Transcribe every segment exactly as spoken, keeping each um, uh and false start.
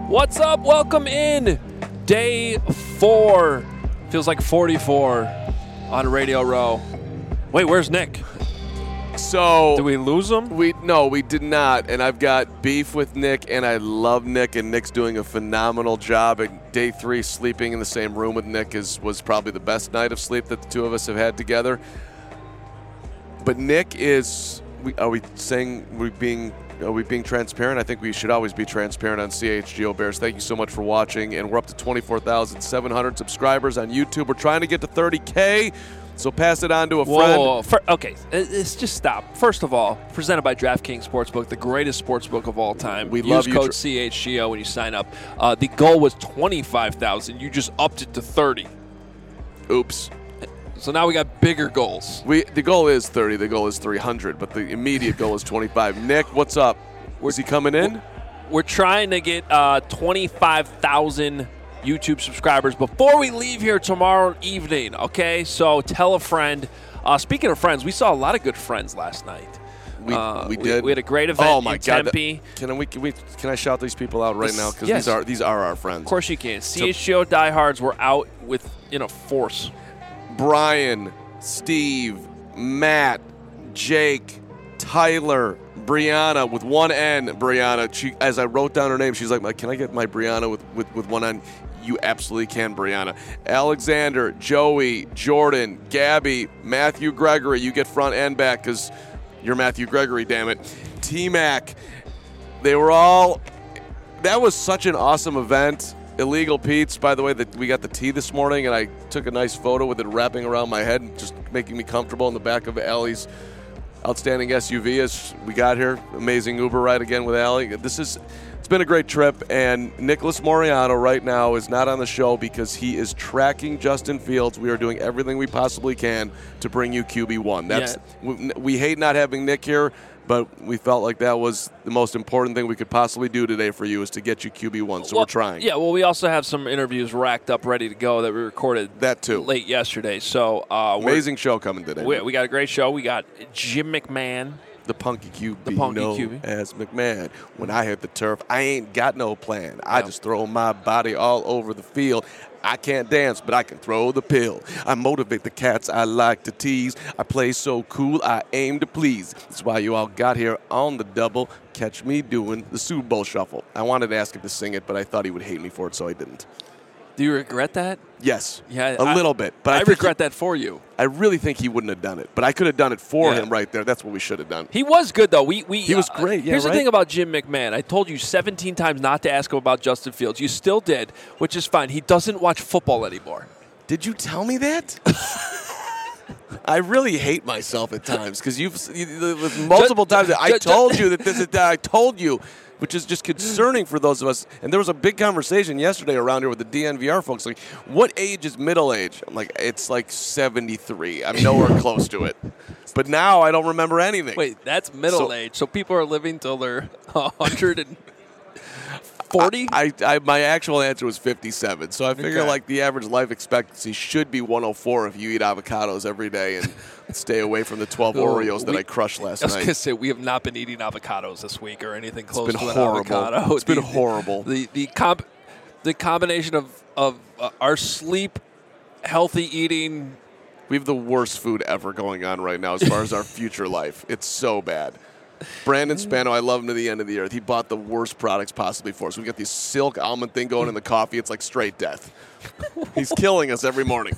What's up? Welcome in. Day four. Feels like forty-four on Radio Row. Wait, where's Nick? So Did we lose him? We no, we did not. And I've got beef with Nick, and I love Nick, and Nick's doing a phenomenal job. And day three, sleeping in the same room with Nick is was probably the best night of sleep that the two of us have had together. But Nick is. We, are we saying we being? Are we being transparent? I think we should always be transparent on C H G O Bears. Thank you so much for watching. And we're up to twenty-four thousand seven hundred subscribers on YouTube. We're trying to get to thirty K, so pass it on to a Whoa, friend. whoa, whoa. For, okay, it's just stop. First of all, presented by DraftKings Sportsbook, the greatest sportsbook of all time. We Use love you, code Dra- C H G O when you sign up. Uh, the goal was twenty-five thousand. You just upped it to thirty. Oops. So now we got bigger goals. We The goal is thirty. The goal is three hundred, but the immediate goal is twenty-five. Nick, what's up? Was he coming in? We're trying to get uh, twenty-five thousand YouTube subscribers before we leave here tomorrow evening, okay? So tell a friend. Uh, speaking of friends, we saw a lot of good friends last night. We, uh, we did. We, we had a great event oh my in God, Tempe. that- Can we, can we can I shout these people out right This- now? Because yes. these are these are our friends. Of course you can. C H G O diehards were out with, you know, force. Brian, Steve, Matt, Jake, Tyler, Brianna with one N. Brianna. She, as I wrote down her name, she's like, "Can I get my Brianna with, with, with one N?" You absolutely can, Brianna. Alexander, Joey, Jordan, Gabby, Matthew Gregory. You get front and back because you're Matthew Gregory, damn it. T-Mac. They were all – that was such an awesome event. Illegal Pete's, by the way, that we got the tea this morning, and I took a nice photo with it wrapping around my head, just making me comfortable in the back of Allie's outstanding S U V as we got here. Amazing Uber ride again with Allie. This is it's been a great trip, and Nicholas Moriano right now is not on the show because he is tracking Justin Fields. We are doing everything we possibly can to bring you Q B one. That's Yeah. we, we hate not having Nick here, but we felt like that was the most important thing we could possibly do today for you is to get you Q B one. So well, we're trying. Yeah, well, we also have some interviews racked up, ready to go that we recorded That too. late yesterday. So uh, we're- Amazing show coming today. We, we got a great show. We got Jim McMahon. The punky Q B, The punky known Q B. as McMahon. When I hit the turf, I ain't got no plan. I No. just throw my body all over the field. I can't dance, but I can throw the pill. I motivate the cats I like to tease. I play so cool, I aim to please. That's why you all got here on the double. Catch me doing the Super Bowl shuffle. I wanted to ask him to sing it, but I thought he would hate me for it, so I didn't. Do you regret that? Yes, Yeah, a I- little bit. But I, I, think regret that for you. He, I really think he wouldn't have done it, but I could have done it for Yeah. him right there. That's what we should have done. He was good, though. We, we He was uh, great, yeah, Here's right? the thing about Jim McMahon. I told you seventeen times not to ask him about Justin Fields. You still did, which is fine. He doesn't watch football anymore. Did you tell me that? I really hate myself at times because you've you, multiple times that I ju- ju- told you that this is that I told you, which is just concerning for those of us. And there was a big conversation yesterday around here with the D N V R folks. Like, what age is middle age? I'm like, it's like seventy-three. I'm nowhere close to it. But now I don't remember anything. Wait, that's middle So- age. So people are living till they're one hundred forty? I, I my actual answer was fifty-seven. So I figure Okay. like the average life expectancy should be one oh four if you eat avocados every day and stay away from the twelve Oh, Oreos that we- I crushed last I was night. going to say, we have not been eating avocados this week or anything close been to an horrible. avocado. It's been The- horrible. The the comp, the combination of, of uh, our sleep, healthy eating. We have the worst food ever going on right now as far as our future life. It's so bad. Brandon Spano, I love him to the end of the earth. He bought the worst products possibly for us. We got this silk almond thing going in the coffee. It's like straight death. He's killing us every morning.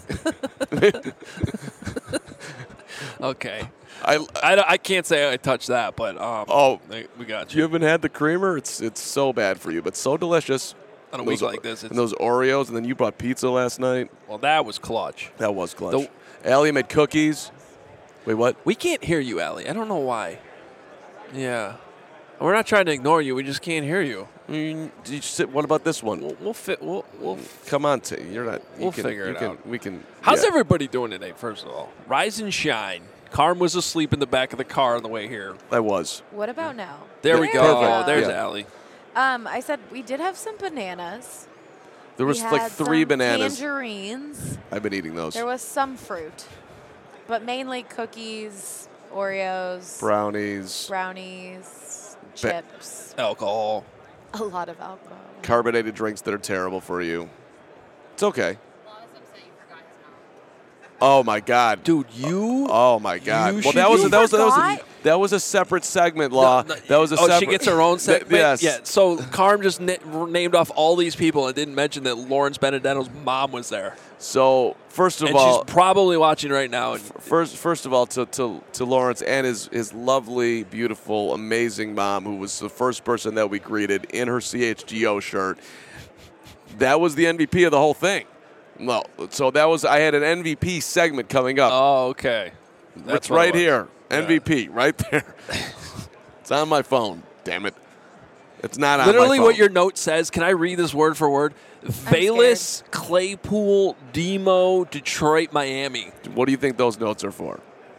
Okay. I, I, don't- I can't say I touched that, but um, Oh. we got you you. haven't had the creamer? It's it's so bad for you, but so delicious. On a And week those- like this, it's, And those Oreos, and then you brought pizza last night. well, that was clutch. That was clutch. Allie made cookies. Wait, what? We can't hear you, Allie. I don't know why. Yeah. We're not trying to ignore you. We just can't hear you. Mm, did you sit, what about this one? We'll, we'll fit. We'll, we'll Come on, T. You're not. You We'll can, figure you it can, out. We can. How's yeah. everybody doing today, first of all? Rise and shine. Carm was asleep in the back of the car on the way here. I was. What about now? There we There go. we go. There's Yeah. Allie. Um, I said we did have some bananas. There was we like had three some bananas. Tangerines. I've been eating those. There was some fruit, but mainly cookies, Oreos, Brownies. brownies, Ba- chips. Alcohol. A lot of alcohol. carbonated drinks that are terrible for you. It's okay. Oh my God, Dude, you. Oh my God. You Well, that was, You that was that was a, forgot? that was a separate segment, Law. No, no, that was a oh, separate. she gets her own Th- segment. yes. Yeah. So Carm just na- named off all these people and didn't mention that Lawrence Benedetto's mom was there, So first of and all, she's probably watching right now. And First, first of all, to, to, to Lawrence and his, his lovely, beautiful, amazing mom, who was the first person that we greeted in her C H G O shirt. That was the M V P of the whole thing. No, so that was I had an M V P segment coming up. oh, okay. That's it's what it right was. here, M V P, right there. It's on my phone. Damn it! It's not on Literally, my phone. what your note says. Can I read this word for word? Bayless, Claypool, Demo, Detroit, Miami. What do you think those notes are for?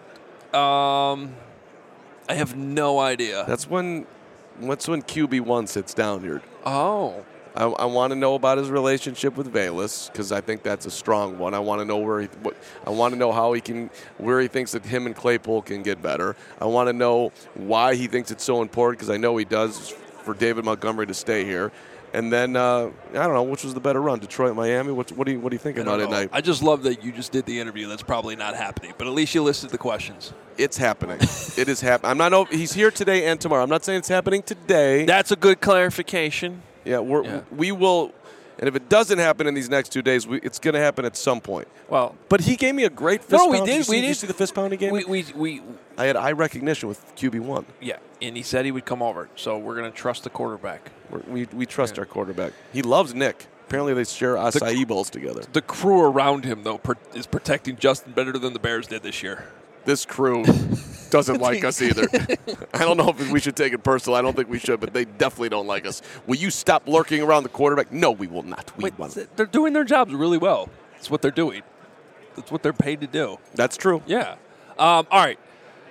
Um, I have no idea. That's when, that's when Q B one sits down here. Oh. I, I want to know about his relationship with Bayless because I think that's a strong one. I want to know where he, what, I want to know how he can, where he thinks that him and Claypool can get better. I want to know why he thinks it's so important because I know he does for David Montgomery to stay here. And then uh, I don't know which was the better run, Detroit, Miami. What, what do you what do you think I about don't it, know. Night? I just love that you just did the interview. That's probably not happening, but at least you listed the questions. It's happening. It is happening. I'm not. He's here today and tomorrow. I'm not saying it's happening today. That's a good clarification. Yeah, we're, Yeah. we will. And if it doesn't happen in these next two days, we, it's going to happen at some point. Well, But he gave me a great fist no, we pound. did. you see, we did did. you see the fist pound he gave we, me? we, we, I had eye recognition with Q B one. yeah, and he said he would come over. So we're going to trust the quarterback. We're, we we trust Yeah. our quarterback. He loves Nick. Apparently they share acai bowls together. The crew around him, though, per- is protecting Justin better than the Bears did this year. This crew doesn't like us either. I don't know if we should take it personal. I don't think we should, but they definitely don't like us. Will you stop lurking around the quarterback? No, we will not. We Wait, won't. they're doing their jobs really well. That's what they're doing. That's what they're paid to do. That's true. Yeah. Um, all right.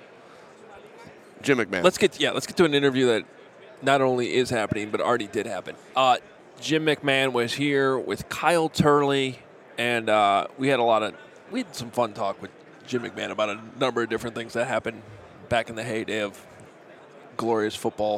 Jim McMahon. Let's get yeah. Let's get to an interview that not only is happening but already did happen. Uh, Jim McMahon was here with Kyle Turley, and uh, we had a lot of we had some fun talk with Jim McMahon about a number of different things that happened back in the heyday of glorious football.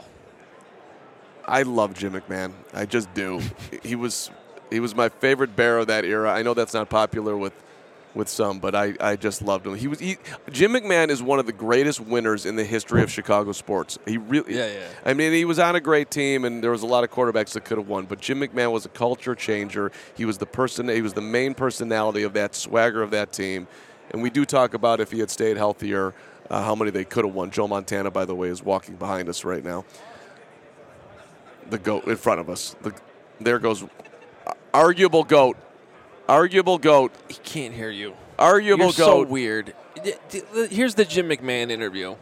I love Jim McMahon. I just do. He was he was my favorite Bear of that era. I know that's not popular with with some, but I, I just loved him. He was he, Jim McMahon is one of the greatest winners in the history of Chicago sports. He really Yeah, yeah. I mean, he was on a great team and there was a lot of quarterbacks that could have won, but Jim McMahon was a culture changer. He was the person he was the main personality of that swagger of that team. And we do talk about if he had stayed healthier, uh, how many they could have won. Joe Montana, by the way, is walking behind us right now. The GOAT in front of us. The, there goes arguable GOAT. Arguable GOAT. He can't hear you. Arguable You're so GOAT. weird. D- d- Here's the Jim McMahon interview.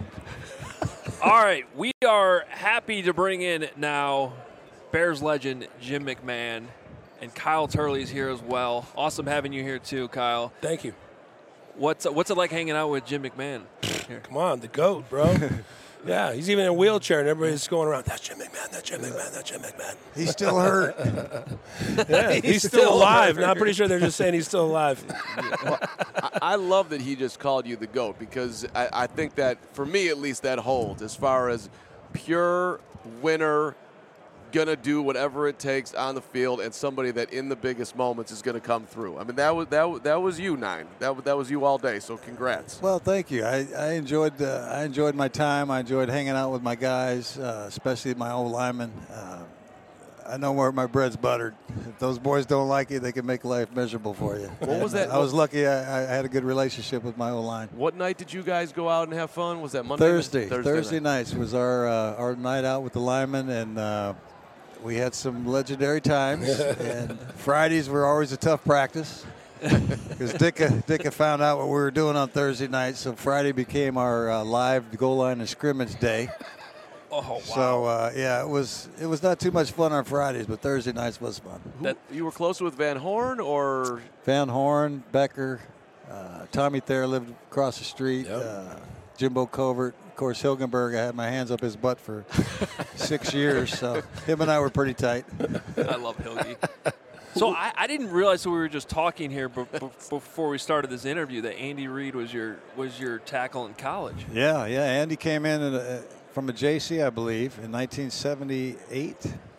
All right, we are happy to bring in now Bears legend Jim McMahon, and Kyle Turley's here as well. Awesome having you here too, Kyle. Thank you. What's what's it like hanging out with Jim McMahon? Here. Come on, the GOAT, bro. Yeah, he's even in a wheelchair, and everybody's going around. That's Jim McMahon. That's Jim McMahon. That's Jim McMahon. He's still hurt. Yeah, he's, He's still, still alive. And I'm pretty sure they're just saying he's still alive. I, I love that he just called you the GOAT because I, I think that, for me at least, that holds as far as pure winner, going to do whatever it takes on the field, and somebody that in the biggest moments is going to come through. I mean, that was that was, that was you, Nine. That was, that was you all day, so congrats. Well, thank you. I, I enjoyed uh, I enjoyed my time. I enjoyed hanging out with my guys, uh, especially my old linemen. Uh, I know where my bread's buttered. If those boys don't like you, they can make life miserable for you. What was And, that- uh, I was lucky. I, I had a good relationship with my old line. What night did you guys go out and have fun? Was that Monday? Thursday. Thursday, Thursday night. nights was our uh, our night out with the linemen, and uh, we had some legendary times. And Fridays were always a tough practice because Dicka Dicka found out what we were doing on Thursday night, so Friday became our uh, live goal line and scrimmage day. Oh wow! So uh, yeah, it was it was not too much fun on Fridays, but Thursday nights was fun. Who, you were close with Van Horn or Van Horn, Becker, uh, Tommy Thayer lived across the street. Yep. Uh, Jimbo Covert, of course, Hilgenberg. I had my hands up his butt for six years, so him and I were pretty tight. I love Hilgi. So I, I didn't realize that we were just talking here b- b- before we started this interview that Andy Reid was your was your tackle in college. Yeah, yeah. Andy came in at a, from a J C, I believe, in nineteen seventy-eight.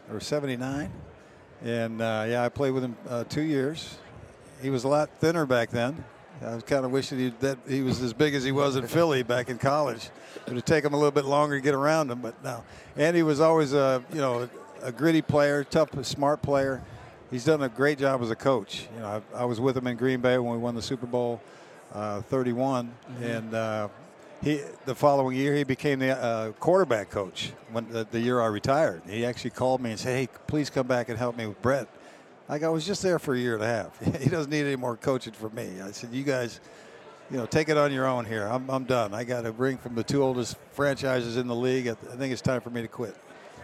or seventy-nine. And, uh, yeah, I played with him uh, two years. He was a lot thinner back then. I was kind of wishing he, that he was as big as he was in Philly back in college. It would take him a little bit longer to get around him, but no. And he was always a, you know, a, a gritty player, tough, smart player. He's done a great job as a coach. You know, I, I was with him in Green Bay when we won the Super Bowl uh, thirty-one, mm-hmm. and uh, he the following year he became the uh, quarterback coach when the, the year I retired. He actually called me and said, "Hey, please come back and help me with Brett." Like, I was just there for a year and a half. He doesn't need any more coaching from me. I said, "You guys, you know, take it on your own here. I'm I'm done. I got a ring from the two oldest franchises in the league. I think it's time for me to quit."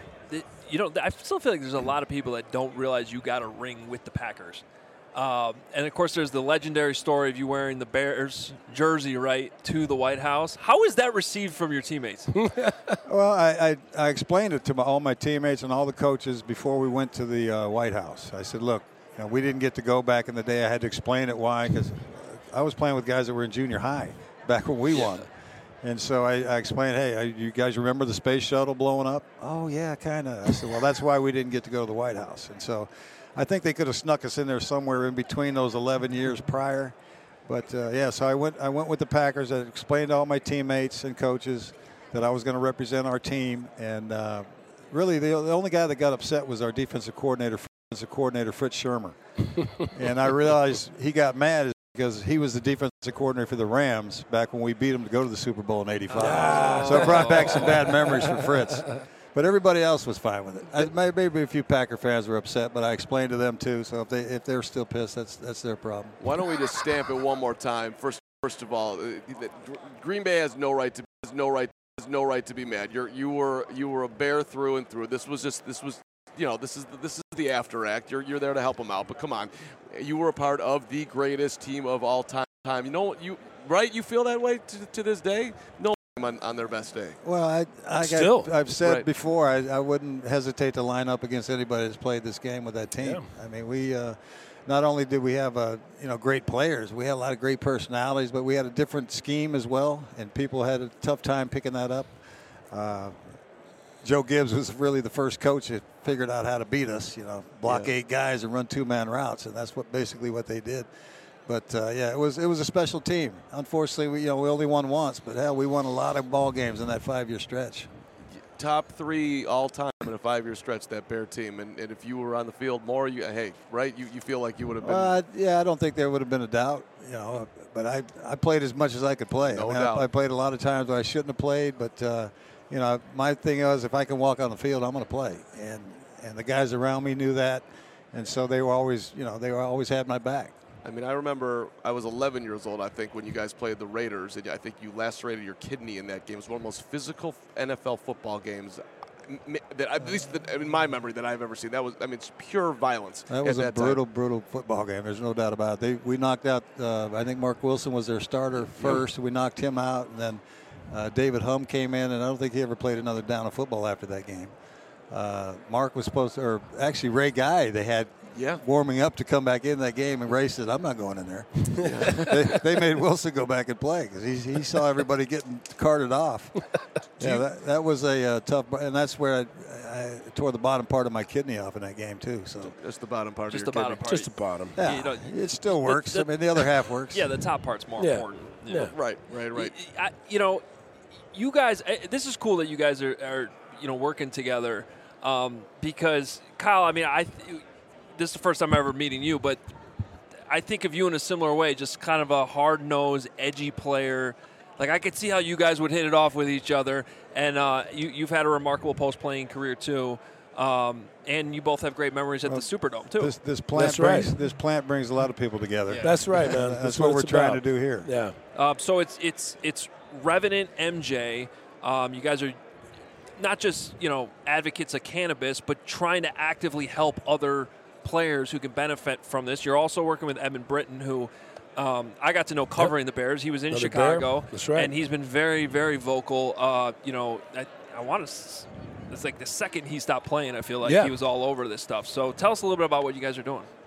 You know, I still feel like there's a lot of people that don't realize you got a ring with the Packers. Um, and, of course, there's the legendary story of you wearing the Bears jersey, right, to the White House. How was that received from your teammates? Well, I, I, I explained it to my, all my teammates and all the coaches before we went to the uh, White House. I said, look, you know, we didn't get to go back in the day. I had to explain it why, because I was playing with guys that were in junior high back when we won. And so I, I explained, hey, you guys remember the space shuttle blowing up? Oh, yeah, kind of. I said, well, that's why we didn't get to go to the White House. And so I think they could have snuck us in there somewhere in between those eleven years prior. But, uh, yeah, so I went I went with the Packers. I explained to all my teammates and coaches that I was going to represent our team. And uh, really the, the only guy that got upset was our defensive coordinator, defensive coordinator Fritz Shermer. And I realized he got mad because he was the defensive coordinator for the Rams back when we beat them to go to the Super Bowl in eighty-five. Ah. So it brought back some bad memories for Fritz. But everybody else was fine with it. I, maybe a few Packer fans were upset, but I explained to them too. So if they if they're still pissed, that's that's their problem. Why don't we just stamp it one more time? First, first of all, Green Bay has no right to has no right has no right to be mad. You're you were you were a Bear through and through. This was just this was. You know, this is the, this is the after act. You're you're there to help them out, but come on, you were a part of the greatest team of all time. Time, you know, you right? You feel that way to, to this day? No, on, on their best day. Well, I I Still. got, I've said Right. before I, I wouldn't hesitate to line up against anybody that's played this game with that team. Yeah. I mean, we uh, not only did we have uh, you know great players, we had a lot of great personalities, but we had a different scheme as well, and people had a tough time picking that up. Uh, Joe Gibbs was really the first coach that figured out how to beat us, you know, block Yeah. eight guys and run two-man routes, and that's what basically what they did. But, uh, yeah, it was it was a special team. Unfortunately, we, you know, we only won once, but, hell, we won a lot of ball games in that five-year stretch. Top three all time in a five-year stretch, that Bear team. And, and if you were on the field more, you hey, right, you, you feel like you would have been. Uh, yeah, I don't think there would have been a doubt, you know, but I I played as much as I could play. No I mean, doubt. I, I played a lot of times when I shouldn't have played, but, uh, you know, my thing was if I can walk on the field, I'm going to play. And and the guys around me knew that, and so they were always, you know, they were always had my back. I mean, I remember I was eleven years old, I think, when you guys played the Raiders, and I think you lacerated your kidney in that game. It was one of the most physical N F L football games that, at least in my memory, that I've ever seen. That was, I mean, it's pure violence. That was at a that brutal, time. brutal football game. There's no doubt about it. They, we knocked out, uh, I think Mark Wilson was their starter first. We knocked him out, and then uh, David Hum came in, and I don't think he ever played another down of football after that game. Uh, Mark was supposed to, or actually Ray Guy, they had Yeah. warming up to come back in that game, and Ray said, I'm not going in there. they, they made Wilson go back and play because he, he saw everybody getting carted off. yeah, that, that was a uh, tough, and that's where I, I tore the bottom part of my kidney off in that game too. So Just the bottom part Just of the your bottom kidney. part. Just the bottom. yeah, You know, it still works. the- I mean, the other half works. Yeah, the top part's more Yeah. important. you Yeah. know. Right, right, right. I, you know, you guys, eh, this is cool that you guys are, are you know, working together um, because, Kyle, I mean, I th- this is the first time I'm ever meeting you, but I think of you in a similar way, just kind of a hard-nosed, edgy player. Like, I could see how you guys would hit it off with each other, and uh, you, you've had a remarkable post-playing career, too. Um, and you both have great memories at Well, the Superdome, too. This, this plant That's right. brings this plant brings a lot of people together. Yeah. That's right, man. That's, That's, what, we're it's trying about. to do here. Yeah. Uh, so it's it's it's Revenant M J. Um, you guys are not just you know advocates of cannabis, but trying to actively help other players who can benefit from this. You're also working with Evan Britton, who um, I got to know covering the Bears. He was in Another Chicago, Bear. That's right. and he's been very very vocal. Uh, you know, I, I want to. It's like the second he stopped playing, I feel like Yeah. he was all over this stuff. So tell us a little bit about what you guys are doing.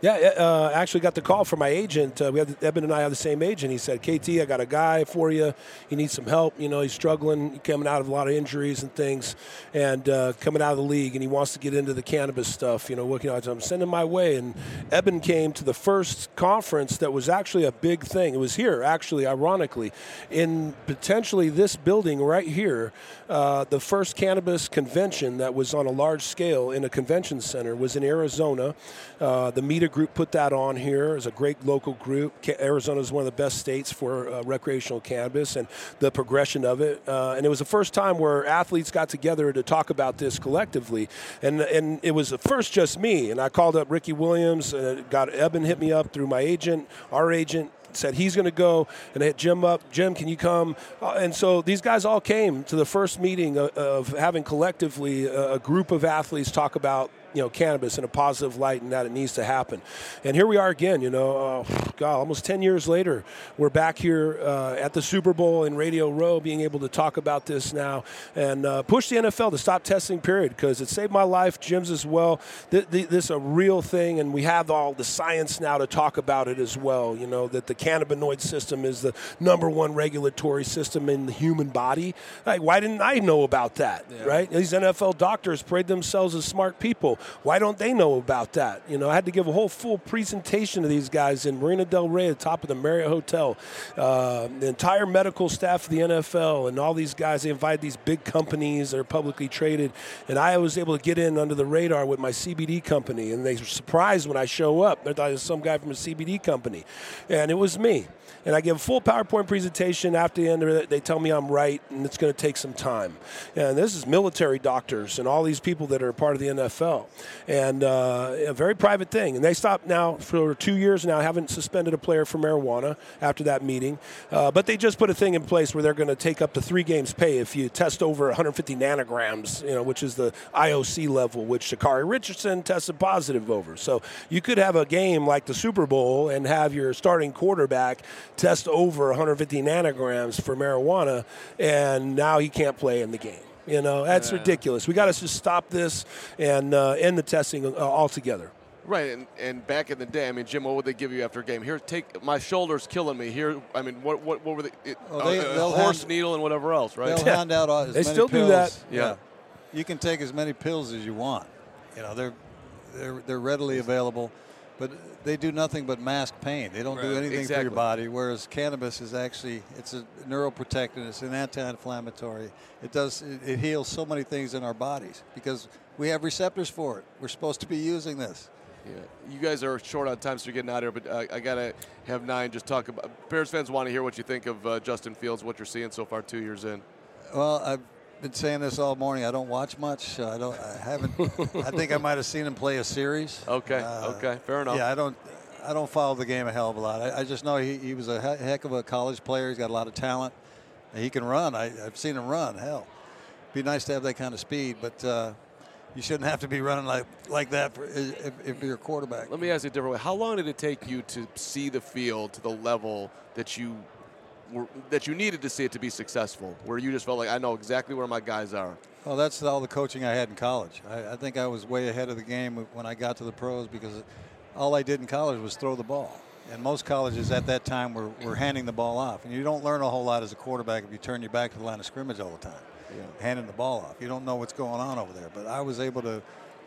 Yeah, uh, actually got the call from my agent. Uh, we have Eben and I have the same agent. He said, K T, I got a guy for you. He needs some help. You know, he's struggling, coming out of a lot of injuries and things, and uh, coming out of the league, and he wants to get into the cannabis stuff. You know, what, you know, I'm sending my way. And Eben came to the first conference that was actually a big thing. It was here, actually, ironically, in potentially this building right here. Uh, the first cannabis convention that was on a large scale in a convention center was in Arizona. Uh, the Meta Group put that on here. It's a great local group. Arizona is one of the best states for uh, recreational cannabis and the progression of it. Uh, and it was the first time where athletes got together to talk about this collectively. And and it was at first just me. And I called up Ricky Williams. Uh, got Eben hit me up through my agent, our agent. Said he's going to go, and I hit Jim up. Jim, can you come? Uh, and so these guys all came to the first meeting of, of having collectively a, a group of athletes talk about, you know, cannabis in a positive light and that it needs to happen. And here we are again, you know, uh, God, almost ten years later, we're back here uh, at the Super Bowl in Radio Row being able to talk about this now and uh, push the N F L to stop testing, period, because it saved my life, Jim's as well. Th- th- this is a real thing, and we have all the science now to talk about it as well, you know, that the cannabinoid system is the number one regulatory system in the human body. Like, why didn't I know about that, yeah. right? These N F L doctors parade themselves as smart people. Why don't they know about that? You know, I had to give a whole full presentation to these guys in Marina Del Rey at the top of the Marriott Hotel. Uh, the entire medical staff of the N F L and all these guys, they invited these big companies that are publicly traded. And I was able to get in under the radar with my C B D company. And they were surprised when I show up. They thought it was some guy from a C B D company. And it was me. And I give a full PowerPoint presentation. After the end of it, they tell me I'm right, and it's going to take some time. And this is military doctors and all these people that are part of the N F L. And uh, a very private thing. And they stopped now for two years now, haven't suspended a player for marijuana after that meeting. Uh, but they just put a thing in place where they're going to take up to three games pay if you test over one hundred fifty nanograms, you know, which is the I O C level, which Sha'Carri Richardson tested positive over. So you could have a game like the Super Bowl and have your starting quarterback test over one hundred fifty nanograms for marijuana, and now he can't play in the game. You know, that's yeah. ridiculous. We got to just stop this and uh, end the testing uh, altogether. Right, and, and back in the day, I mean, Jim, what would they give you after a game? Here, take my shoulder's killing me. Here, I mean, what what, what were they? It, well, they uh, horse hand, needle and whatever else, right? They'll yeah. hand out as they many still pills. do that. Yeah. yeah, you can take as many pills as you want. You know, they're they're they're readily available. But they do nothing but mask pain. They don't right. do anything exactly. for your body, whereas cannabis is actually, it's a neuroprotectant, it's an anti-inflammatory. It does, it, it heals so many things in our bodies because we have receptors for it. We're supposed to be using this. Yeah, you guys are short on time, so you're getting out here, but uh, I got to have Nine just talk about, Bears fans want to hear what you think of uh, Justin Fields, what you're seeing so far two years in. Well, I've been saying this all morning. I don't watch much. I don't. I haven't. I think I might have seen him play a series. Okay. Uh, okay. Fair enough. Yeah, I don't. I don't follow the game a hell of a lot. I, I just know he, he was a heck of a college player. He's got a lot of talent. He can run. I, I've seen him run. Hell, be nice to have that kind of speed, but uh, you shouldn't have to be running like like that for, if, if you're a quarterback. Let me ask you a different way. How long did it take you to see the field to the level that you were, that you needed to see it to be successful, where you just felt like, I know exactly where my guys are? Well, that's all the coaching I had in college. I, I think I was way ahead of the game when I got to the pros because all I did in college was throw the ball. And most colleges at that time were, were handing the ball off. And you don't learn a whole lot as a quarterback if you turn your back to the line of scrimmage all the time, yeah. handing the ball off. You don't know what's going on over there. But I was able to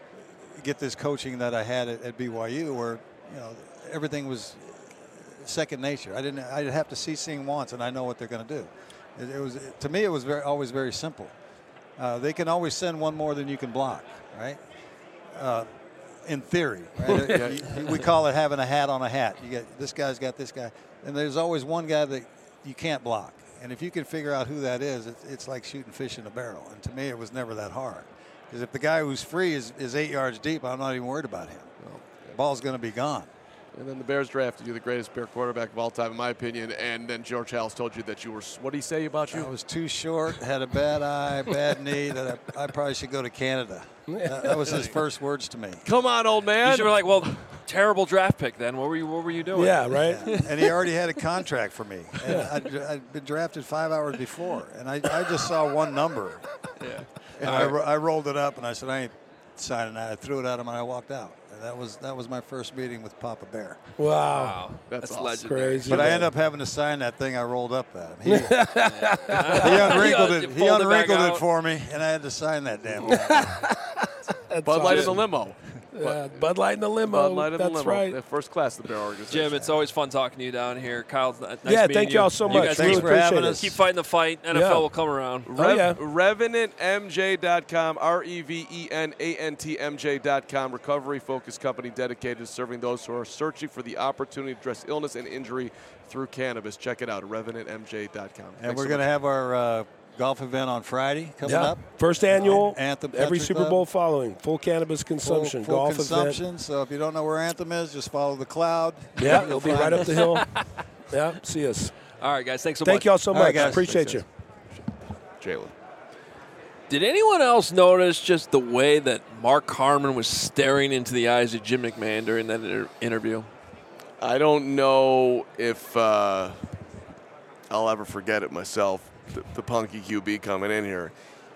get this coaching that I had at, at B Y U where, you know, everything was second nature. I didn't. I'd have to see seeing once, and I know what they're going to do. It, it was to me. It was very always very simple. Uh, they can always send one more than you can block, right? Uh, in theory, right? yeah. you, we call it having a hat on a hat. You get this guy's got this guy, and there's always one guy that you can't block. And if you can figure out who that is, it's, it's like shooting fish in a barrel. And to me, it was never that hard. Because if the guy who's free is, is eight yards deep, I'm not even worried about him. Well, the ball's going to be gone. And then the Bears drafted you, the greatest Bear quarterback of all time, in my opinion. And then George Halas told you that you were, what did he say about you? I was too short, had a bad eye, bad knee, that I, I probably should go to Canada. That, that was his first words to me. Come on, old man. You should be like, well, terrible draft pick then. What were you, what were you doing? Yeah, right? Yeah. And he already had a contract for me. And I'd, I'd been drafted five hours before. And I, I just saw one number. Yeah. And I, I rolled it up, and I said, I ain't signing that. I threw it at him and I walked out. And that was that was my first meeting with Papa Bear. Wow. Wow, That's that's, awesome. legendary. Crazy. But I man. ended up having to sign that thing I rolled up at him. He, he unwrinkled it. He Fold it back unwrinkled it out. for me, and I had to sign that damn thing. That's Bud Light in the awesome. limo. Yeah, Bud Light in the limo. Bud Light in the That's limo. right. They're first class, the Bear organization. Jim, it's always fun talking to you down here. Kyle, nice Yeah, meeting thank you. y'all so You much. guys Thanks keep, for having appreciate us. keep fighting the fight. N F L Yeah. will come around. Oh, yeah. Revenant M J dot com, R E V E N A N T M J dot com, recovery-focused company dedicated to serving those who are searching for the opportunity to address illness and injury through cannabis. Check it out, Revenant M J dot com. And Thanks we're so going to much. have our uh, golf event on Friday coming Yeah. up. First annual, Anthem every Country Super Club. Bowl following. Full cannabis Full, consumption, full golf consumption. event. So if you don't know where Anthem is, just follow the cloud. Yeah, You'll it'll be find right up us. the hill. Yeah, see us. All right, guys. Thanks so Thank much. y'all so All right, much. guys. Appreciate Thanks, you. Jalen. Did anyone else notice just the way that Mark Harmon was staring into the eyes of Jim McMahon during that inter- interview? I don't know if uh, I'll ever forget it myself, the, the punky Q B coming in here.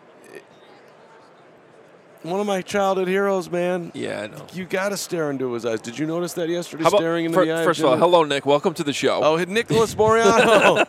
One of my childhood heroes, man. Yeah, I know. You got to stare into his eyes. Did you notice that yesterday, How about- staring into fir- the eyes? First of all, hello, Nick. Welcome to the show. Oh, Nicholas Moriano.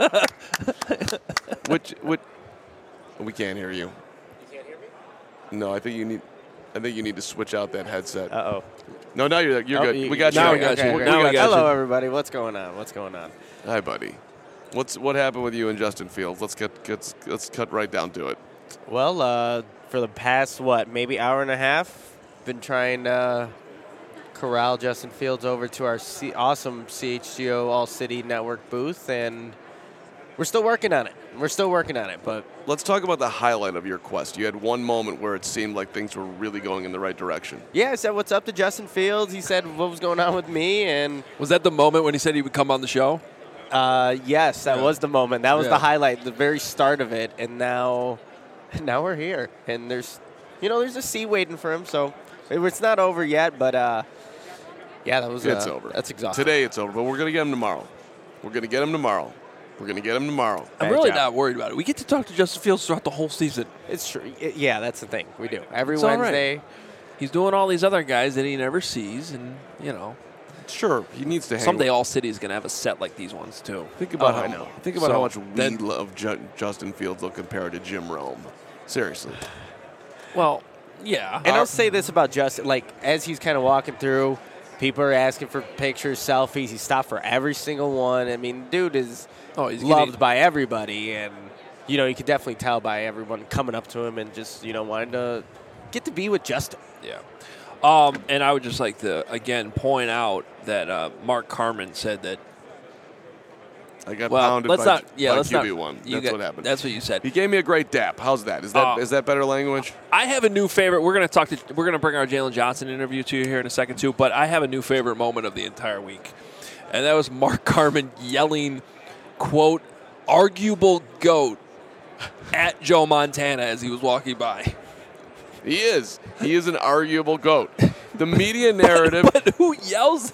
which, which, we can't hear you. You can't hear me? No, I think you need. I think you need to switch out that headset. Uh oh. No, now you're you're Oh, good. you- We got you. now we We got got you. We great. Now we got got you. Hello, everybody. What's going on? What's going on? Hi, buddy. What's what happened with you and Justin Fields? Let's get let's let's cut right down to it. Well, uh, for the past what, maybe hour and a half, been trying to corral Justin Fields over to our C- awesome C H G O All City Network booth, and we're still working on it. We're still working on it, but Let's talk about the highlight of your quest. You had one moment where it seemed like things were really going in the right direction. yeah, I said what's up to Justin Fields. He said what was going on with me, and Was that the moment when he said he would come on the show? uh, yes, that Yeah. was the moment. That was Yeah. the highlight, the very start of it, and now, now we're here, and there's, you know, there's a seat waiting for him. So it- it's not over yet, but uh, yeah, that was It's uh, over. That's exhausting. Today it's over, but we're gonna get him tomorrow. We're gonna get him tomorrow. We're gonna get him tomorrow. I'm Bad really job. not worried about it. We get to talk to Justin Fields throughout the whole season. It's true. Y- Yeah, that's the thing. We do every It's all right. Wednesday. He's doing all these other guys that he never sees, and you know, Sure, he needs to hang. someday All City is going to have a set like these ones too. Think about Oh, how I know. think about So, how much we then- love Ju- Justin Fields will compare to Jim Rome. Seriously. Well, yeah. And I'll say this about Justin: like as he's kind of walking through, people are asking for pictures, selfies. He stopped for every single one. I mean, dude is Oh, he's loved getting- by everybody, and you know you could definitely tell by everyone coming up to him and just you know wanting to get to be with Justin. Yeah. Um, and I would just like to again point out that uh, Mark Carmen said that. I got Well, pounded let's by, not. Yeah, by let's Q B not. one. you That's got- what happened. That's what you said. He gave me a great dap. How's that? Is that Uh, is that better language? I have a new favorite. We're gonna talk to. We're gonna bring our Jalen Johnson interview to you here in a second too. But I have a new favorite moment of the entire week, and that was Mark Carmen yelling, "quote arguable goat" at Joe Montana as he was walking by. He is. He is an arguable goat. The media narrative, But who yells?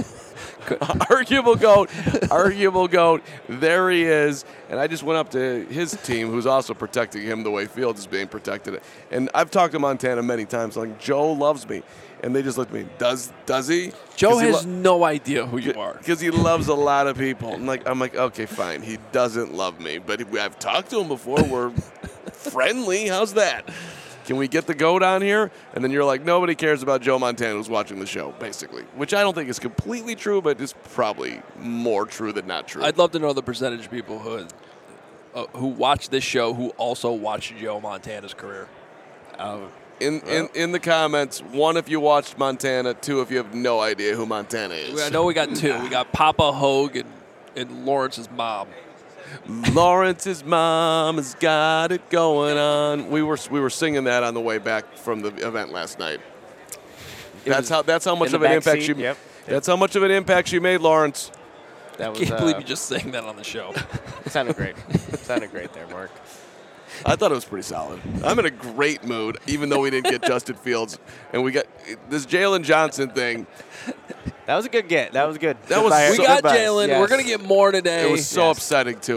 arguable goat, arguable goat. There he is. And I just went up to his team, who's also protecting him the way Fields is being protected. And I've talked to Montana many times. Like, Joe loves me. And they just look at me. Does does he? Joe 'Cause he has lo- no idea who you are. Because he loves a lot of people. I'm like, I'm like, okay, fine. He doesn't love me, but I've talked to him before. We're friendly. How's that? Can we get the goat on here? And then you're like, nobody cares about Joe Montana who's watching the show, basically. Which I don't think is completely true, but it's probably more true than not true. I'd love to know the percentage of people who uh, who watch this show who also watch Joe Montana's career. Oh, in, in in the comments, one if you watched Montana, two if you have no idea who Montana is. I know we got two. We got Papa Hogue and, and Lawrence's mom. Lawrence's mom has got it going on. We were we were singing that on the way back from the event last night. It That's was how that's how much in of the an back impact seat, she. yep. That's how much of an impact she made, Lawrence. that was. Can't uh, believe you just sang that on the show. sounded great. sounded great there, Mark. I thought it was pretty solid. I'm in a great mood, even though we didn't get Justin Fields, and we got this Jalen Johnson thing. That was a good get. That was good. That Good was buy- so- We good got buy. Jalen. Yes. We're gonna get more today. It was so Yes. upsetting too.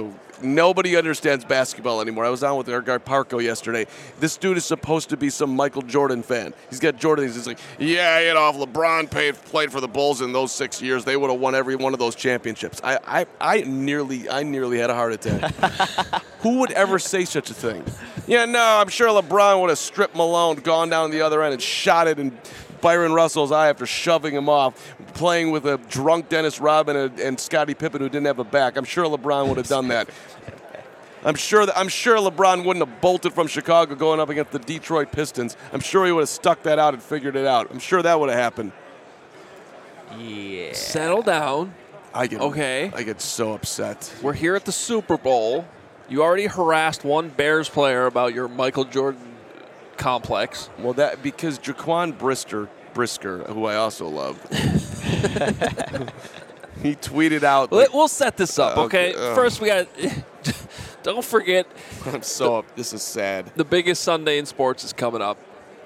nobody understands basketball anymore. I was on with our guy Parco yesterday. This dude is supposed to be some Michael Jordan fan. He's got Jordan. He's like, yeah, you know, if LeBron paid, played for the Bulls in those six years, they would have won every one of those championships. I, I, I nearly, I nearly had a heart attack. Who would ever say such a thing? Yeah, no, I'm sure LeBron would have stripped Malone, gone down the other end, and shot it in Byron Russell's eye after shoving him off, playing with a drunk Dennis Rodman and, and Scottie Pippen who didn't have a back. I'm sure LeBron would have done that. I'm sure that I'm sure LeBron wouldn't have bolted from Chicago going up against the Detroit Pistons. I'm sure he would have stuck that out and figured it out. I'm sure that would have happened. Yeah. Settle down. I get Okay. I get so upset. We're here at the Super Bowl. You already harassed one Bears player about your Michael Jordan complex. Well, that because Jaquan Brisker, Brisker, who I also love, he tweeted out. Let- Like, We'll set this up, Uh, okay? okay, uh. First, we got. Don't forget, I'm so up. This is sad. the biggest Sunday in sports is coming up,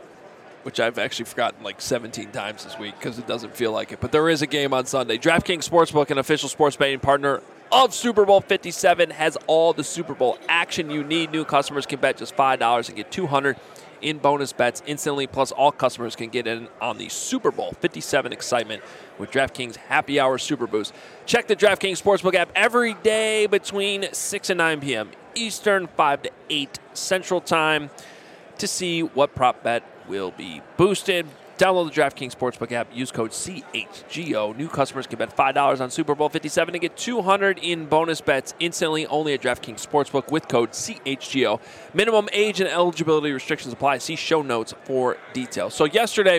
which I've actually forgotten like seventeen times this week because it doesn't feel like it. But there is a game on Sunday. DraftKings Sportsbook, an official sports betting partner of Super Bowl fifty-seven, has all the Super Bowl action you need. New customers can bet just five dollars and get two hundred dollars in bonus bets instantly. Plus, all customers can get in on the Super Bowl fifty-seven excitement with DraftKings Happy Hour Super Boost. Check the DraftKings Sportsbook app every day between six and nine p.m. Eastern, five to eight Central Time to see what prop bet will be boosted. Download the DraftKings Sportsbook app. Use code C H G O. New customers can bet five dollars on Super Bowl fifty-seven and get two hundred dollars in bonus bets instantly only at DraftKings Sportsbook with code C H G O. Minimum age and eligibility restrictions apply. See show notes for details. So yesterday,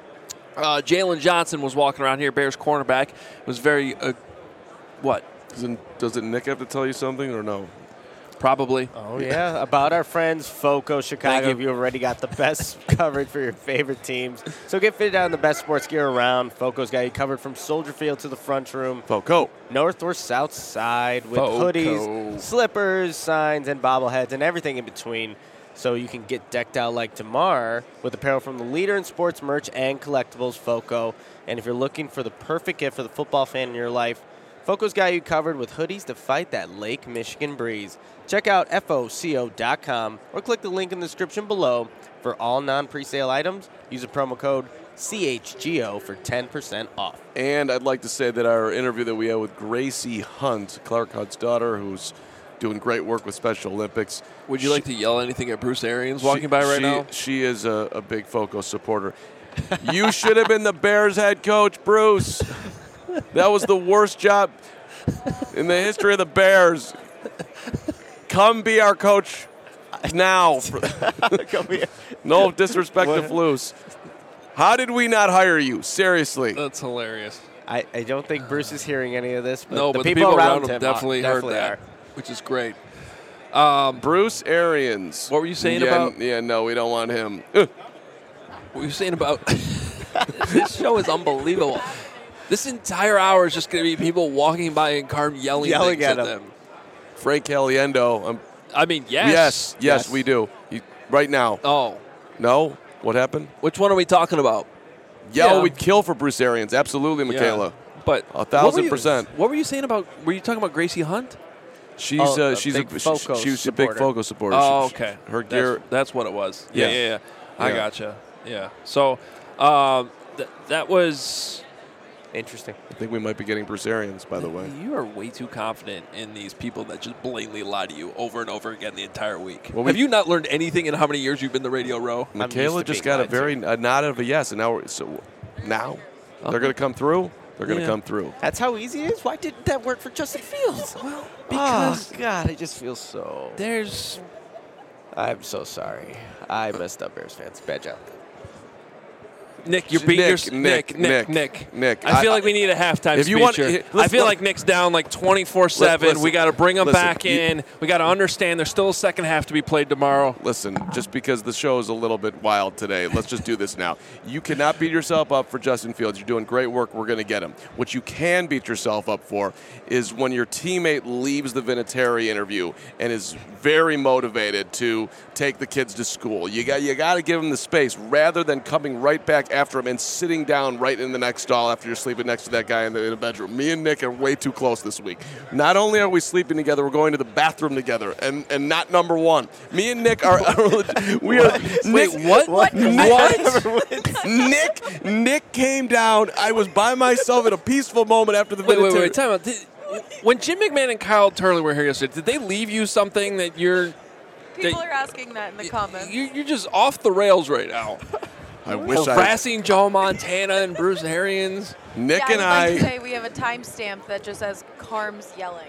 uh, Jalen Johnson was walking around here, Bears cornerback. Was very, uh, what? Doesn't, doesn't Nick have to tell you something or no? Probably. Oh, yeah. About our friends, FOCO Chicago. Thank you. You already got the best coverage for your favorite teams. So get fitted out in the best sports gear around. FOCO's got you covered from Soldier Field to the front room. Foco. North or south side with FOCO. hoodies, slippers, signs, and bobbleheads, and everything in between. So you can get decked out like Damar with apparel from the leader in sports merch and collectibles, FOCO. And if you're looking for the perfect gift for the football fan in your life, FOCO's got you covered with hoodies to fight that Lake Michigan breeze. Check out F O C O dot com or click the link in the description below for all non-presale items. Use the promo code C H G O for ten percent off. And I'd like to say that our interview that we had with Gracie Hunt, Clark Hunt's daughter, who's doing great work with Special Olympics. Would you She- like to yell anything at Bruce Arians walking by right she, now? She is a, a big FOCO supporter. You should have been the Bears head coach, Bruce. That was the worst job in the history of the Bears. Come be our coach now. No disrespect to Flus. How did we not hire you? Seriously. That's hilarious. I, I don't think Bruce is hearing any of this, but No, the but people, the people around, around him him definitely, definitely heard that, are. which is great. Bruce Arians. What were you saying yeah, about- Yeah, no, we don't want him. Uh, What were you saying about this show is unbelievable. This entire hour is just going to be people walking by in car yelling, Yelling things at at, him. them. Frank Caliendo. Um, I mean, yes. yes, yes, Yes. we do. He, right now. Oh, No? What happened? which one are we talking about? Yeah, Yeah. we'd kill for Bruce Arians. Absolutely, Michaela. Yeah. But A what thousand were you- percent. What were you saying about? Were you talking about Gracie Hunt? She's Oh, uh, a she's big a she, FOCO she was a big supporter. FOCO supporter. Oh, She- okay. Her That's, gear. that's what it was. Yeah, Yeah. yeah, yeah. I Yeah. gotcha. Yeah. So um, th- that was. Interesting. I think we might be getting Bruce Arians, by the way. You are way too confident in these people that just blatantly lie to you over and over again the entire week. Well, Have we- you not learned anything in how many years you've been the Radio Row? I'm used Michaela to just being got a lied to. very a nod of a yes, and now we're, so now they're going to come through. They're going to Yeah. come through. That's how easy it is? Why didn't that work for Justin Fields? Well, because oh, God, I just feel so... There's I'm so sorry. I messed up, Bears fans. Bad job. Nick, you're beating Nick, your Nick, Nick, Nick, Nick, Nick. I feel I- like we need a halftime if you speech want- here. here, I let's- feel let- like Nick's down like twenty-four seven. listen, We got to bring him listen, back you- in. We got to understand there's still a second half to be played tomorrow. Listen, just because the show is a little bit wild today, let's just do this now. You cannot beat yourself up for Justin Fields. You're doing great work. We're going to get him. What you can beat yourself up for is when your teammate leaves the Vinatieri interview and is very motivated to take the kids to school. You got you got to give them the space rather than coming right back after him and sitting down right in the next stall after you're sleeping next to that guy in the, in the bedroom. Me and Nick are way too close this week. Not only are we sleeping together, we're going to the bathroom together, and, and not number one. Me and Nick are, are we are. Wait, Nick, what? What? What? Nick Nick came down. I was by myself in a peaceful moment after the Wait, wait, Vinatieri. wait. Time out. Did, when Jim McMahon and Kyle Turley were here yesterday, did they leave you something that you're People They- are asking that in the comments. you, you're just off the rails right now? I wish I. Harassing Joe Montana and Bruce Arians. Nick yeah, and I would like I. to say we have a timestamp that just says Carms yelling.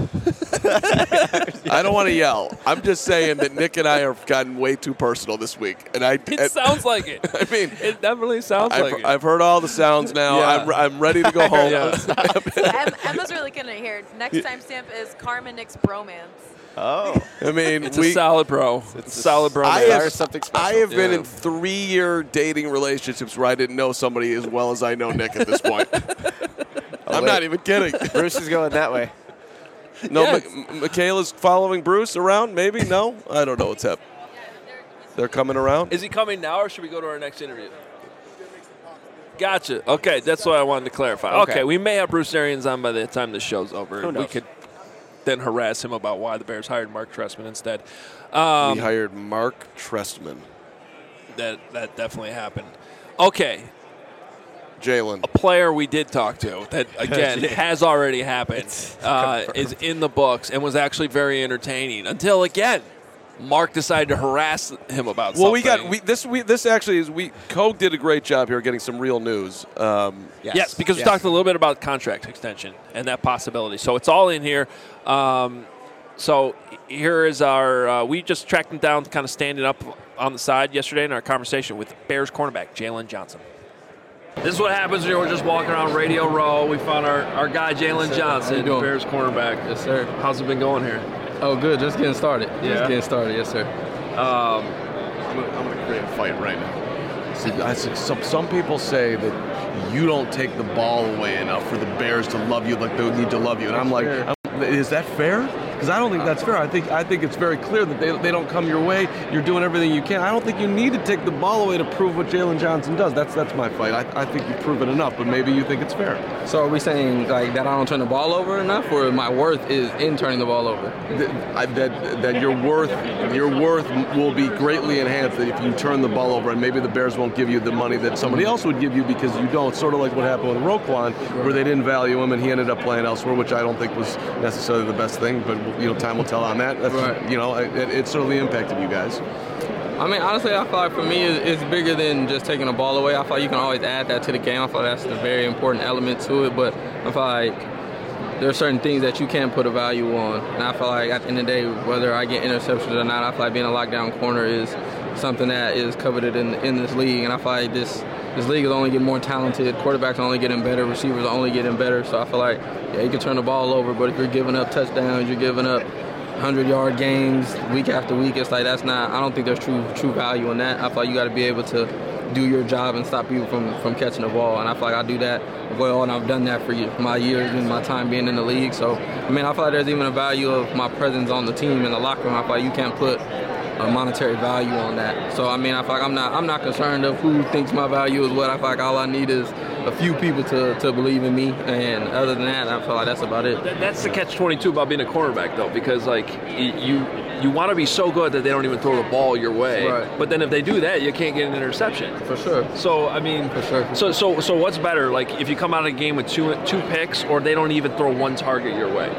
I don't want to yell. I'm just saying that Nick and I have gotten way too personal this week, and I. It and- sounds like it. I mean, It definitely sounds I've, like it. I've heard all the sounds now. Yeah. I'm, I'm ready to go home. Yeah. Em- Emma's really gonna hear. Next timestamp is Carm and Nick's bromance. Oh, I mean, It's we. a solid bro. It's a solid bro. I man. have, There's something special. I have been Yeah. in three-year dating relationships where I didn't know somebody as well as I know Nick at this point. I'm wait. not even kidding. Bruce is going that way. No, Yes. Mi- Michaela's following Bruce around. Maybe no. I don't know what's happening. They're coming around. Is he coming now, or should we go to our next interview? Gotcha. Okay, that's what I wanted to clarify. Okay, Okay. we may have Bruce Arians on by the time the show's over. Who We knows? could then harass him about why the Bears hired Mark Trestman instead. Um, we hired Mark Trestman. that that definitely happened. Okay, Jalen. a player we did talk to that again has already happened uh, is in the books and was actually very entertaining until again Mark decided to harass him about Well, something. we got we, this. We this actually is we. Coke did a great job here getting some real news. Um, Yes, because we talked a little bit about contract extension and that possibility. So it's all in here. Um, so here is our. Uh, we just tracked him down, kind of standing up on the side yesterday in our conversation with Bears cornerback Jalen Johnson. This is what happens when we're just walking around Radio Row. We found our, our guy Jalen Johnson, How you doing? Bears cornerback. Yes, sir. How's it been going here? Oh, good. Just getting started. Yeah. Just getting started. Yes, sir. I'm gonna, I'm gonna create a fight right now. See, I, see, some some people say that you don't take the ball away enough for the Bears to love you like they need to love you, and I'm like, Fair. I'm, is that fair? Because I don't think that's fair. I think I think it's very clear that they, they don't come your way. You're doing everything you can. I don't think you need to take the ball away to prove what Jalen Johnson does. That's that's my fight. I, I think you've proven enough, but maybe you think it's fair. So are we saying like that I don't turn the ball over enough, or my worth is in turning the ball over? That, I- that that your worth your worth will be greatly enhanced if you turn the ball over, and maybe the Bears won't give you the money that somebody else would give you because you don't. Sort of like what happened with Roquan, where they didn't value him and he ended up playing elsewhere, which I don't think was necessarily the best thing. But you know, time will tell on that. That's, Right. You know, it, it certainly impacted you guys. I mean, honestly, I feel like for me, it's, it's bigger than just taking the ball away. I feel like you can always add that to the game. I feel like that's a very important element to it. But I feel like there are certain things that you can't put a value on. And I feel like at the end of the day, whether I get interceptions or not, I feel like being a lockdown corner is something that is coveted in in this league. And I feel like this this league is only getting more talented. Quarterbacks are only getting better. Receivers are only getting better. So I feel like, yeah, you can turn the ball over, but if you're giving up touchdowns, you're giving up hundred-yard games week after week, it's like that's not – I don't think there's true true value in that. I feel like you got to be able to do your job and stop people from, from catching the ball, and I feel like I do that well, and I've done that for ye- my years and my time being in the league. So, I mean, I feel like there's even a value of my presence on the team in the locker room. I feel like you can't put a monetary value on that. So, I mean, I feel like I'm not I'm not concerned of who thinks my value is what. I feel like all I need is a few people to, to believe in me, and other than that, I feel like that's about it. That- That's the catch twenty-two about being a cornerback, though, because like y- you you want to be so good that they don't even throw the ball your way. Right. But then if they do that, you can't get an interception. For sure. So I mean, For sure, for So so so what's better? Like if you come out of a game with two two picks, or they don't even throw one target your way.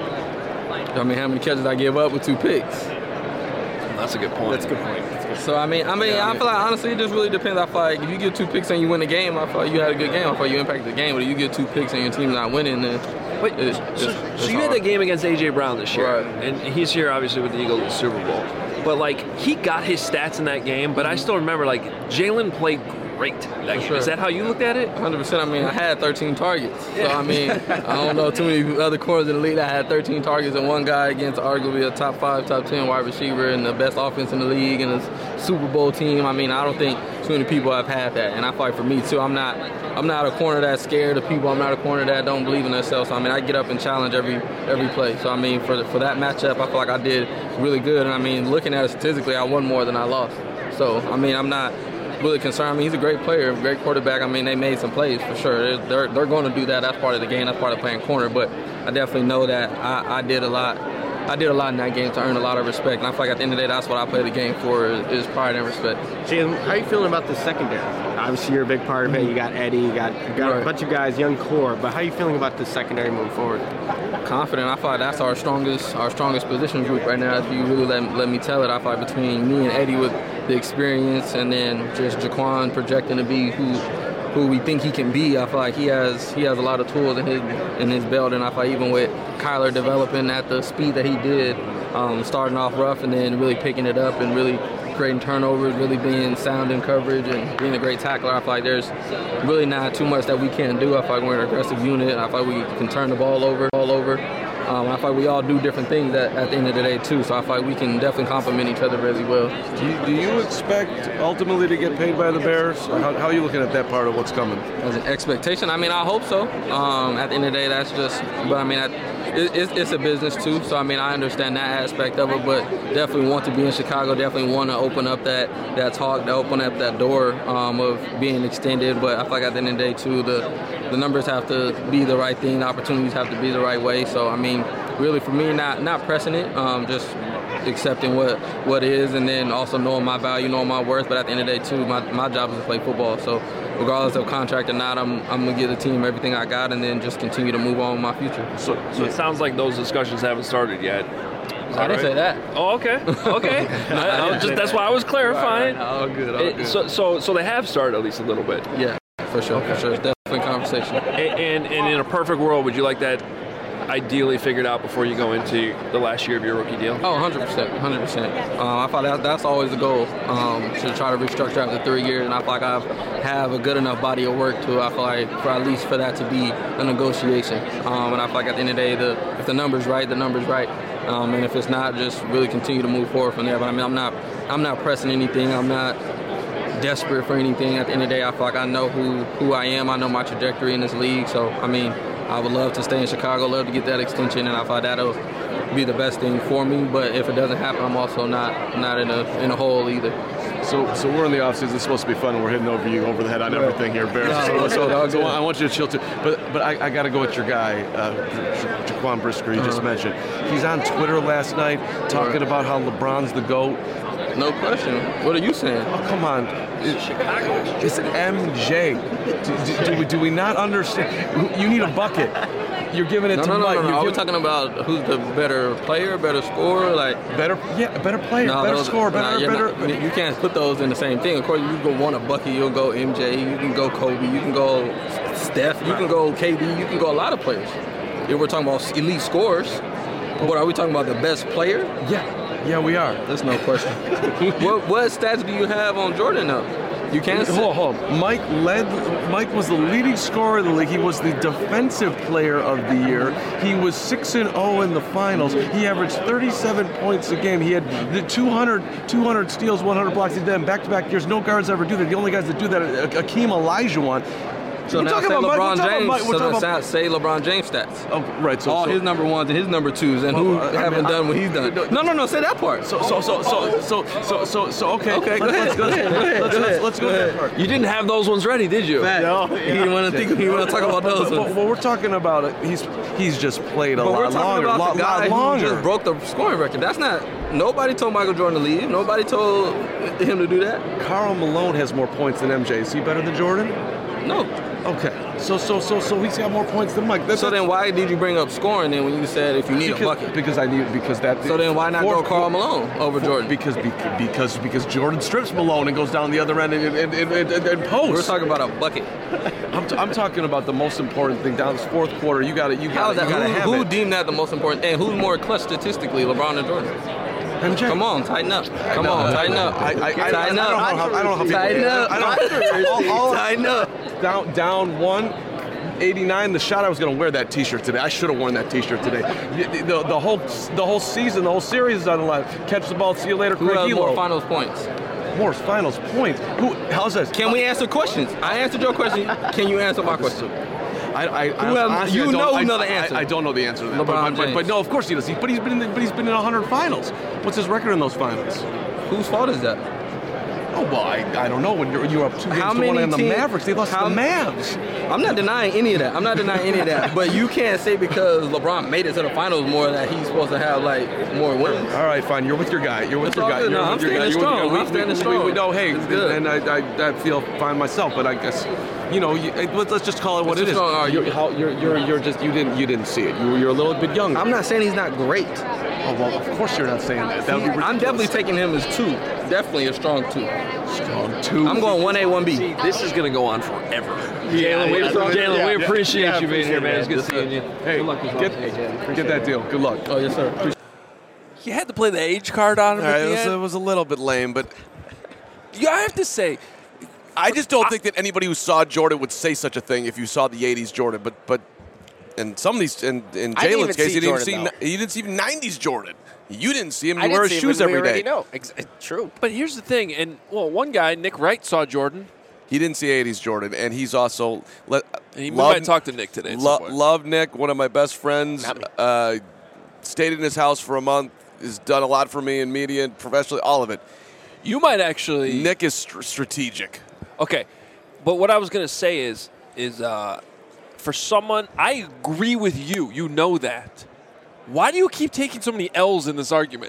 I mean, how many catches I give up with two picks? That's a good point. That's a good point. So I mean, I mean, I feel like honestly, it just really depends. I feel like if you get two picks and you win the game, I feel like you had a good game. I feel like you impacted the game. But if you get two picks and your team's not winning, then Wait, it's so, just, so it's you had hard. that game against A J Brown this year, Right. and he's here obviously with the Eagles in the Super Bowl. But like he got his stats in that game, but I still remember like Jalen played great that game. sure. Is that how you looked at it? one hundred percent. I mean, I had thirteen targets. So, I mean, I don't know too many other corners in the league that had thirteen targets and one guy against arguably a top five, top ten wide receiver and the best offense in the league and a Super Bowl team. I mean, I don't think too many people have had that. And I fight for me, too. I'm not I'm not a corner that's scared of people. I'm not a corner that don't believe in themselves. So, I mean, I get up and challenge every every play. So, I mean, for the, for that matchup, I feel like I did really good. And, I mean, looking at it statistically, I won more than I lost. So, I mean, I'm not – really concern me. He's a great player, great quarterback. I mean, they made some plays for sure. They're, they're, they're going to do that. That's part of the game. That's part of playing corner. But I definitely know that I, I did a lot. I did a lot in that game to earn a lot of respect. And I feel like at the end of the day, that's what I play the game for is, is pride and respect. Jim, how are you feeling about the secondary? Obviously, you're a big part of it. You got Eddie, you got, you got Right. a bunch of guys, young core. But how are you feeling about the secondary moving forward? Confident. I feel like that's our strongest our strongest position group right now. If you really let, let me tell it, I feel like between me and Eddie with the experience and then just Jaquan projecting to be who who we think he can be, I feel like he has he has a lot of tools in his in his belt, and I feel like even with Kyler developing at the speed that he did, um, starting off rough and then really picking it up and really creating turnovers, really being sound in coverage and being a great tackler, I feel like there's really not too much that we can't do. I feel like we're an aggressive unit. I feel like we can turn the ball over, all over. Um, I feel like we all do different things at, at the end of the day too. So I feel like we can definitely complement each other really well. Do you, do you expect ultimately to get paid by the Bears? Or how, how are you looking at that part of what's coming? As an expectation, I mean, I hope so. Um, at the end of the day, that's just. But I mean, I, it, it's, it's a business too. So I mean, I understand that aspect of it, but definitely want to be in Chicago. Definitely want to open up that that talk, to open up that door um, of being extended. But I feel like at the end of the day too, the the numbers have to be the right thing. The opportunities have to be the right way. So I mean, really for me, not not pressing it, um, just accepting what what is, and then also knowing my value, knowing my worth. But at the end of the day too, my, my job is to play football. So regardless of contract or not, I'm I'm gonna give the team everything I got, and then just continue to move on with my future. So, so it sounds like those discussions haven't started yet. I didn't say that. Oh, okay, okay. I, I was just, that's why I was clarifying. All good, all It- good. so, so, so they have started at least a little bit. Yeah, for sure, for sure. It's definitely conversation. And, and, and in a perfect world, would you like that ideally figured out before you go into the last year of your rookie deal? Oh, one hundred percent, one hundred percent. Um, I thought that, that's always the goal, um, to try to restructure after three years, and I feel like I have a good enough body of work to, I feel like, for at least for that to be a negotiation. Um, and I feel like at the end of the day, the, if the number's right, the number's right. Um, and if it's not, just really continue to move forward from there. But I mean, I'm not, I'm not pressing anything. I'm not desperate for anything. At the end of the day, I feel like I know who, who I am. I know my trajectory in this league. So, I mean, I would love to stay in Chicago, love to get that extension, and I thought that'll be the best thing for me. But if it doesn't happen, I'm also not not in a in a hole either. So, so we're in the offseason. It's supposed to be fun, and we're hitting over you over the head on everything here, Bears. No, so, all so, good, all so good. I want you to chill too. But, but I, I got to go with your guy, uh, Ja- Jaquan Brisker. You just Uh-huh. mentioned. He's on Twitter last night talking about how LeBron's the GOAT. No question. What are you saying? Oh, come on. It- It's an M J. Do, do, do, we, do we not understand? You need a bucket. You're giving it No, to no, no, Mike. no, no. You're Are we giving- talking about who's the better player, better scorer? Like, better, yeah, better player, no, better those- score, nah, better, you're better. not- you can't put those in the same thing. Of course, you go want a bucket, you'll go M J, you can go Kobe, you can go Steph, you can go K D, you can go a lot of players. If we're talking about elite scorers, what are we talking about? The best player? Yeah, yeah, we are. That's no question. what what stats do you have on Jordan though? You can't. Hold on, hold on. Mike led. Mike was the leading scorer in the league. He was the defensive player of the year. He was six and zero in the finals. He averaged thirty-seven points a game. He had the two hundred, two hundred steals, one hundred blocks. He did in back-to-back years. No guards ever do that. The only guys that do that are Akeem Olajuwon. So We're now talking say about Mike- we're LeBron talking about James. Mike- we're So talking now about- say LeBron James stats. Oh, right. So, All so, his number ones and his number twos, and who Well, I mean, haven't I- done what he's done. No, no, no. Say that part. so, so, so, so, so, so, so, so, okay. Okay, go Let's- ahead. Let's Go ahead. Go ahead. Let's, Go let's, ahead. let's go Go that ahead. part. You didn't have those ones ready, did you? No, He didn't want to think. He want to talk about those But, ones. but we're talking about it. He's he's just played a But we're lot talking longer. about lot, the guy lot who longer. just broke the scoring record. That's not. Nobody told Michael Jordan to leave. Nobody told him to do that. Karl Malone has more points than M J. Is he better than Jordan? No. Okay. So so so so he's got more points than Mike. That's, So then why did you bring up scoring then when you said if you need because, a bucket? because I need because that. So then why not go Fourth- Karl Malone over fourth- Jordan? Because bec- because because Jordan strips Malone and goes down the other end and and, and, and, and posts. We're talking about a bucket. I'm, t- I'm talking about the most important thing down this fourth quarter. You got to you How got is to that? you got to Who, have who it. deemed that the most important? And who's more clutch statistically, LeBron or Jordan? M J. Come on, tighten up. Come on, tighten up. I, I, I, tighten I, up. I don't know how, I don't know how people. Tighten up. I don't, all, all, Tighten up. down down one. eighty-nine, the shot I was going to wear that T-shirt today. I should have worn that T-shirt today. The, the, the whole the whole season, the whole series is on the line. Catch the ball, see you later, Who Craig has Elo. more finals points? More finals points. Who? How's this? Can we answer questions? I answered your question. Can you answer my question? I, I, Who I, has- honestly, you I don't, know I, know the I- answer. I, I don't know the answer to that. LeBron but, but, but, James. but no, of course he does. He, but he's been in the, but he's been in one hundred finals. What's his record in those finals? Whose fault is that? Oh, well, I, I don't know. When you're, you're up two games How to many one on the teams- Mavericks, they lost how- to the Mavs. I'm not denying any of that. I'm not denying any of that. But you can't say because LeBron made it to the finals more that he's supposed to have like more wins. All right, fine. You're with your guy. You're with It's your all guy. good. You're No, with I'm your guy. standing You're with your strong. guy. I'm standing we, strong. We, know, hey, It's good. and I, I, I feel fine myself. But I guess, you know, you, hey, let's, let's just call it what Let's it is. just go, uh, You're, how, you're, you're, you're just you didn't you didn't see it. You, you're a little bit younger. I'm not saying he's not great. Oh, well, of course you're not saying that. That would be ridiculous. I'm definitely taking him as two. Definitely a strong two. Strong two. I'm going one A, one B. This is going to go on forever. Jalen, we, Jalen, yeah, we yeah, appreciate yeah, you being here, man. It's good appreciate seeing you. Hey, Good luck this get, offseason. get that deal. Good luck. Oh, yes, sir. You had to play the age card on him All right, at it the was, end. it was a little bit lame, but You I have to say, I just don't think that anybody who saw Jordan would say such a thing if you saw the eighties Jordan. But but in some of these, in, in I didn't even Jalen's case, see you didn't Jordan, see though. you didn't see nineties Jordan. You didn't see him. I You wear didn't his see shoes him, we every already day. know. Ex- true. but here's the thing, and well, one guy, Nick Wright, saw Jordan, He didn't see eighties Jordan, and he's also le- and he love, might talk to Nick today. at lo- some point. love Nick, one of my best friends. Not me. Uh, stayed in his house for a month. Has done a lot for me in media and professionally, all of it. You might actually. Nick is str- strategic. Okay, but what I was gonna say is, is uh, for someone, I agree with you. You know that. Why do you keep taking so many L's in this argument?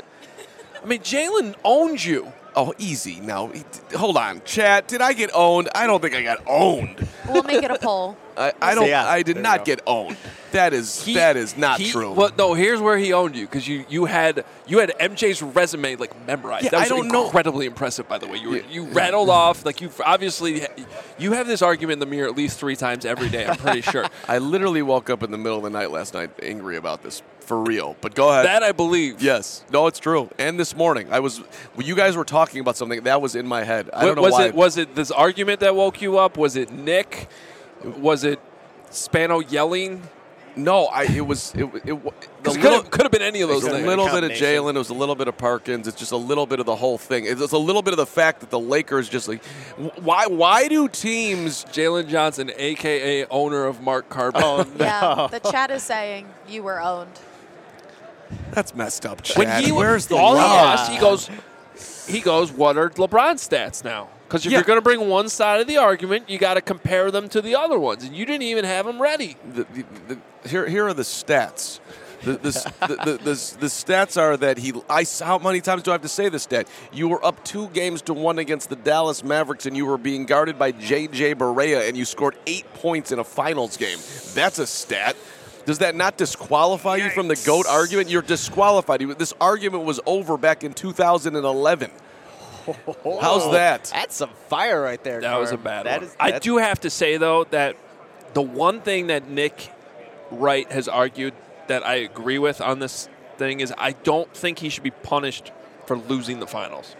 I mean, Jalen owns you. Oh, easy. Now, hold on. Chat, did I get owned? I don't think I got owned. We'll make it a poll. I, I don't. Yeah, I did there you not go. get owned. That is He- that is not he- true. Well, no. Here's where he owned you because you, you had you had M J's resume like memorized. Yeah, that was I don't know- incredibly impressive, by the way. You were, Yeah. you rattled off like you obviously you have this argument in the mirror at least three times every day. I'm pretty sure I literally woke up in the middle of the night last night angry about this for real. But go ahead. that I believe. Yes. No, it's true. And this morning, I was. When you guys were talking about something that was in my head. I don't know was why. it was it this argument that woke you up? Was it Nick? Was it Spano yelling? no, I. It was. It. It. it the Could little, have, could have been any of it those was a things. little bit of Combination. Jalen. It was a little bit of Parkins. It's just a little bit of the whole thing. It's a little bit of the fact that the Lakers just like. Why? Why do teams? Jalen Johnson, a k a owner of Mark Carbon. Oh, Yeah, the chat is saying you were owned. That's messed up. Chad. When he Where's the all he love? asked, he goes, he goes, what are LeBron's stats now? Because if Yeah. you're going to bring one side of the argument, you got to compare them to the other ones, and you didn't even have them ready. The, the, the, here, here are the stats. The, the, the, the, the, the stats are that he. I. How many times do I have to say this stat? You were up two games to one against the Dallas Mavericks, and you were being guarded by J J Barea, and you scored eight points in a finals game. That's a stat. Does that not disqualify you from the GOAT argument? You're disqualified. This argument was over back in two thousand eleven. How's that? That's some fire right there. That was a Carm. bad That one. is- I that's- do have to say, though, that the one thing that Nick Wright has argued that I agree with on this thing is I don't think he should be punished for losing the finals.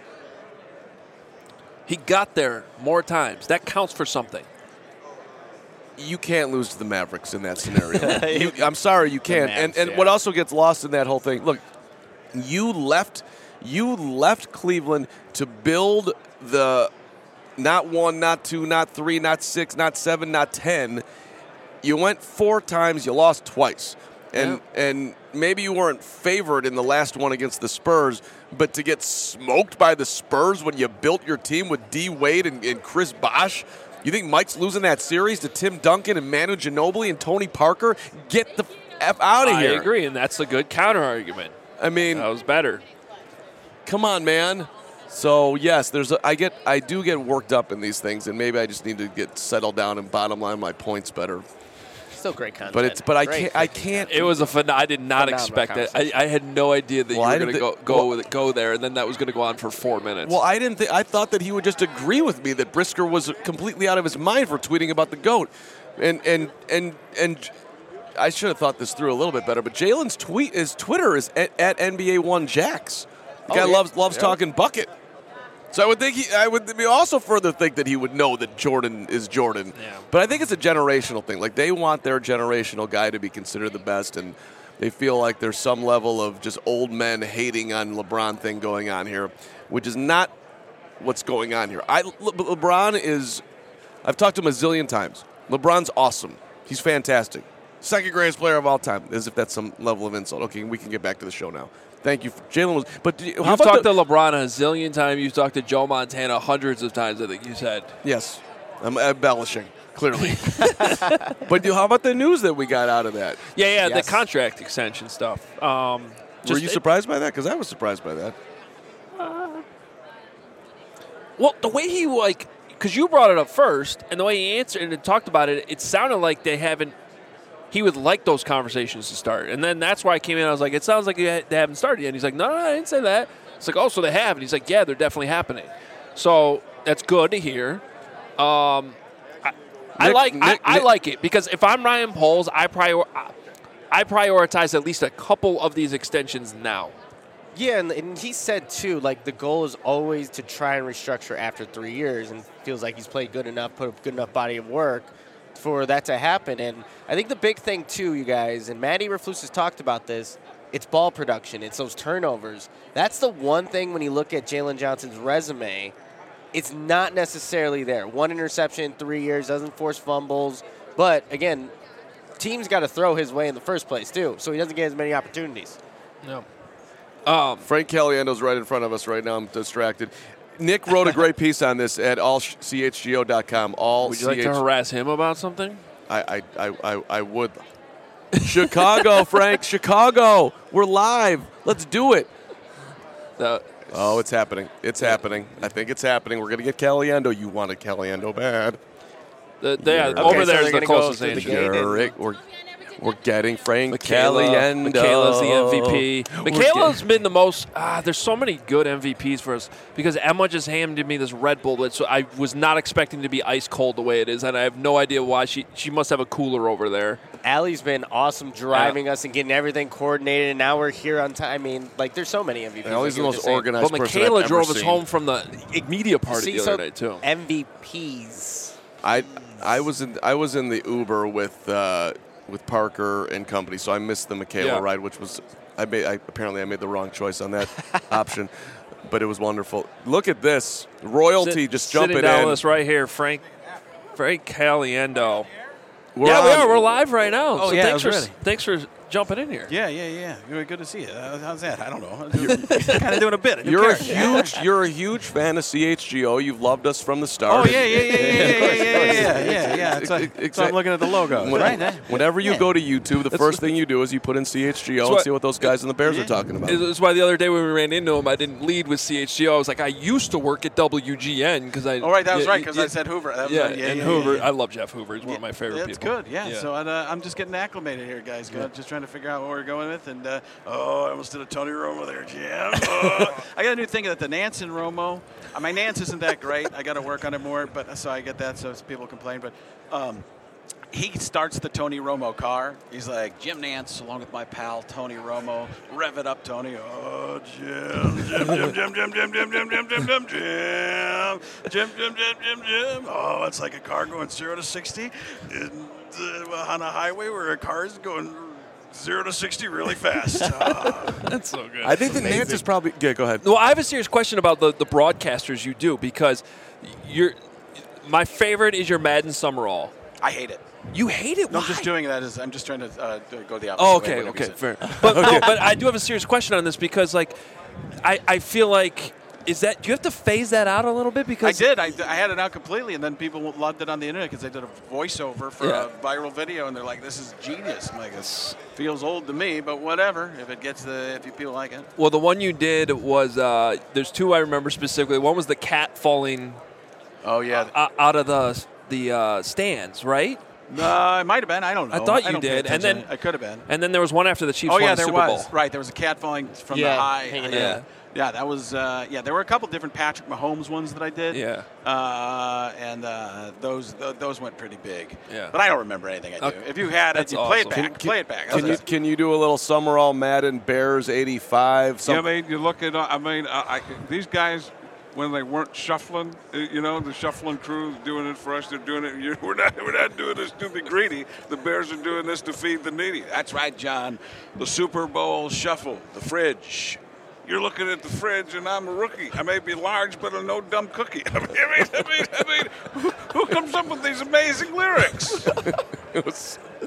He got there more times. That counts for something. You can't lose to the Mavericks in that scenario. you, I'm sorry, you can't. Mavs, and and yeah. what also gets lost in that whole thing, look, you left you left Cleveland to build the not one, not two, not three, not six, not seven, not ten. You went four times, you lost twice. And and maybe you weren't favored in the last one against the Spurs, but to get smoked by the Spurs when you built your team with D. Wade and, and Chris Bosh, you think Mike's losing that series to Tim Duncan and Manu Ginobili and Tony Parker? Get the F out of I here. agree, and that's a good counter argument. I mean, That was better. come on, man. So yes, there's a, I get I do get worked up in these things, and maybe I just need to get settled down and bottom line my points better. Still great content. But it's but I Great can't I freaking can't. It was a fun. I did not Phenomenal expect it. I, conversation. I had no idea that Well, I you were going to go didn't thi- go well- with it, go there, and then that was going to go on for four minutes. Well, I didn't think I thought that he would just agree with me that Brisker was completely out of his mind for tweeting about the GOAT, and and and and I should have thought this through a little bit better. But Jalen's tweet, his Twitter is at, at N B A one Jax. The Oh, guy yeah. loves loves Yeah. talking bucket. So I would think he, I would also further think that he would know that Jordan is Jordan. Yeah. But I think it's a generational thing. Like they want their generational guy to be considered the best, and they feel like there's some level of just old men hating on LeBron thing going on here, which is not what's going on here. I Le, LeBron is. I've talked to him a zillion times. LeBron's awesome. He's fantastic. Second greatest player of all time, as if that's some level of insult. Okay, we can get back to the show now. Thank you. Jalen was. But do you- how You've about talked the, to LeBron a zillion times. You've talked to Joe Montana hundreds of times, I think you said. Yes. I'm embellishing, clearly. But do- how about the news that we got out of that? Yeah, yeah, Yes. the contract extension stuff. Um, Were just- you it- surprised by that? Because I was surprised by that. Well, the way he, like, because you brought it up first, and the way he answered and talked about it, it sounded like they haven't, he would like those conversations to start. And then that's why I came in, I was like, it sounds like they haven't started yet. And he's like, no, no, I didn't say that. It's like, oh, so they have. And he's like, yeah, they're definitely happening. So that's good to hear. Um, I, I Nick- like Nick- I, I Nick- like it because if I'm Ryan Poles, I prior I prioritize at least a couple of these extensions now. Yeah, and, and he said too, like the goal is always to try and restructure after three years, and feels like he's played good enough, put a good enough body of work for that to happen. And I think the big thing too, you guys, and Matty Raflus has talked about this, it's ball production, it's those turnovers. That's the one thing when you look at Jalen Johnson's resume, it's not necessarily there. One interception in three years, doesn't force fumbles, but again, teams got to throw his way in the first place too, so he doesn't get as many opportunities. No. Um, Frank Caliendo's right in front of us right now. I'm distracted. Nick wrote a great piece on this at all c h g o dot com. All Would you like to harass him about something? I, I, I, I, I would. Chicago, Frank, Chicago. We're live. Let's do it. The, Oh, it's happening. It's happening. I think it's happening. We're going to get Caliendo. You wanted Caliendo bad. the, the, yeah, Okay, over so there is they're the gonna go closest through the answer. gate. You're right. We're, we're getting Frank Michaela, Caliendo. Michaela's the M V P. We're Michaela's get- been the most. Ah, there's so many good M V Ps for us because Emma just handed me this Red Bull that so I was not expecting to be ice cold the way it is, and I have no idea why. She she must have a cooler over there. Allie's been awesome driving us and getting everything coordinated, and now we're here on time. I mean, like, there's so many M V Ps. Allie's like the you were most just saying. organized But person Michaela I've drove ever us seen. home from the media party See, the so other night too. M V Ps. I I was in I was in the Uber with uh, with Parker and company, so I missed the Michaela Yeah. ride, which was I made. I, apparently, I made the wrong choice on that option, but it was wonderful. Look at this royalty Sit- just sitting jumping down in. with us right here, Frank. Frank Caliendo. We're yeah, we on. are. We're live right now. Oh, so yeah, I thanks was for ready. thanks for jumping in here. Yeah, yeah, yeah. Really good to see you. Uh, how's that? I don't know. kind of doing a bit. You're a huge you're a huge fan of C H G O. You've loved us from the start. Oh yeah, yeah, yeah, yeah, yeah, yeah, yeah, yeah, yeah, yeah. It's like, Exact- so I'm looking at the logo. When- Right. Whenever you go to YouTube, the first thing you do is you put in C H G O and what- see what those guys in the Bears are talking about. That's why the other day when we ran into him, I didn't lead with C H G O. I was like, I used to work at W G N because I. Oh right, that was yeah, right because yeah, I said Hoover. That was yeah, right. yeah, and yeah, Hoover. Yeah, yeah. I love Jeff Hoover. He's one of my favorite That's people. good. Yeah. So uh, I'm just getting acclimated here, guys. Good. Just trying to figure out what we're going with. And uh, oh, I almost did a Tony Romo there, Jim. Oh. I got a new thing that the Nance and Romo. Uh, my Nance isn't that great. I got to work on it more. But so I get that. So people complain. But. Um, He starts the Tony Romo car. He's like, Jim Nance, along with my pal Tony Romo. Rev it up, Tony. Oh, Jim, Jim, Jim, Jim, Jim, Jim, Jim, Jim, Jim, Jim, Jim, Jim, Jim, Jim, Jim, Jim, Jim. Oh, it's like a car going zero to sixty in, uh, on a highway where a car is going zero to sixty really fast. Oh. That's so good. I think that Nance is probably. Yeah, go ahead. Well, I have a serious question about the, the broadcasters you do because you're. My favorite is your Madden Summerall. I hate it. You hate it? No, Why? I'm just doing that as I'm just trying to uh, go the opposite Oh, way. okay, whatever you okay, said. fair. But no, but I do have a serious question on this because, like, I, I feel like is that do you have to phase that out a little bit I because did. I, I had it out completely, and then people loved it on the internet because they did a voiceover for Yeah. a viral video, and they're like, "This is genius." I'm like, "This feels old to me, but whatever. If it gets the, if you people like it." Well, the one you did was uh, there's two I remember specifically. One was the cat falling Oh yeah. uh, out of the the uh, stands, right? No, it might have been. I don't know. I thought you don't pay did, and attention. then- It could have been. And then there was one after the Chiefs Oh won yeah, the there Super was. Bowl. Right, there was a cat falling from Yeah, the high. hanging Yeah. in. Yeah, that was. Uh, yeah, there were a couple different Patrick Mahomes ones that I did. Yeah. Uh, and uh, those th- those went pretty big. Yeah. But I don't remember anything I do. Okay. If you had it, That's you play it awesome. back. play it back. Can you That's it. can you do a little Summerall Madden Bears eighty-five? Yeah, Some, I mean, you look at, I mean, I, I, these guys, when they weren't shuffling, uh, you know, the shuffling crew doing it for us, they're doing it. You, we're not, we're not doing this to be greedy. The Bears are doing this to feed the needy. That's right, John. The Super Bowl shuffle, the fridge. You're looking at the fridge, and I'm a rookie. I may be large, but I'm no dumb cookie. I mean, I mean, I mean, I mean who, who comes up with these amazing lyrics? it was,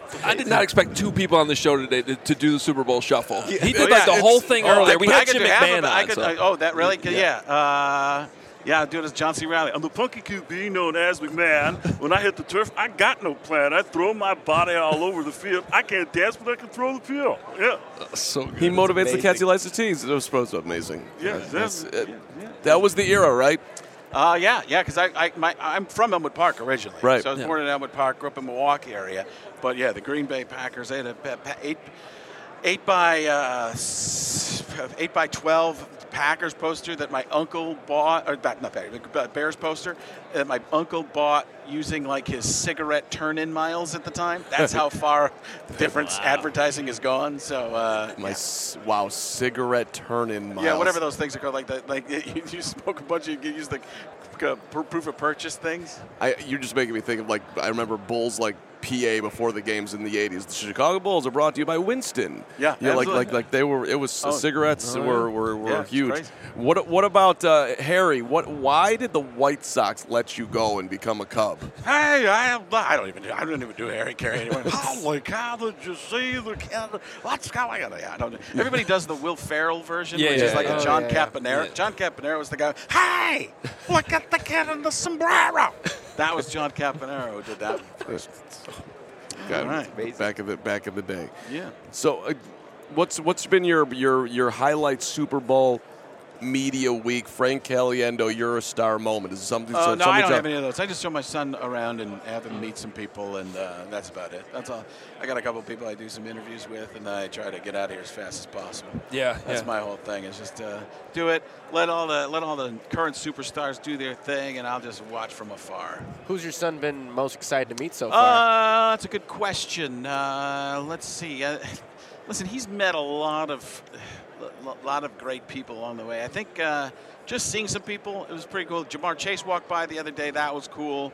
I did not expect two people on the show today to, to do the Super Bowl shuffle. Yeah. He did Yeah, like the it's- whole thing oh, earlier. I- we I had could Jim do half of McMahon it. I on. could- so. I- oh, that really? Yeah. Yeah. Uh, yeah, I'll do it as John C. Riley. I'm the punky Q B known as McMahon. When I hit the turf, I got no plan. I throw my body all over the field. I can't dance, but I can throw the field. Yeah. So good. He motivates the amazing. cats he likes to tease. It was supposed to be amazing. Yeah, That's- that's- it- yeah, yeah. That was the era, right? Uh, yeah, yeah, because I, I, my, I'm from Elmwood Park originally. Right. So I was Yeah. born in Elmwood Park, grew up in Milwaukee area. But yeah, the Green Bay Packers, they had a pa- pa- eight, eight by uh, s- eight by twelve Packers poster that my uncle bought, or not not Packers, but Bears poster that my uncle bought using like his cigarette turn-in miles at the time. That's how far different advertising has gone. So uh, My s- wow, cigarette turn-in miles. yeah, whatever those things are called, like that, like you, you smoke a bunch of, you use the uh, pr- proof of purchase things. I, you're just making me think of like I remember Bulls like P A before the games in the eighties. The Chicago Bulls are brought to you by Winston. Yeah, you know, like absolutely. like like they were. It was Oh. cigarettes Oh, yeah. were were, were Yeah, it's huge. crazy. What what about uh, Harry? What why did the White Sox let you go and become a Cub? Hey, I am. I don't even. do I don't even do Harry Carey anymore. Holy cow! Did you see the kid? What's going on? Yeah, I don't. Everybody does the Will Ferrell version, Yeah, which yeah, is like yeah. a John Oh, yeah. Caponera. Yeah. John Caponera was the guy. Hey, look at the kid in the sombrero. That was John Caponera who did that first. God, All right. back in the back in the day. Yeah. So, uh, what's what's been your your your highlight Super Bowl media week? Frank Caliendo, you're a star moment. Is it something? Uh, so, no, I something don't to- have any of those. I just show my son around and have him meet some people, and uh, that's about it. That's all. I got a couple of people I do some interviews with, and I try to get out of here as fast as possible. Yeah, That's yeah. my whole thing. Is just uh, do it. Let all the let all the current superstars do their thing, and I'll just watch from afar. Who's your son been most excited to meet so far? Uh, that's a good question. Uh, let's see. Uh, listen, he's met a lot of a lot of great people along the way. I think uh, just seeing some people, it was pretty cool. Jamar Chase walked by the other day. That was cool.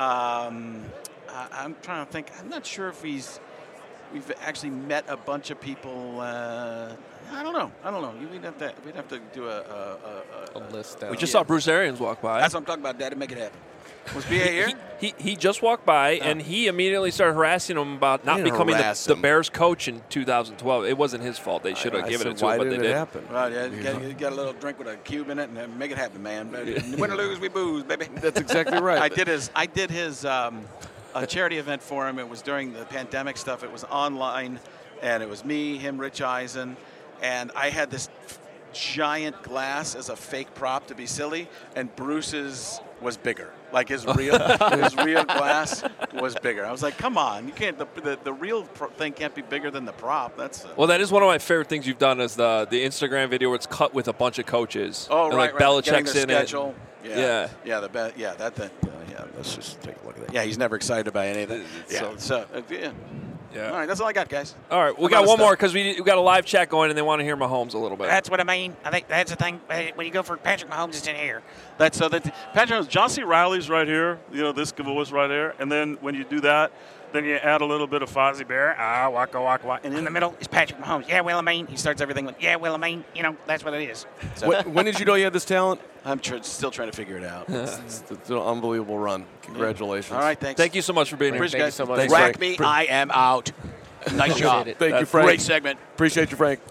Um, I, I'm trying to think. I'm not sure if he's we've actually met a bunch of people. Uh, I don't know. I don't know. We'd have to we'd have to do a a, a, A list. We Out. just yeah. saw Bruce Arians walk by. That's what I'm talking about, Daddy. Make it happen. Was B A here? He, he, he just walked by, and he immediately started harassing him about not didn't becoming the, harass the him. Bears coach in two thousand twelve. It wasn't his fault. They should have I given said, it to why him, but did they it did. happen? Right, yeah, you got, you got a little drink with a cube in it, and make it happen, man. Win or lose, we booze, baby. That's exactly right. I did his, I did his um, a charity event for him. It was during the pandemic stuff. It was online, and it was me, him, Rich Eisen, and I had this giant glass as a fake prop to be silly, and Bruce's was bigger. Like his real, his real glass was bigger. I was like, "Come on, you can't. The the, the real pro- thing can't be bigger than the prop." That's uh, Well, that is one of my favorite things you've done is the the Instagram video where it's cut with a bunch of coaches. oh and right, like right. Getting Belichick's the in schedule. it. Yeah, Yeah. yeah, the be- yeah that thing. Uh, yeah, let's just take a look at that. Yeah, he's never excited about any of that. Yeah, so- so uh, yeah. Yeah. All right, that's all I got, guys. All right, we I'm got out of one stuff. more because we, we got a live chat going and they want to hear Mahomes a little bit. That's what I mean. I think that's the thing. uh, When you go for Patrick Mahomes, it's in here. That's so that Patrick Mahomes, John C. Riley's right here. You know, this voice right there. And then when you do that, then you add a little bit of Fozzie Bear. Ah, waka waka waka. And in the middle is Patrick Mahomes. Yeah, well, I mean, he starts everything with, yeah, well, I mean, you know, that's what it is. So, when, when did you know you had this talent? I'm tr- still trying to figure it out. It's, it's an unbelievable run. Congratulations. All right, thanks. Thank you so much for being here. Appreciate Thank you you so much. Thanks, Rack Frank. me, I am out. Nice job. it. Thank you, Uh, Frank. Great segment. Appreciate you, Frank.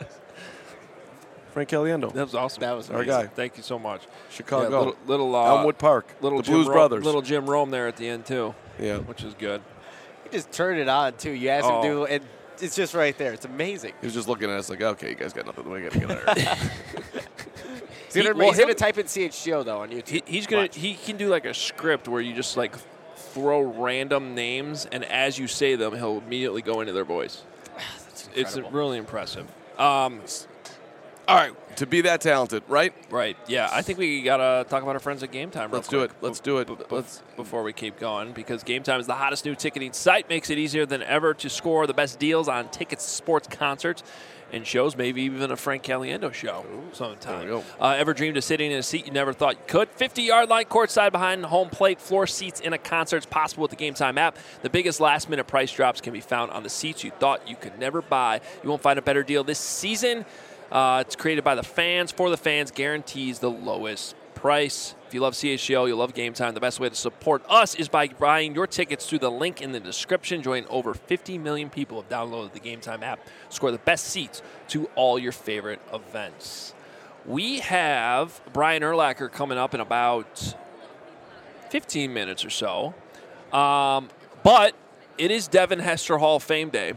Frank Caliendo. That was awesome. That was Our Amazing. guy. Thank you so much. Chicago. Yeah, little little uh, Elmwood Park. little the Jim Blues Ro- Brothers. little Jim Rome there at the end too, yeah. which is good. He just turned it on too. You asked Oh. him to, and it's just right there. It's amazing. He was just looking at us like, okay, you guys got nothing. We got to get out of here. He's gonna, He- well, he's gonna he'll- type in C H G O though on YouTube. He, he's gonna Watch. he can do like a script where you just like throw random names and as you say them, he'll immediately go into their voice. It's incredible. really impressive. Um, all right, To be that talented, right? right, yeah. I think we gotta talk about our friends at Game Time. real Let's do quick it. Let's do it. b- b- Let's. before we keep going, because Game Time is the hottest new ticketing site. Makes it easier than ever to score the best deals on tickets, sports, concerts, and shows. Maybe even a Frank Caliendo show sometime. There we go. Uh, ever dreamed of sitting in a seat you never thought you could? fifty-yard line, courtside behind home plate, floor seats in a concert is possible with the Game Time app. The biggest last-minute price drops can be found on the seats you thought you could never buy. You won't find a better deal this season. Uh, it's created by the fans, for the fans, guarantees the lowest price. If you love C H G O, you love Game Time, the best way to support us is by buying your tickets through the link in the description. Join over fifty million people have downloaded the Game Time app. Score the best seats to all your favorite events. We have Brian Urlacher coming up in about fifteen minutes or so. Um, but it is Devin Hester Hall of Fame Day.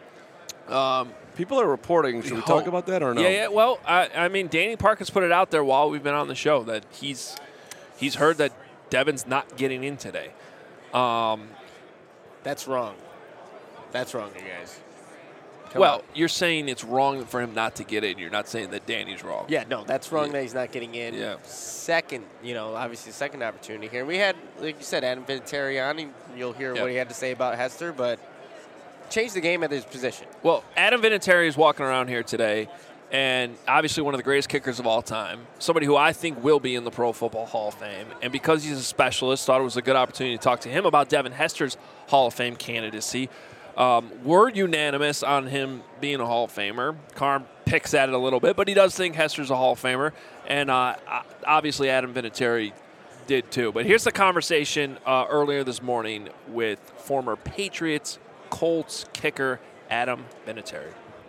Um, People are reporting. Should we oh, talk about that or no? Yeah, yeah. Well, I, I mean, Danny Park has put it out there while we've been on the show that he's he's heard that Devin's not getting in today. Um, That's wrong. That's wrong, you guys. Come well, on. you're saying it's wrong for him not to get in. You're not saying that Danny's wrong. Yeah, no, that's wrong Yeah. that he's not getting in. Yeah. Second, you know, obviously second opportunity here. We had, like you said, Adam Vinatieri on. and You'll hear Yep. what he had to say about Hester, but change the game at his position. Well, Adam Vinatieri is walking around here today, and obviously one of the greatest kickers of all time, somebody who I think will be in the Pro Football Hall of Fame. And because he's a specialist, thought it was a good opportunity to talk to him about Devin Hester's Hall of Fame candidacy. Um, we're unanimous on him being a Hall of Famer. Carm picks at it a little bit, but he does think Hester's a Hall of Famer. And uh, obviously Adam Vinatieri did too. But here's the conversation uh, earlier this morning with former Patriots Colts kicker Adam Vinatieri.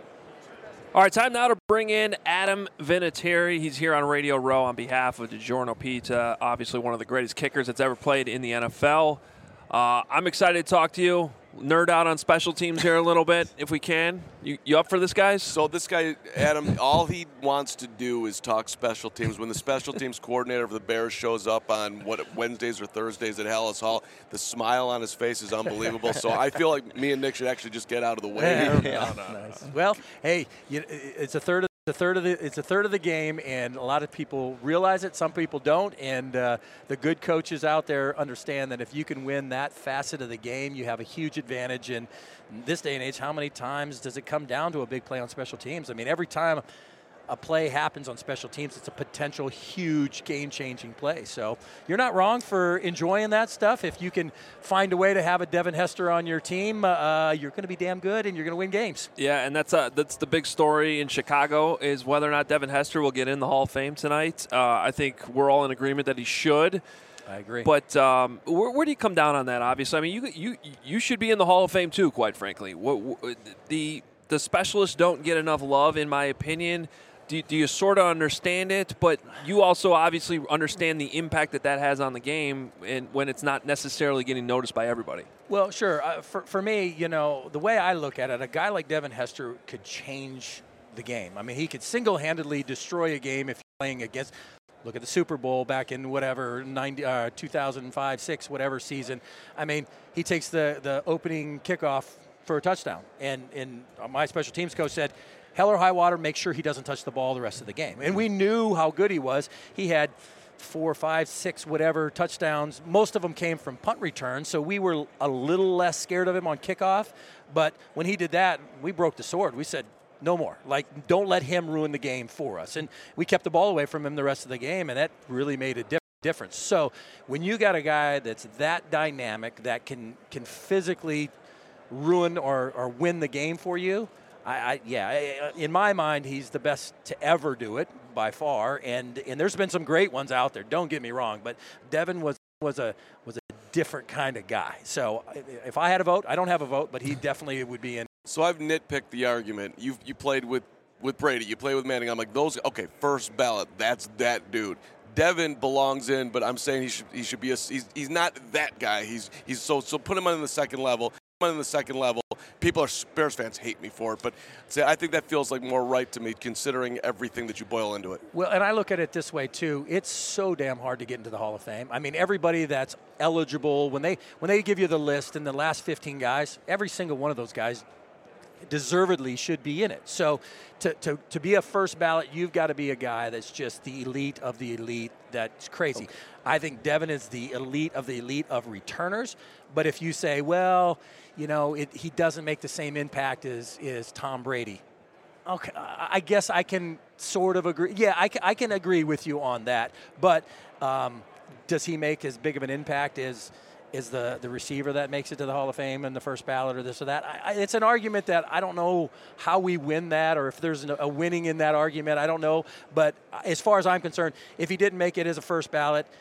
All right, time now to bring in Adam Vinatieri. He's here on Radio Row on behalf of DiGiorno Pizza, obviously one of the greatest kickers that's ever played in the N F L. Uh, I'm excited to talk to you. Nerd out on special teams here a little bit, if we can. You, you up for this, guys? So this guy, Adam, all he wants to do is talk special teams. When the special teams coordinator for the Bears shows up on what Wednesdays or Thursdays at Hallis Hall, the smile on his face is unbelievable. So I feel like me and Nick should actually just get out of the way. Yeah, no, no, nice. No. Well, hey, you, it's a third of the third of the it's a third of the game, and a lot of people realize it. Some people don't, and uh, the good coaches out there understand that if you can win that facet of the game, you have a huge advantage. And in this day and age, how many times does it come down to a big play on special teams? I mean, every time a play happens on special teams, it's a potential huge game-changing play. So you're not wrong for enjoying that stuff. If you can find a way to have a Devin Hester on your team, uh, you're going to be damn good, and you're going to win games. Yeah, and that's uh, that's the big story in Chicago is whether or not Devin Hester will get in the Hall of Fame tonight. Uh, I think we're all in agreement that he should. I agree. But um, where, where do you come down on that? Obviously, I mean, you you you should be in the Hall of Fame too. Quite frankly, what, what, the the specialists don't get enough love, in my opinion. Do, do you sort of understand it? But you also obviously understand the impact that that has on the game, and when it's not necessarily getting noticed by everybody. Well, sure. Uh, for for me, you know, the way I look at it, a guy like Devin Hester could change the game. I mean, he could single-handedly destroy a game if you're playing against. Look at the Super Bowl back in whatever ninety, uh, two thousand five, six, whatever season. I mean, he takes the, the opening kickoff for a touchdown. And, and my special teams coach said, hell or high water, make sure he doesn't touch the ball the rest of the game. And we knew how good he was. He had four, five, six, whatever touchdowns. Most of them came from punt returns, so we were a little less scared of him on kickoff. But when he did that, we broke the sword. We said, no more. Like, don't let him ruin the game for us. And we kept the ball away from him the rest of the game, and that really made a dip- difference. So when you got a guy that's that dynamic, that can can physically ruin or, or win the game for you, I, I yeah, I, in my mind, he's the best to ever do it by far. And and there's been some great ones out there. Don't get me wrong, but Devin was was a was a different kind of guy. So if I had a vote, I don't have a vote, but he definitely would be in. So I've nitpicked the argument. You you played with, with Brady. You played with Manning. I'm like, those, okay, first ballot, that's that dude. Devin belongs in, but I'm saying he should he should be a, he's, he's not that guy. He's he's so so put him on the second level. Put him on the second level. People are Bears fans hate me for it, but say I think that feels like more right to me considering everything that you boil into it. Well, and I look at it this way too. It's so damn hard to get into the Hall of Fame. I mean, everybody that's eligible, when they when they give you the list and the last fifteen guys, every single one of those guys deservedly should be in it. So to, to, to be a first ballot, you've got to be a guy that's just the elite of the elite. That's crazy. Okay. I think Devin is the elite of the elite of returners. But if you say, well, you know, it, he doesn't make the same impact as, as Tom Brady. Okay, I guess I can sort of agree. Yeah, I can, I can agree with you on that. But um, does he make as big of an impact as is the, the receiver that makes it to the Hall of Fame and the first ballot or this or that? I, I, it's an argument that I don't know how we win that or if there's a, a winning in that argument. I don't know. But as far as I'm concerned, if he didn't make it as a first ballot,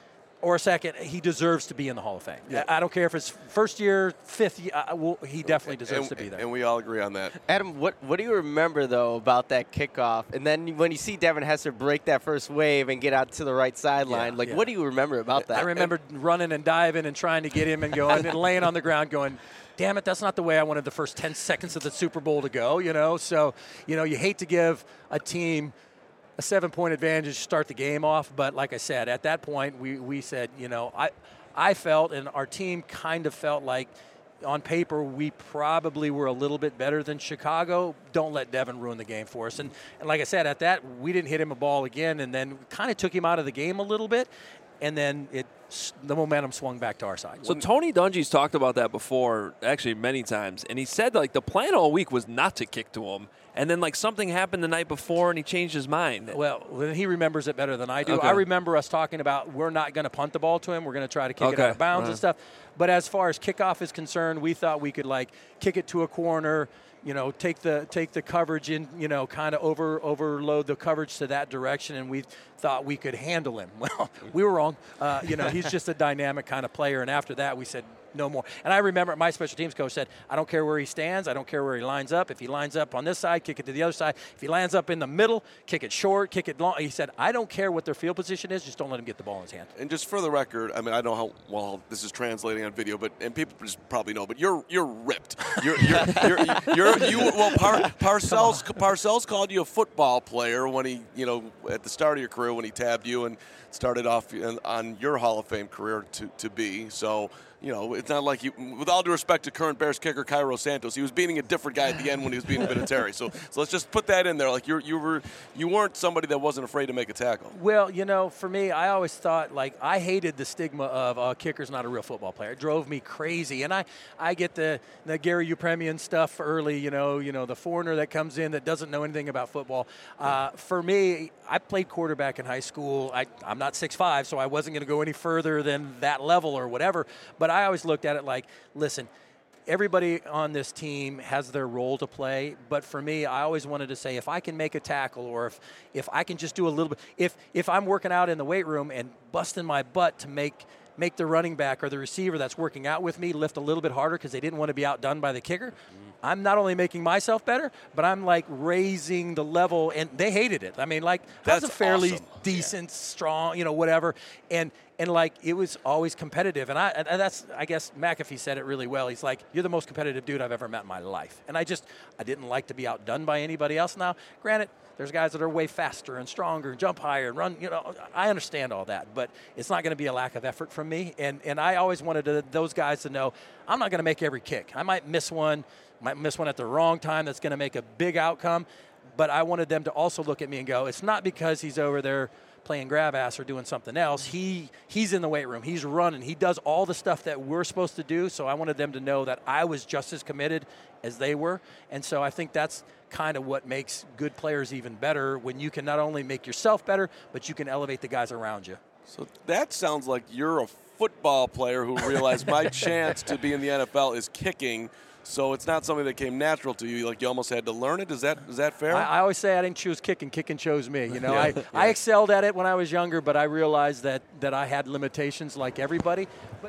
or second, he deserves to be in the Hall of Fame. Yeah. I don't care if it's first year, fifth year, uh, well, he definitely deserves and, to be there. And we all agree on that. Adam, what what do you remember, though, about that kickoff? And then when you see Devin Hester break that first wave and get out to the right sideline, Yeah, like, yeah. what do you remember about that? I remember running and diving and trying to get him and going and laying on the ground going, damn it, that's not the way I wanted the first ten seconds of the Super Bowl to go, you know? So, you know, you hate to give a team a seven-point advantage to start the game off, but like I said, at that point, we, we said, you know, I I felt and our team kind of felt like on paper we probably were a little bit better than Chicago. Don't let Devin ruin the game for us. And, and like I said, at that, we didn't hit him a ball again, and then kind of took him out of the game a little bit, and then it the momentum swung back to our side. So Tony Dungy's talked about that before, actually many times, and he said like the plan all week was not to kick to him, and then like something happened the night before and he changed his mind. Well, he remembers it better than I do. Okay. I remember us talking about we're not going to punt the ball to him. We're going to try to kick it Okay. out of bounds Right. and stuff. But as far as kickoff is concerned, we thought we could like kick it to a corner, you know, take the take the coverage in, you know, kind of over overload the coverage to that direction, and we thought we could handle him. Well, we were wrong. Uh, you know, he's just a dynamic kind of player, and after that, we said no more. And I remember my special teams coach said, I don't care where he stands, I don't care where he lines up. If he lines up on this side, kick it to the other side. If he lands up in the middle, kick it short, kick it long. He said, I don't care what their field position is, just don't let him get the ball in his hand. And just for the record, I mean, I don't know how well this is translating on video, but and people just probably know, but you're you're ripped. You're you're you're, you're you. Well, Par, Parcells Parcells called you a football player when he, you know, at the start of your career when he tabbed you and started off on your Hall of Fame career to to be. So, you know, it's not like you, with all due respect to current Bears kicker Cairo Santos, he was beating a different guy at the end when he was beating Vinatieri. So, so let's just put that in there. Like you, you were, you weren't somebody that wasn't afraid to make a tackle. Well, you know, for me, I always thought like I hated the stigma of uh, kicker's not a real football player. It drove me crazy, and I, I get the the Gary Upremian stuff early. You know, you know the foreigner that comes in that doesn't know anything about football. Uh, for me, I played quarterback in high school. I, I'm not six five, so I wasn't going to go any further than that level or whatever. But I always looked at it like, listen, everybody on this team has their role to play, but for me, I always wanted to say if I can make a tackle or if, if I can just do a little bit, if if I'm working out in the weight room and busting my butt to make make the running back or the receiver that's working out with me lift a little bit harder because they didn't want to be outdone by the kicker, I'm not only making myself better, but I'm like raising the level, and they hated it. I mean, like that's, that's a fairly awesome. decent, yeah. strong, you know, whatever, and and like it was always competitive, and I and that's I guess McAfee said it really well. He's like, you're the most competitive dude I've ever met in my life, and I just I didn't like to be outdone by anybody else. Now, granted, there's guys that are way faster and stronger and jump higher and run, you know, I understand all that, but it's not going to be a lack of effort from me, and and I always wanted to, those guys to know I'm not going to make every kick. I might miss one. Might miss one at the wrong time that's going to make a big outcome, but I wanted them to also look at me and go, it's not because he's over there playing grab ass or doing something else. He he's in the weight room. He's running. He does all the stuff that we're supposed to do, so I wanted them to know that I was just as committed as they were, and so I think that's kind of what makes good players even better when you can not only make yourself better, but you can elevate the guys around you. So that sounds like you're a football player who realized my chance to be in the N F L is kicking. So it's not something that came natural to you. Like you almost had to learn it. Is that is that fair? I, I always say I didn't choose kicking. Kicking chose me. You know, yeah, I, yeah. I excelled at it when I was younger, but I realized that that I had limitations like everybody. But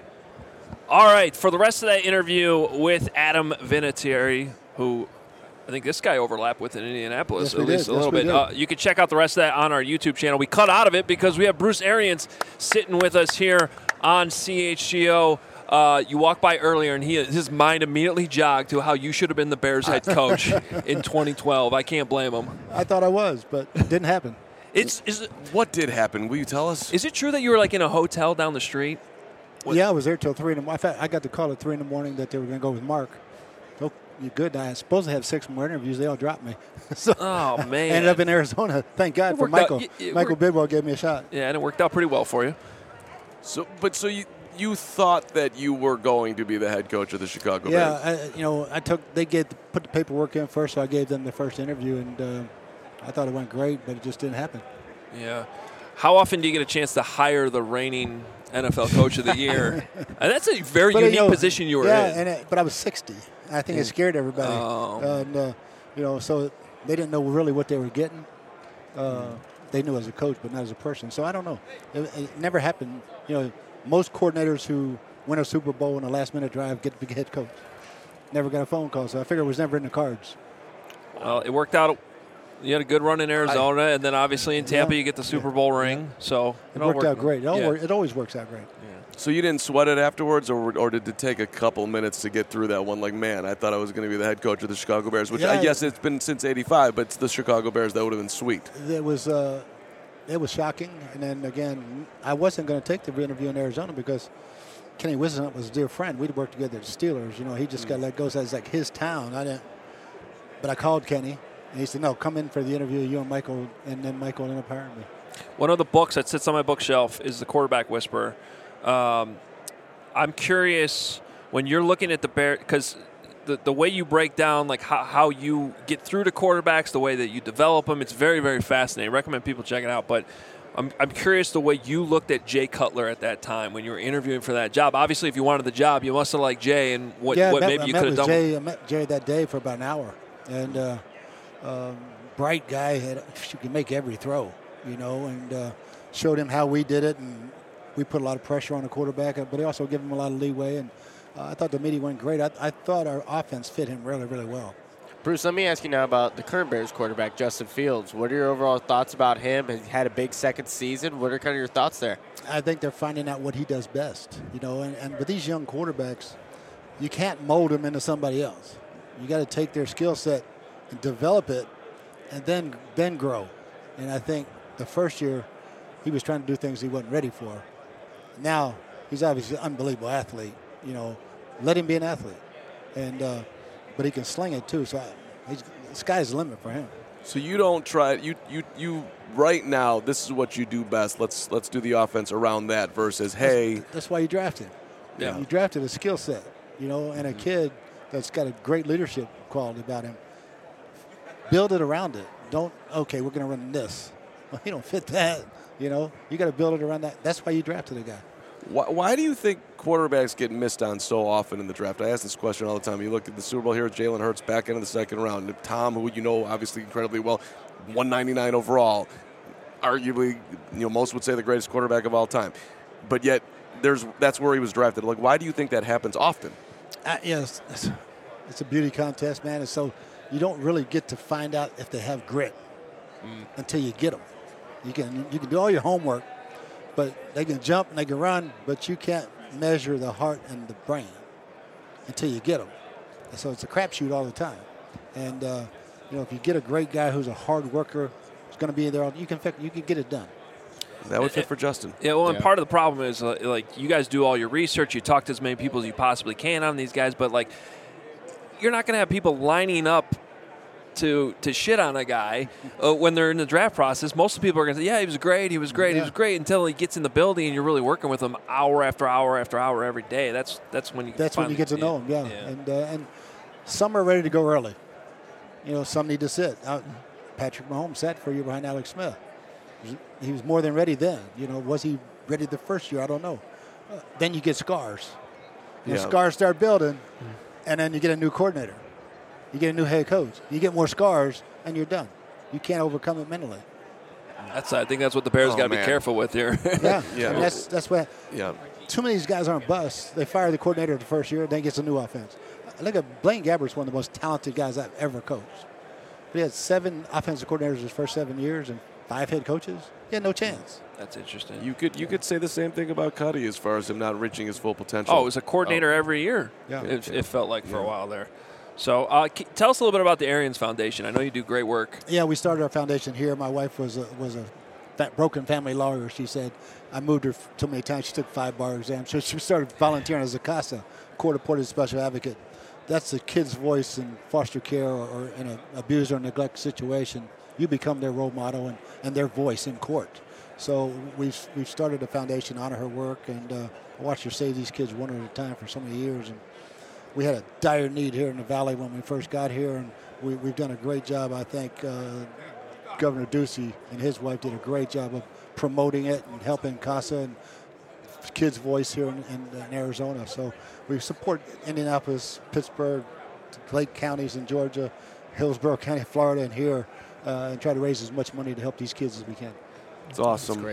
all right, for the rest of that interview with Adam Vinatieri, who I think this guy overlapped with in Indianapolis, yes, at did. least a yes, little bit. Uh, you can check out the rest of that on our YouTube channel. We cut out of it because we have Bruce Arians sitting with us here on C H G O. Uh, you walked by earlier, and he his mind immediately jogged to how you should have been the Bears head coach in twenty twelve. I can't blame him. I thought I was, but it didn't happen. It's is it, what did happen? Will you tell us? Is it true that you were like in a hotel down the street? What? Yeah, I was there till three in the morning. In fact, I got the call at three in the morning that they were going to go with Mark. So you're good. I was supposed to have six more interviews. They all dropped me. so oh man! I ended up in Arizona. Thank God for Michael. Out, it, it Michael Bidwell gave me a shot. Yeah, and it worked out pretty well for you. So, but so you. You thought that you were going to be the head coach of the Chicago yeah, Bears. Yeah, you know, I took they gave put the paperwork in first, so I gave them the first interview, and uh, I thought it went great, but it just didn't happen. Yeah. How often do you get a chance to hire the reigning N F L Coach of the Year? And that's a very but, unique you know, position you were yeah, in. and it, but I was sixty. I think yeah. it scared everybody. Oh. And uh, you know, so they didn't know really what they were getting. Uh, mm. They knew as a coach, but not as a person. So I don't know. It, it never happened. You know. most coordinators who win a Super Bowl in a last-minute drive get to be head coach. Never got a phone call, so I figured it was never in the cards. Well, it worked out. You had a good run in Arizona, I, and then obviously in Tampa yeah, you get the Super Bowl yeah, ring. Yeah. So it, it worked, worked out great. It, all yeah. work, it always works out great. Yeah. So you didn't sweat it afterwards, or or did it take a couple minutes to get through that one? Like, man, I thought I was going to be the head coach of the Chicago Bears, which yeah, I guess it's been since eighty-five, but it's the Chicago Bears. That would have been sweet. It was uh, it was shocking. And then, again, I wasn't going to take the interview in Arizona because Kenny Wisnut was a dear friend. We'd worked together at the Steelers. You know, he just mm. got let go. So it's like his town. I didn't. But I called Kenny, and he said, no, come in for the interview, you and Michael, and then Michael ended up hiring me. One of the books that sits on my bookshelf is The Quarterback Whisperer. Um, I'm curious when you're looking at the Bears, because the, the way you break down like how, how you get through to quarterbacks, the way that you develop them, it's very, very fascinating. I recommend people check it out. But I'm, I'm curious the way you looked at Jay Cutler at that time when you were interviewing for that job. Obviously, if you wanted the job, you must have liked Jay and what, yeah, what met, maybe I you met could have done. Jay, I met Jay that day for about an hour. And uh, um, bright guy, had, she could make every throw, you know, and uh, showed him how we did it. And we put a lot of pressure on the quarterback, but he also gave him a lot of leeway. And uh, I thought the meeting went great. I, I thought our offense fit him really, really well. Bruce, let me ask you now about the current Bears quarterback, Justin Fields. What are your overall thoughts about him? He had a big second season. What are kind of your thoughts there? I think they're finding out what he does best, you know. And, and with these young quarterbacks, you can't mold them into somebody else. You got to take their skill set and develop it, and then then grow. And I think the first year, he was trying to do things he wasn't ready for. Now, he's obviously an unbelievable athlete. You know, let him be an athlete. And uh, but he can sling it, too. So I, he's, the sky's the limit for him. So you don't try you you you right now. This is what you do best. Let's let's do the offense around that versus hey. That's, that's why you drafted. Yeah. You drafted a skill set, you know, and a mm-hmm. kid that's got a great leadership quality about him. Build it around it. Don't okay. We're going to run this. Well, you don't fit that. You know, you got to build it around that. That's why you drafted a guy. Why, why do you think quarterbacks get missed on so often in the draft? I ask this question all the time. You look at the Super Bowl here, Jalen Hurts back into the second round. Tom, who you know obviously incredibly well, one ninety-nine overall, arguably, you know, most would say the greatest quarterback of all time. But yet, there's that's where he was drafted. Like, why do you think that happens often? Uh, yes, it's, it's a beauty contest, man. And so you don't really get to find out if they have grit mm. until you get them. You can you can do all your homework, but they can jump and they can run, but you can't measure the heart and the brain until you get them. And so it's a crapshoot all the time. And uh, you know, if you get a great guy who's a hard worker, who's going to be there, you can you can get it done. That would fit for Justin. Yeah, well, yeah. and part of the problem is uh, like you guys do all your research, you talk to as many people as you possibly can on these guys, but like you're not going to have people lining up to to shit on a guy uh, when they're in the draft process. Most of the people are going to say, yeah, he was great, he was great, yeah. he was great, until he gets in the building and you're really working with him hour after hour after hour every day. That's that's when you That's when you get to know him, yeah. yeah. And, uh, and some are ready to go early. You know, some need to sit. Uh, Patrick Mahomes sat for a year behind Alex Smith. He was more than ready then. You know, was he ready the first year? I don't know. Uh, then you get scars. You yeah. know, scars start building, and then you get a new coordinator. You get a new head coach. You get more scars, and you're done. You can't overcome it mentally. That's I think that's what the Bears oh, got to be careful with here. yeah, yeah. And that's that's what. Yeah. Too many of these guys aren't busts. They fire the coordinator the first year, then gets a new offense. Look at Blaine Gabbert's one of the most talented guys I've ever coached. But he had seven offensive coordinators his first seven years and five head coaches. He had no chance. That's interesting. You could you could say the same thing about Cuddy as far as him not reaching his full potential. Oh, it was a coordinator oh. every year. Yeah. It, it felt like for yeah. a while there. So uh, tell us a little bit about the Arians Foundation. I know you do great work. Yeah, we started our foundation here. My wife was a, was a broken family lawyer. She said, I moved her too many times. She took five bar exams. So she started volunteering as a CASA, court-appointed special advocate. That's the kid's voice in foster care or, or in an abuse or neglect situation. You become their role model and, and their voice in court. So we've, we've started a foundation to honor her work, and uh, I watched her save these kids one at a time for so many years. And we had a dire need here in the Valley when we first got here, and we, we've done a great job. I think uh, Governor Ducey and his wife did a great job of promoting it and helping CASA and kids' voice here in, in, in Arizona. So we support Indianapolis, Pittsburgh, Lake counties in Georgia, Hillsborough County, Florida, and here, uh, and try to raise as much money to help these kids as we can. It's awesome. That's great.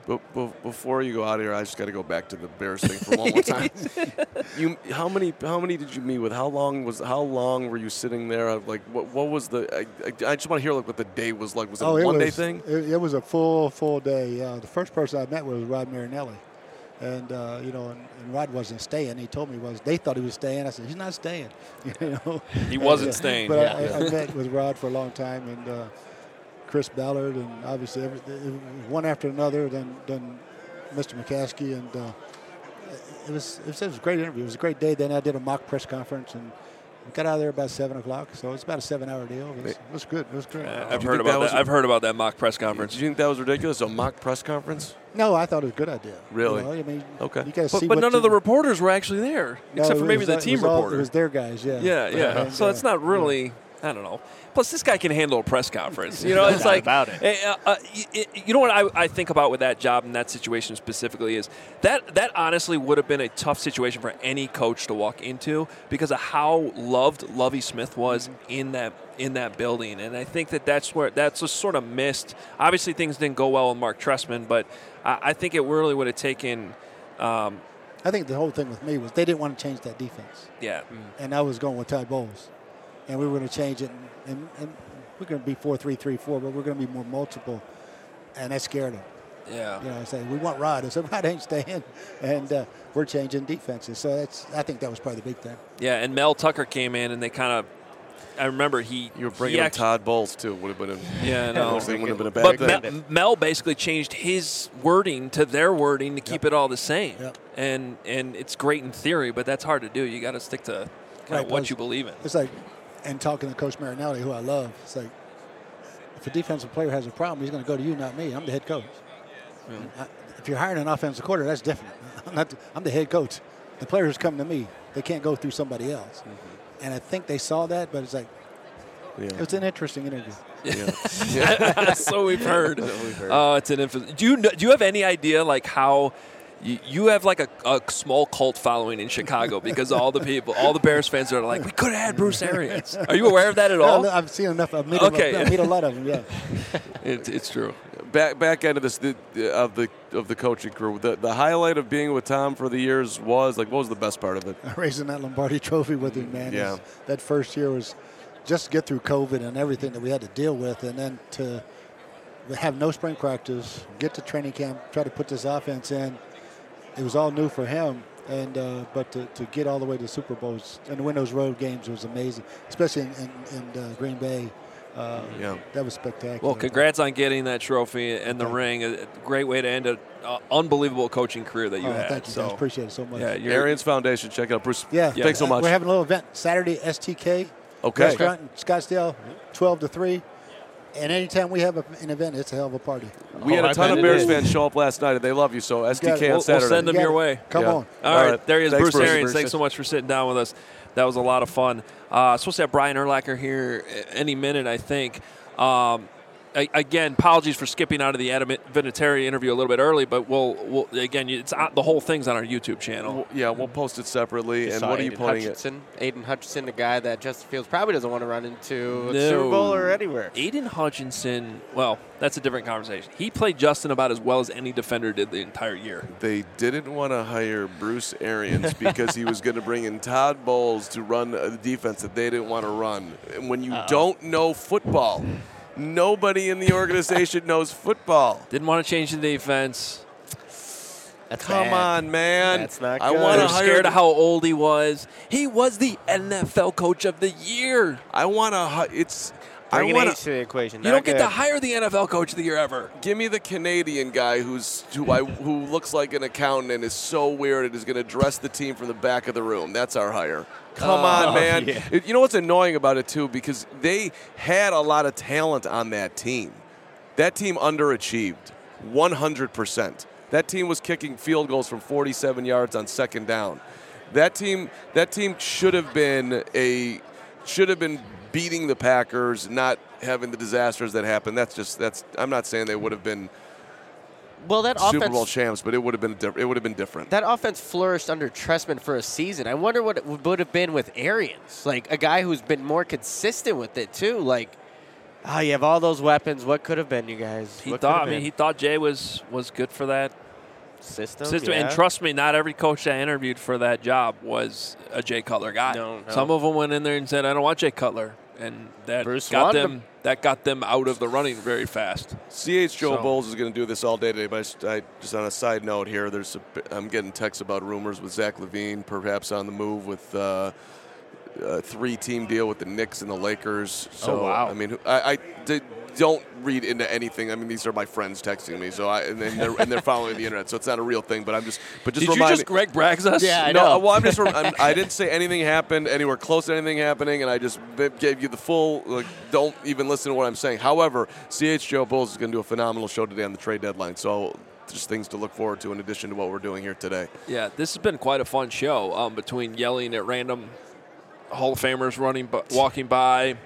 But, but before you go out of here, I just got to go back to the Bears thing for one more time. You, how many, how many did you meet with? How long was, how long were you sitting there? Like, what, what was the? I, I, I just want to hear like what the day was like. Was it oh, a it one day was, thing? It, it was a full, full day. Uh, the first person I met was Rod Marinelli, and uh, you know, and, and Rod wasn't staying. He told me was they thought he was staying. I said he's not staying. You know, he wasn't and, uh, staying. But yeah. I, I met with Rod for a long time, and uh, Chris Ballard, and obviously every, one after another. Then, then. Mister McCaskey, and uh, it, was, it was it was a great interview. It was a great day. Then I did a mock press conference, and we got out of there about seven o'clock. So it's about a seven-hour deal. It was, it was good. It was great. Uh, I've heard about that. that I've heard about that mock press conference. Did you think that was ridiculous? A mock press conference? No, I thought it was a good idea. Really? You know, I mean, okay. You gotta but see but what none you, of the reporters were actually there, no, except for maybe was, the team it was reporter. All, it was their guys. Yeah. Yeah, yeah. And, so uh, it's not really. I don't know. Plus, this guy can handle a press conference. You know, No it's doubt like about it. Uh, uh, you, you know what I, I think about with that job and that situation specifically is that that honestly would have been a tough situation for any coach to walk into because of how loved Lovie Smith was mm-hmm. in that in that building, and I think that that's where that's just sort of missed. Obviously, things didn't go well with Mark Trestman, but I, I think it really would have taken. Um, I think the whole thing with me was they didn't want to change that defense. Yeah, and I was going with Todd Bowles. And we were going to change it, and, and, and we're going to be four three three four, but we're going to be more multiple, and that scared him. Yeah. You know, I say we want Rod. I said Rod ain't staying, and uh, we're changing defenses. So that's I think that was probably the big thing. Yeah, and Mel Tucker came in, and they kind of. I remember he. You were bringing in Todd Bowles too. Would have been. A, yeah, no. Would have been a bad but thing. Mel, Mel basically changed his wording to their wording to keep yep. it all the same, yep. and and it's great in theory, but that's hard to do. You got to stick to kind right, of what you believe in. It's like. And talking to Coach Marinelli, who I love, it's like, if a defensive player has a problem, he's going to go to you, not me. I'm the head coach. Yeah. I, if you're hiring an offensive coordinator, that's different. I'm, not the, I'm the head coach. The players come to me. They can't go through somebody else. Mm-hmm. And I think they saw that, but it's like, yeah. It's an interesting interview. Yeah. yeah. So we've heard. Oh, we've heard. uh, it's an infamous. Do you do you have any idea like how? You, you have like a, a small cult following in Chicago because all the people, all the Bears fans are like, we could have had Bruce Arians. Are you aware of that at all? No, I've seen enough. I've met, okay. them, I meet a lot of them. Yeah, it, it's true. Back back end of this the, of the of the coaching crew. The the highlight of being with Tom for the years was like, what was the best part of it? Raising that Lombardi Trophy with him, man. Yeah. Was, that first year was just to get through COVID and everything that we had to deal with, and then to have no spring practice, get to training camp, try to put this offense in. It was all new for him, and uh, but to, to get all the way to Super Bowls and win those road games was amazing, especially in, in, in uh, Green Bay. Uh, yeah, that was spectacular. Well, congrats on getting that trophy and the ring. A great way to end an uh, unbelievable coaching career that you oh, had. Thank you, so, guys. Appreciate it so much. Yeah, Arians Foundation. Check it out, Bruce. Yeah, yeah. Thanks so much. We're having a little event Saturday, S T K okay. restaurant in Scottsdale, twelve to three. And anytime we have a, an event, it's a hell of a party. We oh, had a ton of Bears fans show up last night, and they love you. So S T K we'll, on Saturday. We'll send them your way. Come yeah. on. All, All right. right, there he is, Thanks, Bruce, Bruce Arians. Thanks so much for sitting down with us. That was a lot of fun. Uh, supposed to have Brian Urlacher here any minute, I think. Um, Again, apologies for skipping out of the Adam Vinatieri interview a little bit early, but we'll, we'll again, it's the whole thing's on our YouTube channel. We'll, yeah, we'll post it separately. You and saw what Aiden are you pointing Hutchinson, at? Aiden Hutchinson, the guy that Justin Fields probably doesn't want to run into no. a Super Bowl or anywhere. Aiden Hutchinson, well, that's a different conversation. He played Justin about as well as any defender did the entire year. They didn't want to hire Bruce Arians because he was going to bring in Todd Bowles to run a defense that they didn't want to run. And when you Uh-oh. don't know football, nobody in the organization knows football. Didn't want to change the defense. That's Come bad. on, man. That's not I good. want They're to hire scared of how old he was. He was the N F L Coach of the Year. I want to. It's. Bring I an want age to the equation. You Not don't get good. to hire the N F L Coach of the Year ever. Give me the Canadian guy who's who I who looks like an accountant and is so weird and is going to dress the team from the back of the room. That's our hire. Come oh, on, man. Yeah. It, you know what's annoying about it, too? Because they had a lot of talent on that team. That team underachieved one hundred percent. That team was kicking field goals from forty-seven yards on second down. That team that team should have been a should have been beating the Packers, not having the disasters that happened. That's just that's I'm not saying they would have been Well, that Super offense, Bowl champs, but it would have been diff- it would have been different. That offense flourished under Trestman for a season. I wonder what it would have been with Arians, like a guy who's been more consistent with it too. Like, Oh, you have all those weapons. What could have been, you guys? He What thought. could I have mean, been? he thought Jay was was good for that system. system. yeah. And trust me, not every coach that interviewed for that job was a Jay Cutler guy. No, no. Some of them went in there and said, "I don't want Jay Cutler," and that Bruce got wanted them. him. That got them out of the running very fast. C H Joe So- Bowles is going to do this all day today, but I just, I, just on a side note here, there's a, I'm getting texts about rumors with Zach LaVine, perhaps on the move with uh, a three-team deal with the Knicks and the Lakers. So, Oh, wow. I mean, I, I did, don't read into anything. I mean, these are my friends texting me, so I and, then they're, and they're following the internet, so it's not a real thing. But I'm just, but just Did you remind just Greg Braggs us? Yeah, I no, know. well, I'm just. I'm, I didn't say anything happened anywhere close to anything happening, and I just b- gave you the full. Like, don't even listen to what I'm saying. However, C H Joe Bulls is going to do a phenomenal show today on the trade deadline. So, just things to look forward to in addition to what we're doing here today. Yeah, this has been quite a fun show. Um, between yelling at random Hall of Famers running, bu- walking by,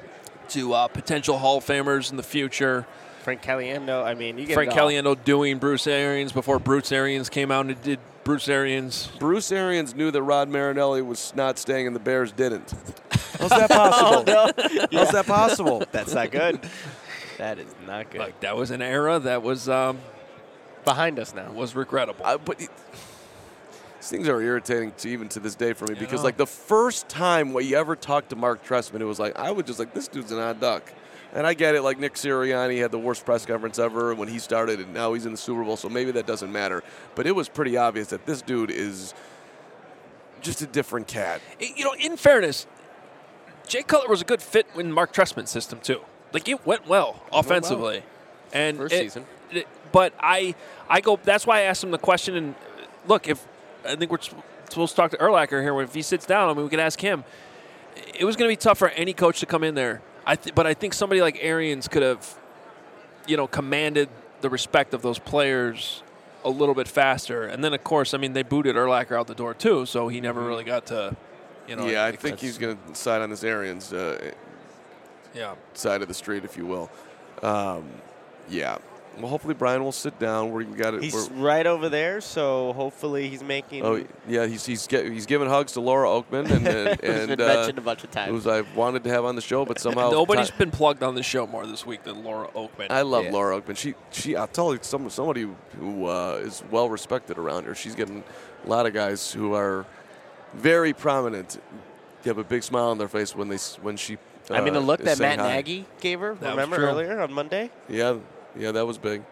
to uh, potential Hall of Famers in the future. Frank Caliendo. I mean, you get Frank it all. Caliendo doing Bruce Arians before Bruce Arians came out and did Bruce Arians. Bruce Arians knew that Rod Marinelli was not staying, and the Bears didn't. How's that possible? Oh, no. How's that possible? That's not good. That is not good. Like, that was an era that was um, behind us now. Was regrettable. Uh, but it, these things are irritating to even to this day for me because, know. like, the first time we ever talked to Mark Trestman, it was like, I was just like, this dude's an odd duck. And I get it, like Nick Sirianni had the worst press conference ever when he started, and now he's in the Super Bowl, so maybe that doesn't matter. But it was pretty obvious that this dude is just a different cat. You know, in fairness, Jay Cutler was a good fit in Mark Trestman's system too. Like, it went well offensively, well. and First it- season. it- but I, I go. That's why I asked him the question. And look, if I think we're supposed to talk to Urlacher here, if he sits down, I mean, we could ask him. It was going to be tough for any coach to come in there. I th- but I think somebody like Arians could have, you know, commanded the respect of those players a little bit faster. And then, of course, I mean, they booted Urlacher out the door too, so he never really got to, you know. yeah, I think he's going to side on this Arians uh, yeah. side of the street, if you will. Um, yeah. Well, hopefully Brian will sit down. We got it. He's we're- right over there, so hopefully he's making. Oh yeah, he's he's get, he's giving hugs to Laura Oakman and and, Who's and been uh, mentioned a bunch of times. who's I wanted to have on the show, but somehow Nobody's ti- been plugged on the show more this week than Laura Oakman. I love Yeah. Laura Oakman. She she I'll tell you some somebody who uh, is well respected around here. She's getting a lot of guys who are very prominent. They have a big smile on their face when they s- when she. Uh, I mean, the look is that saying Matt hi. Nagy gave her. That was Remember true. earlier on Monday? Yeah, yeah, that was big.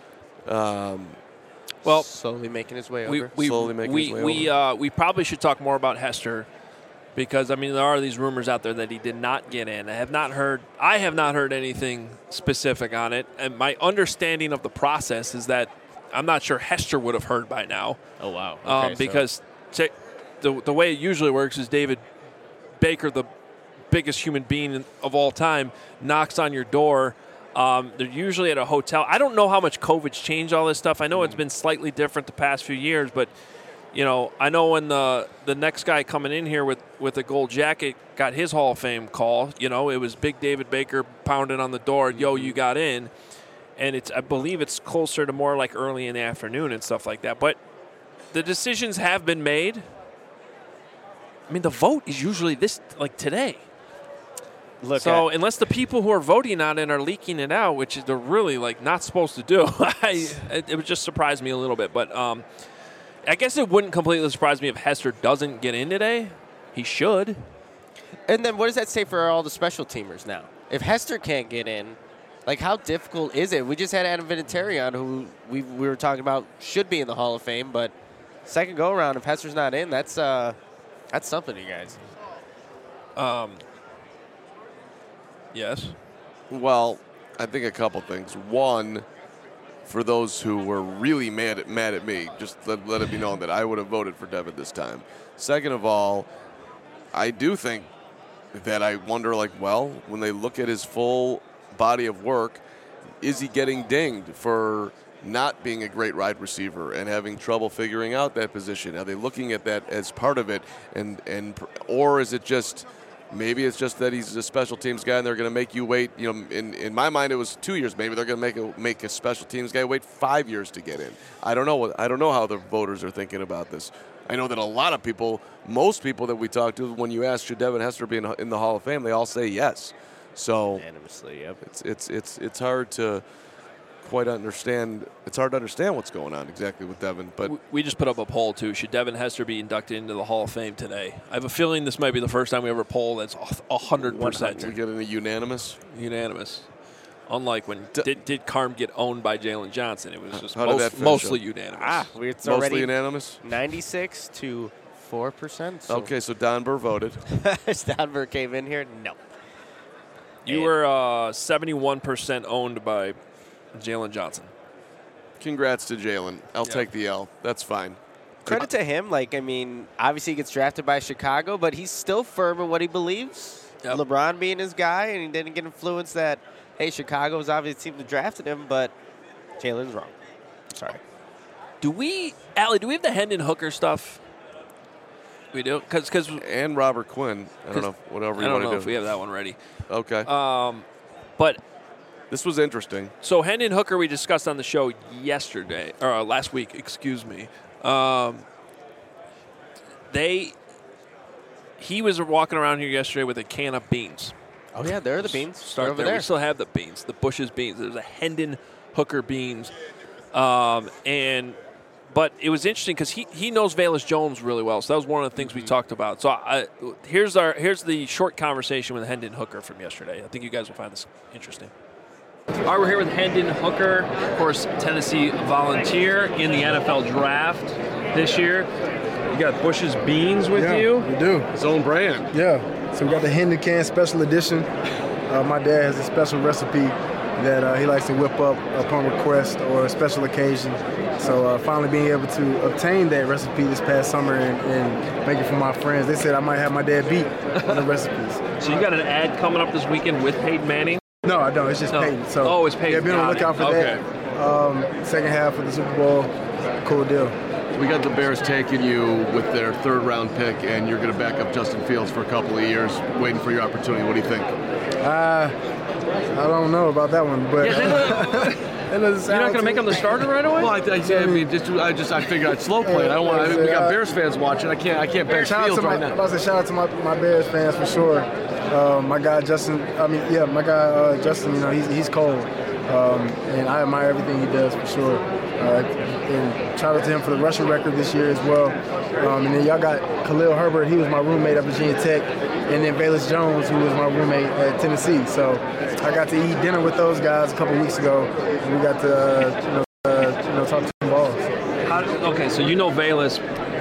Um, Well, slowly making his way we, over. we, Slowly making we, his way we, over. Uh, we probably should talk more about Hester because, I mean, there are these rumors out there that he did not get in. I have not heard I have not heard anything specific on it. And my understanding of the process is that I'm not sure Hester would have heard by now. Oh, wow. um, Okay, so- because ta- the, the way it usually works is David Baker, the biggest human being of all time, knocks on your door. Um, they're usually at a hotel. I don't know how much COVID's changed all this stuff. I know it's been slightly different the past few years, but you know, I know when the the next guy coming in here with, with a gold jacket got his Hall of Fame call, you know, it was big David Baker pounding on the door, yo, you got in. And it's I believe it's closer to more like early in the afternoon and stuff like that. But the decisions have been made. I mean, the vote is usually this like today. Look so at- unless the people who are voting on it are leaking it out, which is they're really like not supposed to do, I, it, it would just surprise me a little bit. But um, I guess it wouldn't completely surprise me if Hester doesn't get in today. He should. And then what does that say for all the special teamers now? If Hester can't get in, like how difficult is it? We just had Adam Vinatieri on, who we we were talking about should be in the Hall of Fame, but second go around, if Hester's not in, that's uh, that's something, you guys. Um. Yes. Well, I think a couple things. One, for those who were really mad at mad at me, just let, let it be known that I would have voted for Devin this time. Second of all, I do think that I wonder, like, well, when they look at his full body of work, is he getting dinged for not being a great wide receiver and having trouble figuring out that position? Are they looking at that as part of it, and and or is it just maybe it's just that he's a special teams guy and they're going to make you wait? You know, in, in my mind it was two years. Maybe they're going to make a make a special teams guy wait five years to get in. I don't know what I don't know how the voters are thinking about this. I know that a lot of people, most people that we talk to, when you ask should Devin Hester be in, in the Hall of Fame, they all say yes. So unanimously, yep. It's it's it's it's hard to quite understand. It's hard to understand what's going on exactly with Devin. But we just put up a poll too. Should Devin Hester be inducted into the Hall of Fame today? I have a feeling this might be the first time we ever poll that's a hundred percent. We get a unanimous. Unanimous. Unlike when D- did, did Carm get owned by Jalen Johnson? It was just How did most, that finish mostly up? unanimous. Ah, it's Mostly already unanimous? ninety-six to four percent. So Okay, so Don Burr voted. Stanver came in here. No. You were uh, seventy-one percent owned by Jalen Johnson. Congrats to Jalen. I'll Yeah. take the L. That's fine. Credit to him. Like, I mean, obviously he gets drafted by Chicago, but he's still firm in what he believes. Yep. LeBron being his guy, and he didn't get influenced that, hey, Chicago was obviously the team that drafted him, but Jalen's wrong. Sorry. Do we, Allie, do we have the Hendon Hooker stuff? We do? Cause, cause, and Robert Quinn. I don't know, if- whatever you I don't want to know do. if we have that one ready. Okay. Um, but this was interesting. So Hendon Hooker we discussed on the show yesterday, or uh, last week, excuse me. Um, they, he was walking around here yesterday with a can of beans. Oh, yeah, there are the beans. Start They're over there. there. We still have the beans, the Bush's beans. There's a Hendon Hooker beans. Um, and but it was interesting because he, he knows Velus Jones really well. So that was one of the things we talked about. So I, here's our here's the short conversation with Hendon Hooker from yesterday. I think you guys will find this interesting. All right, we're here with Hendon Hooker, of course, Tennessee Volunteer in the N F L Draft this year. You got Bush's Beans with yeah, you. We do. His own brand. Yeah. So we got the Hendon Can Special Edition. Uh, my dad has a special recipe that uh, he likes to whip up upon request or a special occasion. So uh, finally being able to obtain that recipe this past summer and, and make it for my friends. They said I might have my dad beat on the recipes. So you got an ad coming up this weekend with Peyton Manning? No, I don't. It's just No. Peyton. So Oh, it's Peyton. Yeah, be on the Got lookout it. for Okay. that. Um, second half of the Super Bowl. Cool deal. We got the Bears taking you with their third round pick, and you're going to back up Justin Fields for a couple of years, waiting for your opportunity. What do you think? Uh, I don't know about that one, but You're not going to make him the starter right away? Well, I, I, I mean, just I just I figured I'd slow play it. I don't want. I mean, we got Bears fans watching. I can't I can't bench Shout out Fields to my, right now. I'm about to say shout out to my, my Bears fans for sure. Uh, my guy Justin, I mean, yeah, my guy uh, Justin, you know, he's he's cold, um, and I admire everything he does for sure. Uh, and shout out to him for the rushing record this year as well. Um, and then y'all got Khalil Herbert, he was my roommate at Virginia Tech, and then Velus Jones, who was my roommate at Tennessee. So I got to eat dinner with those guys a couple weeks ago. And we got to uh, you know, uh, you know talk to some balls. How, okay, so you know Velus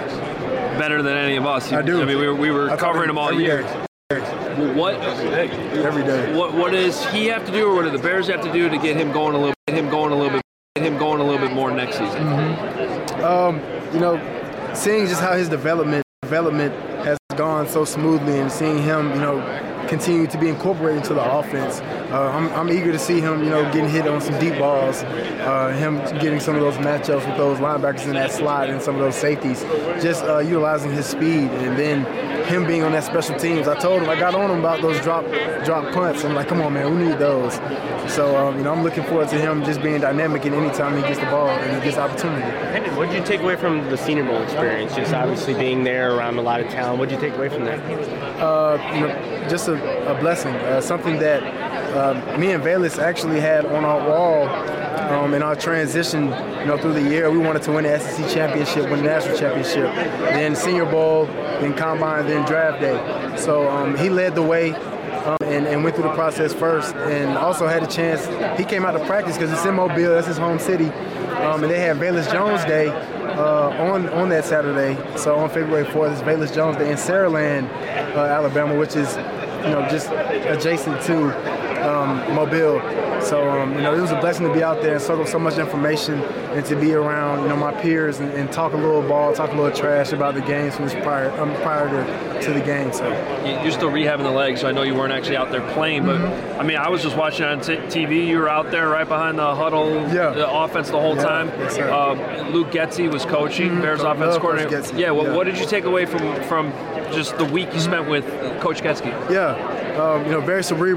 better than any of us. I do. I mean, we were, we were I talk covering to him all every year. day. What every day? What what does he have to do, or what do the Bears have to do to get him going a little, get him going a little bit, get him going a little bit more next season? Mm-hmm. Um, you know, seeing just how his development development has gone so smoothly, and seeing him, you know, continue to be incorporated into the offense. Uh, I'm, I'm eager to see him, you know, getting hit on some deep balls, uh, him getting some of those matchups with those linebackers in that slot and some of those safeties, just uh, utilizing his speed, and then him being on that special teams. I told him, I got on him about those drop drop punts. I'm like, come on, man, we need those. So, um, you know, I'm looking forward to him just being dynamic, and anytime he gets the ball and he gets opportunity. Hendon, what did you take away from the Senior Bowl experience? Just obviously being there around a lot of talent. What did you take away from that? Uh, you know, just a, a blessing, uh, something that uh, me and Velus actually had on our wall um, in our transition, you know, through the year. We wanted to win the S E C championship, win the national championship, then Senior Bowl, then Combine, then Draft Day. So um, he led the way um, and, and went through the process first, and also had a chance. He came out to practice because it's in Mobile, that's his home city, um, and they had Velus Jones Day uh, on on that Saturday. So on February fourth, it's Velus Jones Day in Saraland, uh, Alabama, which is, you know, just adjacent to um, Mobile. So, um, you know, it was a blessing to be out there and soak up so much information, and to be around, you know, my peers and, and talk a little ball, talk a little trash about the games from this prior, um, prior to, to the game. So You're still rehabbing the leg, so I know you weren't actually out there playing. But Mm-hmm. I mean, I was just watching on t- T V. You were out there right behind the huddle, yeah. the offense the whole Yeah. time. Yes, sir. uh, Luke Getzey was coaching, Mm-hmm. Bears Love offense Coach coordinator. Getzey. Yeah, well, Yeah. what did you take away from from just the week you spent with Coach Getzey? Yeah, um, you know, very cerebral,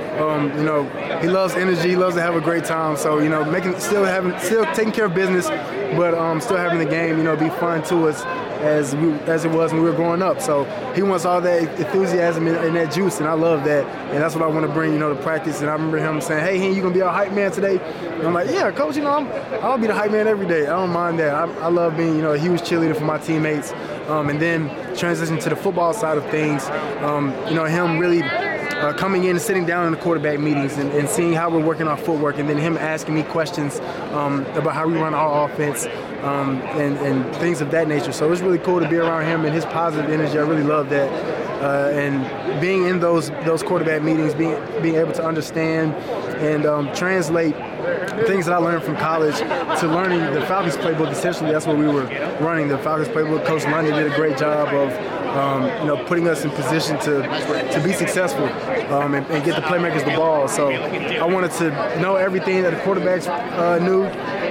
Um, you know, he loves energy. He loves to have a great time. So, you know, making still having still taking care of business, but um, still having the game, you know, be fun to us as we, as it was when we were growing up. So he wants all that enthusiasm and, and that juice, and I love that. And that's what I want to bring, you know, to practice. And I remember him saying, "Hey, Hen, you gonna be our hype man today?" And I'm like, "Yeah, coach. You know, I'm, I'll be the hype man every day. I don't mind that. I, I love being, you know, a huge cheerleader for my teammates." Um, and then transition to the football side of things. Um, you know, him really. Uh, coming in and sitting down in the quarterback meetings and, and seeing how we're working our footwork, and then him asking me questions um, about how we run our offense um, and, and things of that nature. So it's really cool to be around him and his positive energy. I really love that. Uh, and being in those those quarterback meetings, being being able to understand and um, translate things that I learned from college to learning the Falcons playbook. Essentially, that's what we were running, the Falcons playbook. Coach London did a great job of Um, you know, putting us in position to to be successful um, and, and get the playmakers the ball. So I wanted to know everything that the quarterbacks uh, knew,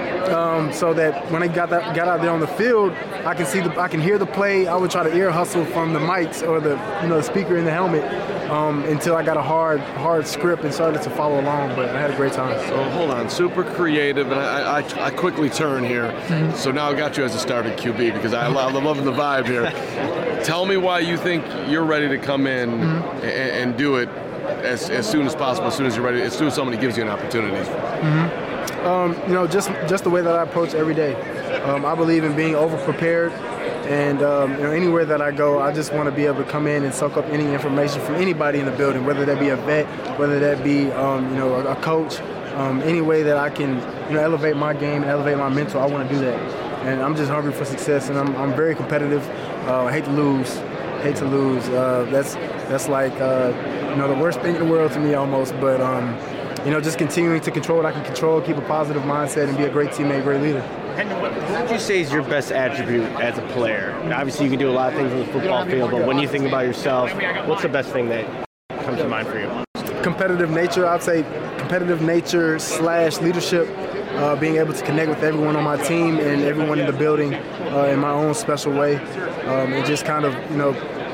um, so that when they got that, got out there on the field, I can see the, I can hear the play. I would try to ear hustle from the mics or the you know the speaker in the helmet um, until I got a hard hard script and started to follow along. But I had a great time. So hold on, super creative, and I I, I quickly turn here. Mm-hmm. So now I got you as a starting Q B because I love, I'm loving the vibe here. Tell me why you think you're ready to come in mm-hmm. and, and do it as, as soon as possible, as soon as you're ready, as soon as somebody gives you an opportunity. Mm-hmm. Um, you know, just just the way that I approach every day. Um, I believe in being over-prepared, and um, you know, anywhere that I go, I just want to be able to come in and soak up any information from anybody in the building, whether that be a vet, whether that be um, you know a, a coach, um, any way that I can you know elevate my game and elevate my mental. I want to do that. And I'm just hungry for success, and I'm, I'm very competitive. Uh, I hate to lose, hate to lose. Uh, that's that's like uh, you know the worst thing in the world to me almost. But um, you know, just continuing to control what I can control, keep a positive mindset, and be a great teammate, great leader. What would you say is your best attribute as a player? Obviously, you can do a lot of things on the football field, but when you think about yourself, what's the best thing that comes to mind for you? Competitive nature. I'd say competitive nature slash leadership. Uh, being able to connect with everyone on my team and everyone in the building uh, in my own special way, um, and just kind of, you know,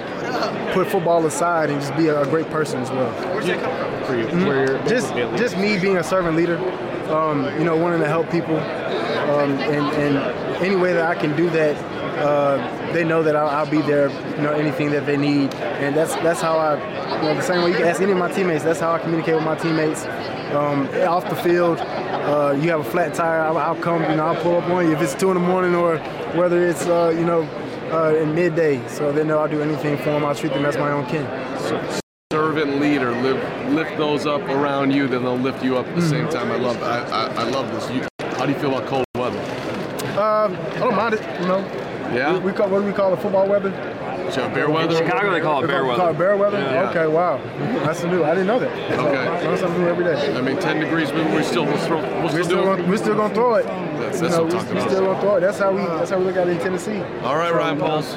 put football aside and just be a, a great person as well. Where's that come for you? Mm-hmm. Where just, just me being a servant leader, um, you know, wanting to help people, um, and, and any way that I can do that, uh, they know that I'll, I'll be there, you know, anything that they need, and that's that's how I, you know, the same way you can ask any of my teammates. That's how I communicate with my teammates. Um, off the field, uh, you have a flat tire, I'll, I'll come, you know, I'll pull up on you if it's two in the morning or whether it's, uh, you know, uh, in midday. So they know I'll do anything for them. I'll treat them as my own kin. So, servant leader, lift, lift those up around you, then they'll lift you up at the mm-hmm. same time. I love, I, I, I love this. You, how do you feel about cold weather? Um, I don't mind it, you know. Yeah. We, we call what do we call it? Football weather. So bear weather? Chicago, they call it bear weather. Call it bear weather? Yeah. Okay, wow. That's new. I didn't know that. Okay. I learn something new every day. I mean, ten degrees, we, we still, we'll throw, we'll we're still, still, do gonna, we're still gonna throw it. That's, that's you know, what I'm talking we're about. still gonna throw it. That's how we. That's how we look at it in Tennessee. All right, so, Ryan Poles.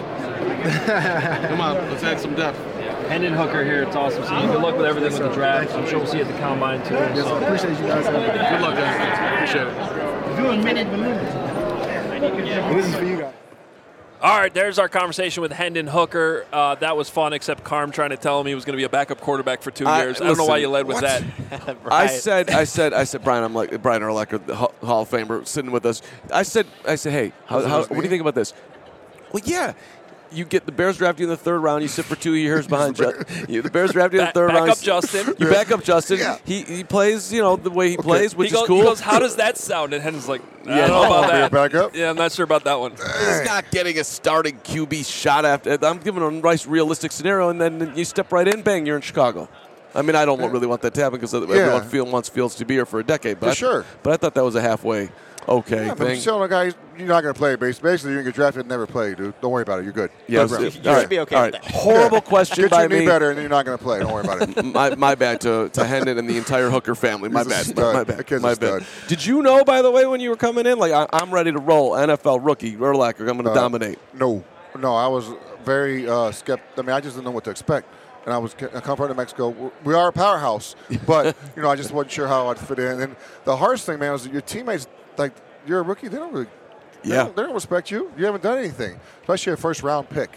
Come on, let's add some depth. Hendon Hooker here. It's awesome seeing you. Good luck with everything yes, with the draft. I'm sure we'll see you at the combine too. Yes, so. I appreciate you guys. Good luck, guys. Appreciate it. Doing minute minute. This is for you guys. All right, there's our conversation with Hendon Hooker. Uh, that was fun, except Carm trying to tell him he was going to be a backup quarterback for two I, years. Listen, I don't know why you led with what? that. I said, I said, I said, Brian, I'm like Brian Urlacher, the Hall of Famer, sitting with us. I said, I said, hey, how, how, what do you think about this? Well, yeah. You get the Bears draft you in the third round. You sit for two years behind Justin. You, the Bears draft you in the third back round. Back up Justin. You back up Justin. Yeah. He he plays, you know, the way he okay. plays, which he goes, is cool. He goes, how does that sound? And Hendon's like, I yeah, don't know about that. Back up? Yeah, I'm not sure about that one. He's not getting a starting Q B shot after. I'm giving him a nice, realistic scenario, and then you step right in, bang, you're in Chicago. I mean, I don't really want that to happen because everyone yeah. feel, wants Fields to be here for a decade. But for I, sure. But I thought that was a halfway okay yeah, thing. But still, a guy, you're not going to play. Basically, you're going to get drafted and never play, dude. Don't worry about it. You're good. Yes. You, you should right. be okay All with right. that. Horrible question get by your knee me. better, and then you're not going to play. Don't worry about it. my, my bad to, to Hendon and the entire Hooker family. My He's bad. My, my bad. My bad. Did you know, by the way, when you were coming in, like, I, I'm ready to roll, N F L rookie, Urlacher, I'm going to uh, dominate? No. No, I was very uh, skeptical. I mean, I just didn't know what to expect. And I was I come from Mexico. We are a powerhouse, but you know I just wasn't sure how I'd fit in. And the hardest thing, man, was that your teammates, like you're a rookie, they don't really, they yeah, don't, they don't respect you. You haven't done anything, especially a first round pick.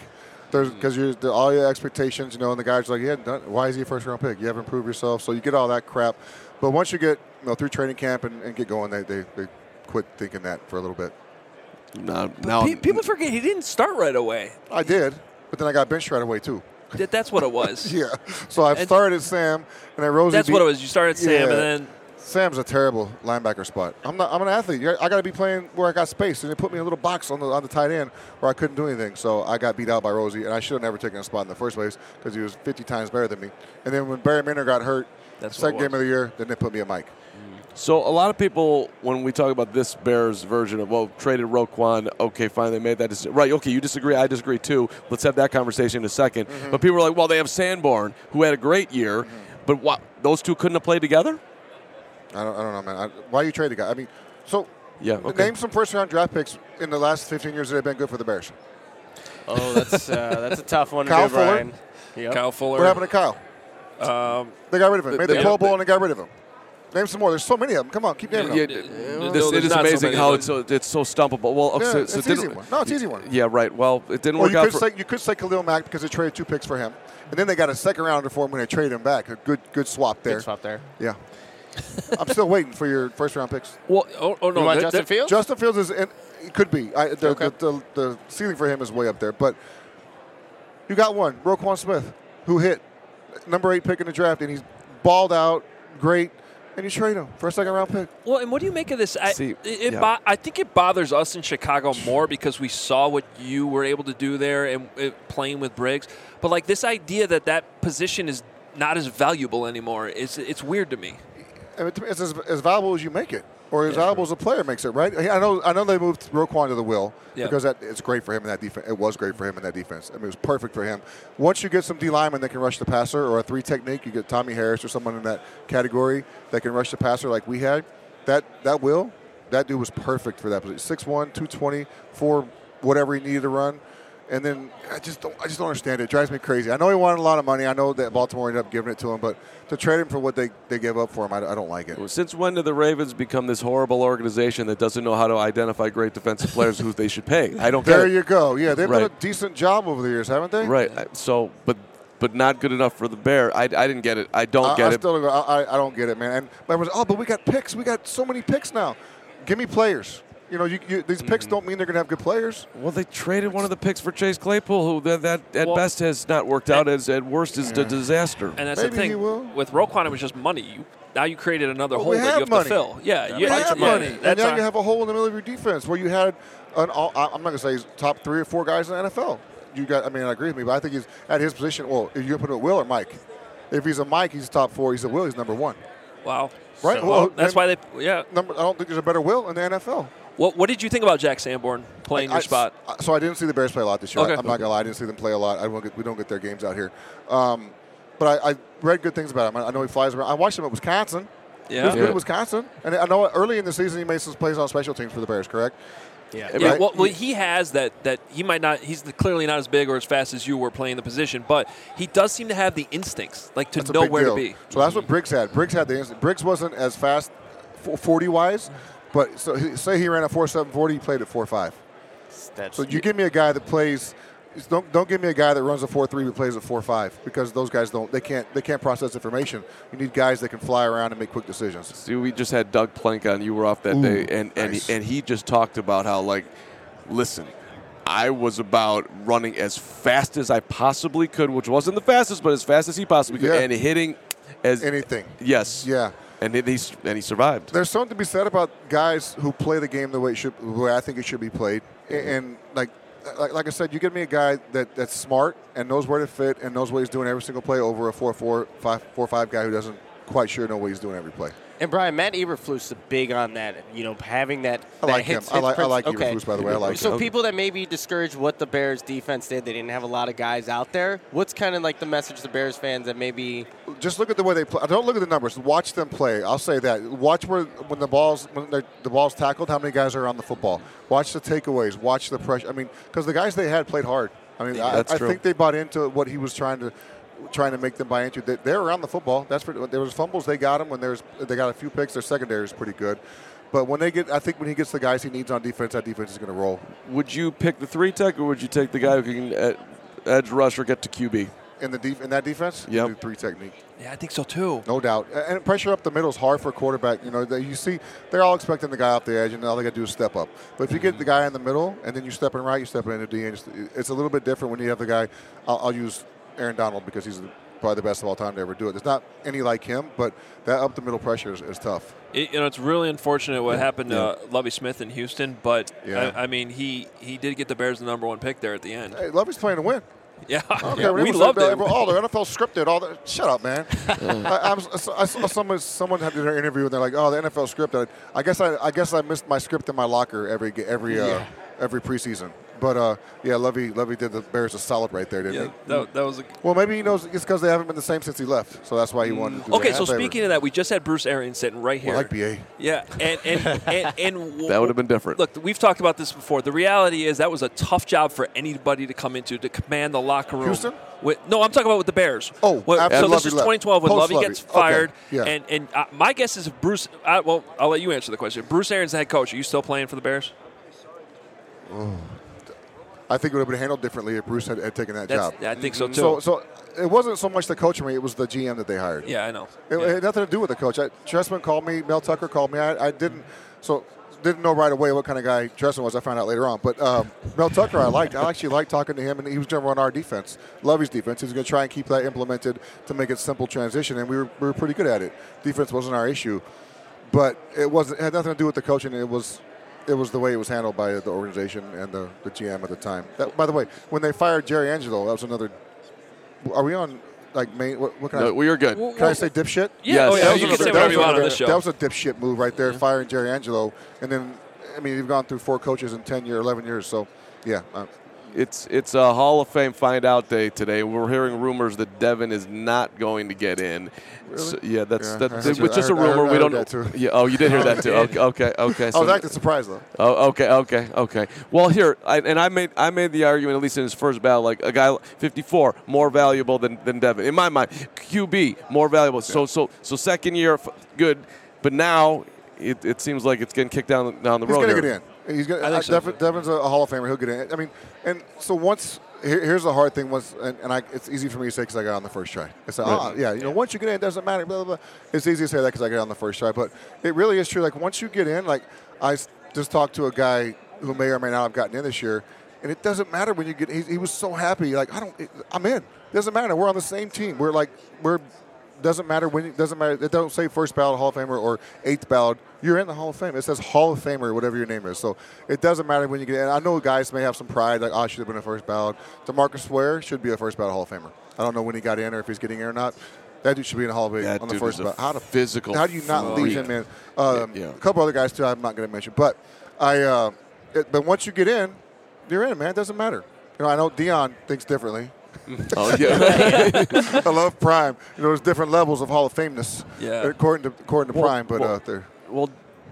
There's because you're the, all your expectations, you know, and the guys are like, yeah, done, why is he a first round pick? You haven't improved yourself, so you get all that crap. But once you get you know through training camp and, and get going, they, they they quit thinking that for a little bit. No, But now pe- people forget he didn't start right away. I did, but then I got benched right away too. That, that's what it was. Yeah. So I And- started at Sam, and then Rosie. That's beat, what it was. You started Sam, Yeah. and then Sam's a terrible linebacker spot. I'm not. I'm an athlete. You're- I got to be playing where I got space, and they put me in a little box on the on the tight end where I couldn't do anything. So I got beat out by Rosie, and I should have never taken a spot in the first place because he was fifty times better than me. And then when Barry Minner got hurt, That's what second it was. game of the year, then they put me at Mike. So a lot of people, when we talk about this Bears version of, well, traded Roquan, okay, fine, they made that decision. Right, okay, you disagree, I disagree too. Let's have that conversation in a second. Mm-hmm. But people are like, well, they have Sanborn, who had a great year, but what, those two couldn't have played together? I don't, I don't know, man. I, why you trade the guy? I mean, so Yeah, okay. name some first-round draft picks in the last fifteen years that have been good for the Bears. Oh, that's uh, that's a tough one to Kyle do, Fuller. Brian. Yep. Kyle Fuller. What happened to Kyle? Um, They got rid of him. Made the they- Pro Bowl and they got rid of him. Name some more. There's so many of them. Come on, keep naming Yeah, them. it- this, it is amazing how it's so, it's so stumpable. Well, okay, Yeah, so, it's so it an easy didn't- one. No, it's an easy one. Yeah, right. Well, it didn't Well, work you out could for. say you could say Khalil Mack because they traded two picks for him, and then they got a second rounder for him when they traded him back. A good good swap there. Good swap there. Yeah. I'm still waiting for your first round picks. Well, oh, oh no, You want that- Justin that- Fields? Justin Fields is in, it could be. I, the, Okay. the, the, the ceiling for him is way up there, but you got one, Roquan Smith, who hit number eight pick in the draft, and he's balled out, great, and you trade him for a second round pick. Well, and what do you make of this? I, See, it, it yeah. bo- I think it bothers us in Chicago more because we saw what you were able to do there and uh, playing with Briggs. But like this idea that that position is not as valuable anymore, it's it's weird to me. I mean, it's as, as valuable as you make it, or as valuable as a player makes it, right? I know, I know they moved Roquan to the will Yeah. because that it's great for him in that defense. It was great for him in that defense. I mean, it was perfect for him. Once you get some D linemen that can rush the passer, or a three technique, you get Tommy Harris or someone in that category that can rush the passer like we had. That that will, that dude was perfect for that position. six one, two twenty, for whatever he needed to run. And then I just don't, I just don't understand it. It drives me crazy. I know he wanted a lot of money. I know that Baltimore ended up giving it to him, but to trade him for what they, they gave up for him, I, I don't like it. Since when did the Ravens become this horrible organization that doesn't know how to identify great defensive players who they should pay? I don't There get it. you go. Yeah, they've done Right. a decent job over the years, haven't they? Right. I- So, but but not good enough for the Bear. I, I didn't get it. I don't I, get I it. Still, I, I- I don't get it, man. And everyone's, oh, but we got picks. We got so many picks now. Give me players. You know, you, you, these picks Mm-hmm. don't mean they're going to have good players. Well, they traded one of the picks for Chase Claypool, who that, that at Well- best has not worked out. As at worst is a disaster. And that's Maybe the thing. he will. With Roquan, it was just money. You, now you created another Well, hole we that you have have money. to fill. Yeah, You yeah, have yeah, money. And That's now not- you have a hole in the middle of your defense where you had, an all, I- I'm not going to say he's top three or four guys in the N F L. You got, I mean, I agree with me, but I think he's at his position. Well, if you put it at Will or Mike. If he's a Mike, he's top four. He's a Will, he's number one. wow. Right? So, Well, well, that's then- why they. Yeah. Number, I don't think there's a better Will in the N F L. What What did you think about Jack Sanborn playing I- your spot? I- So I didn't see the Bears play a lot this year. Okay. I'm not gonna lie, I didn't see them play a lot. I don't get, we don't get their games out here. Um, but I, I read good things about him. I, I know he flies around. I watched him at Wisconsin. Yeah. He was good Yeah. at Wisconsin. And I know early in the season he made some plays on special teams for the Bears, correct? Yeah. Yeah, Right? well, well, he has that. That he might not. He's clearly not as big or as fast as you were playing the position, but he does seem to have the instincts, like to That's a know big where deal. to be. So that's what Briggs had. Briggs had the instinct. Briggs wasn't as fast forty-wise, but so he, say he ran a four seven forty, he played at four five. That's So you give me a guy that plays. Don't don't give me a guy that runs a four three but plays a four five because those guys don't. They can't. They can't process information. You need guys that can fly around and make quick decisions. See, we just had Doug Plank on. You were off that Ooh, day, and and nice. he, and he just talked about how, like, listen, I was about running as fast as I possibly could, which wasn't the fastest, but as fast as he possibly could, Yeah. and hitting as Anything. Yes. Yeah. And it, he's and he survived. There's something to be said about guys who play the game the way it should, the way I think it should be played. And, and like, like, like I said, you give me a guy that, that's smart and knows where to fit and knows what he's doing every single play over a four four five four five guy who doesn't quite sure know what he's doing every play. And Brian, Matt Eberflus is big on that. You know, having that. I that like hits, him. I hits like- I prince- like okay. Eberflus, by the way. I like So him. people that may be discouraged what the Bears defense did, they didn't have a lot of guys out there. What's kind of like the message to Bears fans that maybe? Just look at the way they play. Don't look at the numbers. Watch them play. I'll say that. Watch where when the balls when they're- the ball's tackled, how many guys are on the football. Watch the takeaways. Watch the pressure. I mean, because the guys they had played hard. I mean, I, That's I true. think they bought into what he was trying to trying to make them buy into. They, they're around the football. That's for, there was fumbles. They got him when there's they got a few picks. Their secondary is pretty good. But when they get, I think when he gets the guys he needs on defense, that defense is going to roll. Would you pick the three tech, or would you take the guy who can uh, edge rusher, get to Q B. In the def- in that defense, Yep. do three technique. Yeah, I think so too. No doubt. And pressure up the middle is hard for a quarterback. You know, they, you see, they're all expecting the guy off the edge, and all they got to do is step up. But if you get the guy in the middle, and then you step in right, you step in the D. And it's, it's a little bit different when you have the guy. I'll, I'll use Aaron Donald because he's probably the best of all time to ever do it. There's not any like him, but that up the middle pressure is, is tough. It, you know, it's really unfortunate what Yeah. happened to Yeah. uh, Lovie Smith in Houston, but Yeah. I, I mean, he he did get the Bears the number one pick there at the end. Hey, Lovey's playing to win. Yeah, Okay, yeah, we loved it. All the N F L scripted. All the shut up, man. I, I, was, I saw someone someone had their interview and they're like, "Oh, the N F L scripted." I guess I I guess I missed my script in my locker every every uh, Yeah. every preseason. But uh, yeah, Lovey Lovey did the Bears a solid right there, didn't Yeah, he? that, that was a Well, maybe he knows it's because they haven't been the same since he left, so that's why he wanted to do Okay, that. so Favorite. speaking of that, we just had Bruce Arians sitting right here. Well, like B A. Yeah, and and and, and That would have been different. Look, we've talked about this before. The reality is that was a tough job for anybody to come into to command the locker room. Houston? With, no, I'm talking about with the Bears. Oh, Well, after so this Lovey is left. twenty twelve when Post Lovey Lovey. gets Okay, fired, yeah. and and uh, my guess is if Bruce. I, well, I'll let you answer the question. Bruce Arians, the head coach. Are you still playing for the Bears? Oh. I think it would have been handled differently if Bruce had, had taken that That's- job. yeah, I think so, too. So, so it wasn't so much the coach for me; it was the G M that they hired. Yeah, I know. It, it had nothing to do with the coach. I, Tressman called me. Mel Tucker called me. I, I didn't. So didn't know right away what kind of guy Tressman was. I found out later on. But um, Mel Tucker, I liked. I actually liked talking to him, and he was going to run our defense, Lovey's defense. He was going to try and keep that implemented to make it simple transition, and we were we were pretty good at it. Defense wasn't our issue, but it wasn't. It had nothing to do with the coaching. It was. It was the way it was handled by the organization and the, the G M at the time. That, by the way, when they fired Jerry Angelo, that was another. Are we on like main? What, what can No, I? we are good. Can I say dipshit? Yeah, oh, yeah, That was you can another- say that whatever was you want on another- this show. That was a dipshit move right there, firing Jerry Angelo, and then I mean you've gone through four coaches in ten years, eleven years. So yeah. Uh, It's it's a Hall of Fame find out day today. We're hearing rumors that Devin is not going to get in. Really? So, yeah, that's Yeah, that, I it's heard you- just I a heard- I rumor. heard- I we heard don't. that too. Yeah. Oh, you did hear that too. Okay. Okay. okay. I So was acting surprised though. Oh, okay, okay, okay. Well, here, I, and I made I made the argument, at least in his first battle, like a guy fifty-four more valuable than, than Devin in my mind. Q B more valuable. So so so second year f- good, but now it, it seems like it's getting kicked down down the He's road. gonna here. get in. He's gonna. I think uh, so, Devin, Devin's a Hall of Famer. He'll get in. I mean, and so once here, here's the hard thing was, and, and I, it's easy for me to say because I got on the first try. I said, Right. oh yeah, you know, once you get in, it doesn't matter. Blah blah blah. It's easy to say that because I got on the first try, but it really is true. Like once you get in, like I s- just talked to a guy who may or may not have gotten in this year, and it doesn't matter when you get. He, he was so happy. Like I don't. It, I'm in. It doesn't matter. We're on the same team. We're like we're. Doesn't matter when. It doesn't matter. It don't say first ballot Hall of Famer or eighth ballot. You're in the Hall of Fame. It says Hall of Famer, whatever your name is. So it doesn't matter when you get in. I know guys may have some pride, like, oh, I should have been a first ballot. DeMarcus Ware should be a first ballot Hall of Famer. I don't know when he got in or if he's getting in or not. That dude should be in the Hall of Fame That on the dude first is a ballot. How, to, physical how do you not freak. leave him in? Um, Yeah, yeah. A couple other guys, too, I'm not going to mention. But I, uh, it, but once you get in, you're in, man. It doesn't matter. You know, I know Dion thinks differently. Oh, yeah. I love Prime. You know, there's different levels of Hall of Fameness. Yeah. According to according to Well, Prime, but well, uh, they're well,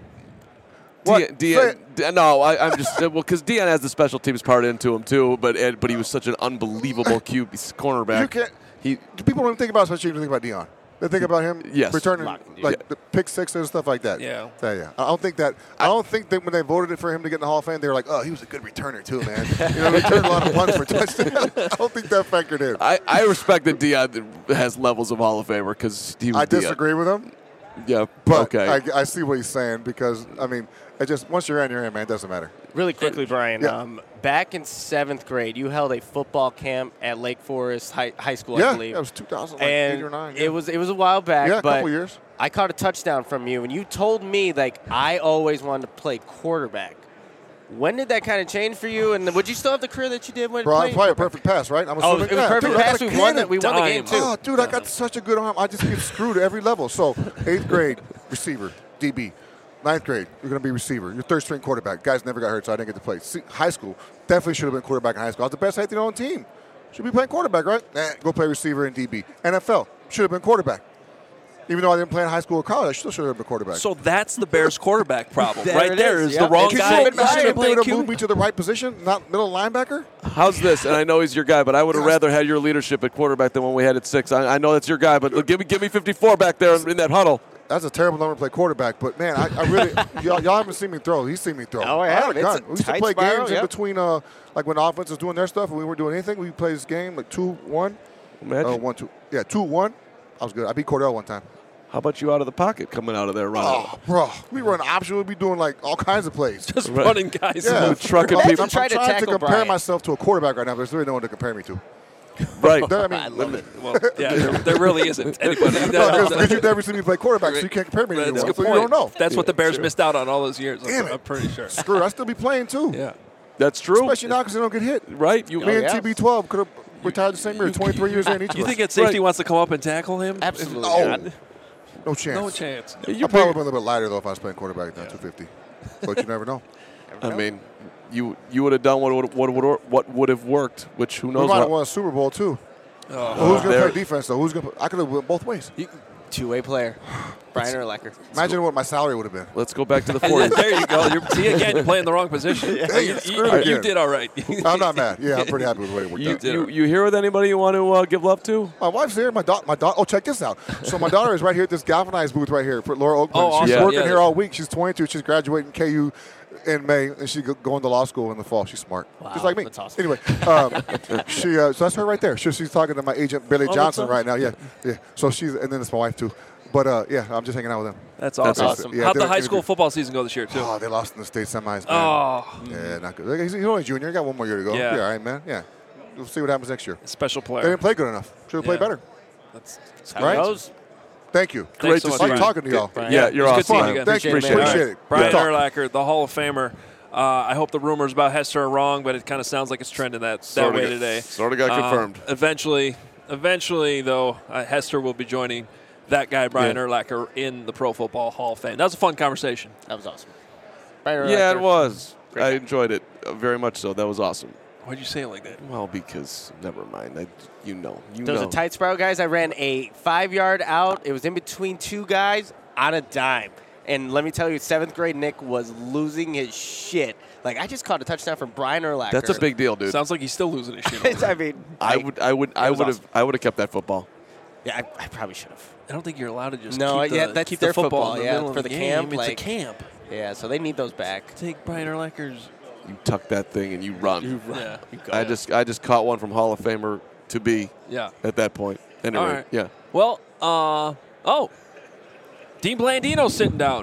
What? Dion, Dion, no, I, I'm just well because Dion has the special teams part into him too, but Ed, but he was such an unbelievable Q B cornerback. You can't. He people don't even think about special teams. Think about Dion. They think about him Yes. returning Lock- like yeah. the pick sixes and stuff like that. Yeah. yeah, yeah. I don't think that. I don't think that when they voted for him to get in the Hall of Fame, they were like, "Oh, he was a good returner too, man." You know, he returned a lot of punts for touchdowns. I don't think that factored in. I, I respect that Dion has levels of Hall of Famer because he was I Dion. disagree with him. Yeah, But okay. I, I see what he's saying because I mean, it just once you're in, you're in, man. It doesn't matter. Really quickly, Brian. Yeah. Um, back in seventh grade, you held a football camp at Lake Forest High, High School, Yeah, I believe. that was two thousand and eight or nine. It was it was a while back. Yeah, a but couple years. I caught a touchdown from you, and you told me like I always wanted to play quarterback. When did that kind of change for you? And would you still have the career that you did when Bro, I playing? play a perfect pass, right? I'm Oh, assuming. it was yeah, perfect dude, I pass. got a We won the- cannon. we won the game, too. Oh, dude, I got such a good arm. I just get screwed at every level. So, eighth grade, receiver, D B. Ninth grade, you're going to be receiver. You're third string quarterback. Guys never got hurt, so I didn't get to play. See, high school, definitely should have been quarterback in high school. I was the best safety on the team. Should be playing quarterback, right? Nah, go play receiver and D B. N F L, should have been quarterback. Even though I didn't play in high school or college, I still should have been quarterback. So that's the Bears' quarterback problem. There right it there is, is yeah. the wrong Could guy. you You should have imagine if they played would have Q B. moved me to the right position, not middle linebacker? How's this? And I know he's your guy, but I would have rather had your leadership at quarterback than when we had at six. I, I know that's your guy, but give me give me fifty-four back there in that huddle. that's a terrible number to play quarterback. But man, I, I really y'all, y'all haven't seen me throw. He's seen me throw. Oh, I yeah, had a it's gun. a We used to tight play spiral, games yep. in between, uh, like when the offense was doing their stuff and we weren't doing anything. We played this game like two one, Imagine. uh, one two. Yeah, two one. I was good. I beat Cordell one time. How about you out of the pocket coming out of there running? Oh, bro, we run option. We'd be doing like all kinds of plays. Just right. running guys. Yeah, out. Trucking I'm, people. I'm, I'm trying to, to compare Brian. myself to a quarterback right now. There's really no one to compare me to. Right. I, mean, I love it. Well, yeah, there, there really isn't anybody. No, because you've never seen me play quarterback, so you can't compare me to That's anyone. a good So point. you don't know. That's Yeah, what the Bears sure. missed out on all those years. Damn I'm, it. I'm pretty sure. Screw it. I still be playing too. Yeah. That's true. Especially now because they don't get hit. Right. You, Me Oh, and yeah. T B twelve could have retired the same year, twenty-three years in each You of think us. that safety Right. wants to come up and tackle him? Absolutely No. not. No chance. No chance. I'd probably been a little bit lighter, though, if I was playing quarterback than two fifty. But you never know. I mean, you you would have done what would what would what would have worked, which who We knows might have what. won a Super Bowl, too. Oh. Well, who's going to there- play defense, though? Who's going to? I could have went both ways. Two-way player. Brian Urlacher. Imagine what my salary would have been. Let's go back to the Yeah, forties. there you go. You're, see, again, you're playing the wrong position. Dang you, it, you- screwed you again. did all right. I'm not mad. Yeah, I'm pretty happy with the way it worked You, out. you, you here with anybody you want to uh, give love to? My wife's here. My daughter. My daughter. Oh, check this out. So my daughter is right here at this galvanized booth right here for Laura Oakland. Oh, She's awesome. working Yeah. here all week. She's twenty-two. She's graduating K U in May, and she's go- going to law school in the fall. She's smart, Wow, just like me. that's awesome. Anyway, um, she. Uh, so that's her right there. She, she's talking to my agent Billy Oh, Johnson that's right now. Yeah, yeah. So she's, and then it's my wife too. But uh, yeah, I'm just hanging out with them. That's That's awesome. awesome. Yeah, How'd did the an high school interview. football season go this year, too? Oh, they lost in the state semis, man. Oh, Yeah, not good. He's, he's only a junior. He got one more year to go. Yeah. Yeah, all right, man. Yeah, we'll see what happens next year. special They player. didn't play good enough. Should have played Yeah. better. That's, that's How Right? it goes. Thank you. Thanks Great so to much, see Like you. talking to y'all. Brian. Yeah, you're It was awesome. good seeing you again. Thank you. Appreciate it, man. Appreciate it. Brian Good talk. Urlacher, the Hall of Famer. Uh, I hope the rumors about Hester are wrong, but it kind of sounds like it's trending that, that Sorta way got- today. sorta got Uh, confirmed. Eventually, eventually, though, uh, Hester will be joining that guy, Brian Yeah. Urlacher, in the Pro Football Hall of Fame. That was a fun conversation. That was awesome. Brian Yeah, it Urlacher. was. Great I guy. enjoyed it uh, very much. So that was awesome. Why'd you say it like that? Well, because never mind. I, you know, you There was know. a tight spiral, guys. I ran a five-yard out. It was in between two guys on a dime. And let me tell you, seventh grade Nick was losing his shit. Like, I just caught a touchdown from Brian Urlacher. That's a big deal, dude. Sounds like he's still losing his shit. It's- I mean, I like, would, I would, I was would have, awesome. I would have kept that football. Yeah, I, I probably should have. I don't think you're allowed to just No, keep the, yeah, that's keep their the football, football, in the yeah, middle for of the the camp, game. It's like- a camp. Yeah, so they need those back. Take Brian Urlacher's. You tuck that thing and you run. Yeah. I just, I just caught one from Hall of Famer to be. Yeah. At that point. Anyway, All right. yeah. Well, uh, oh, Dean Blandino's sitting down.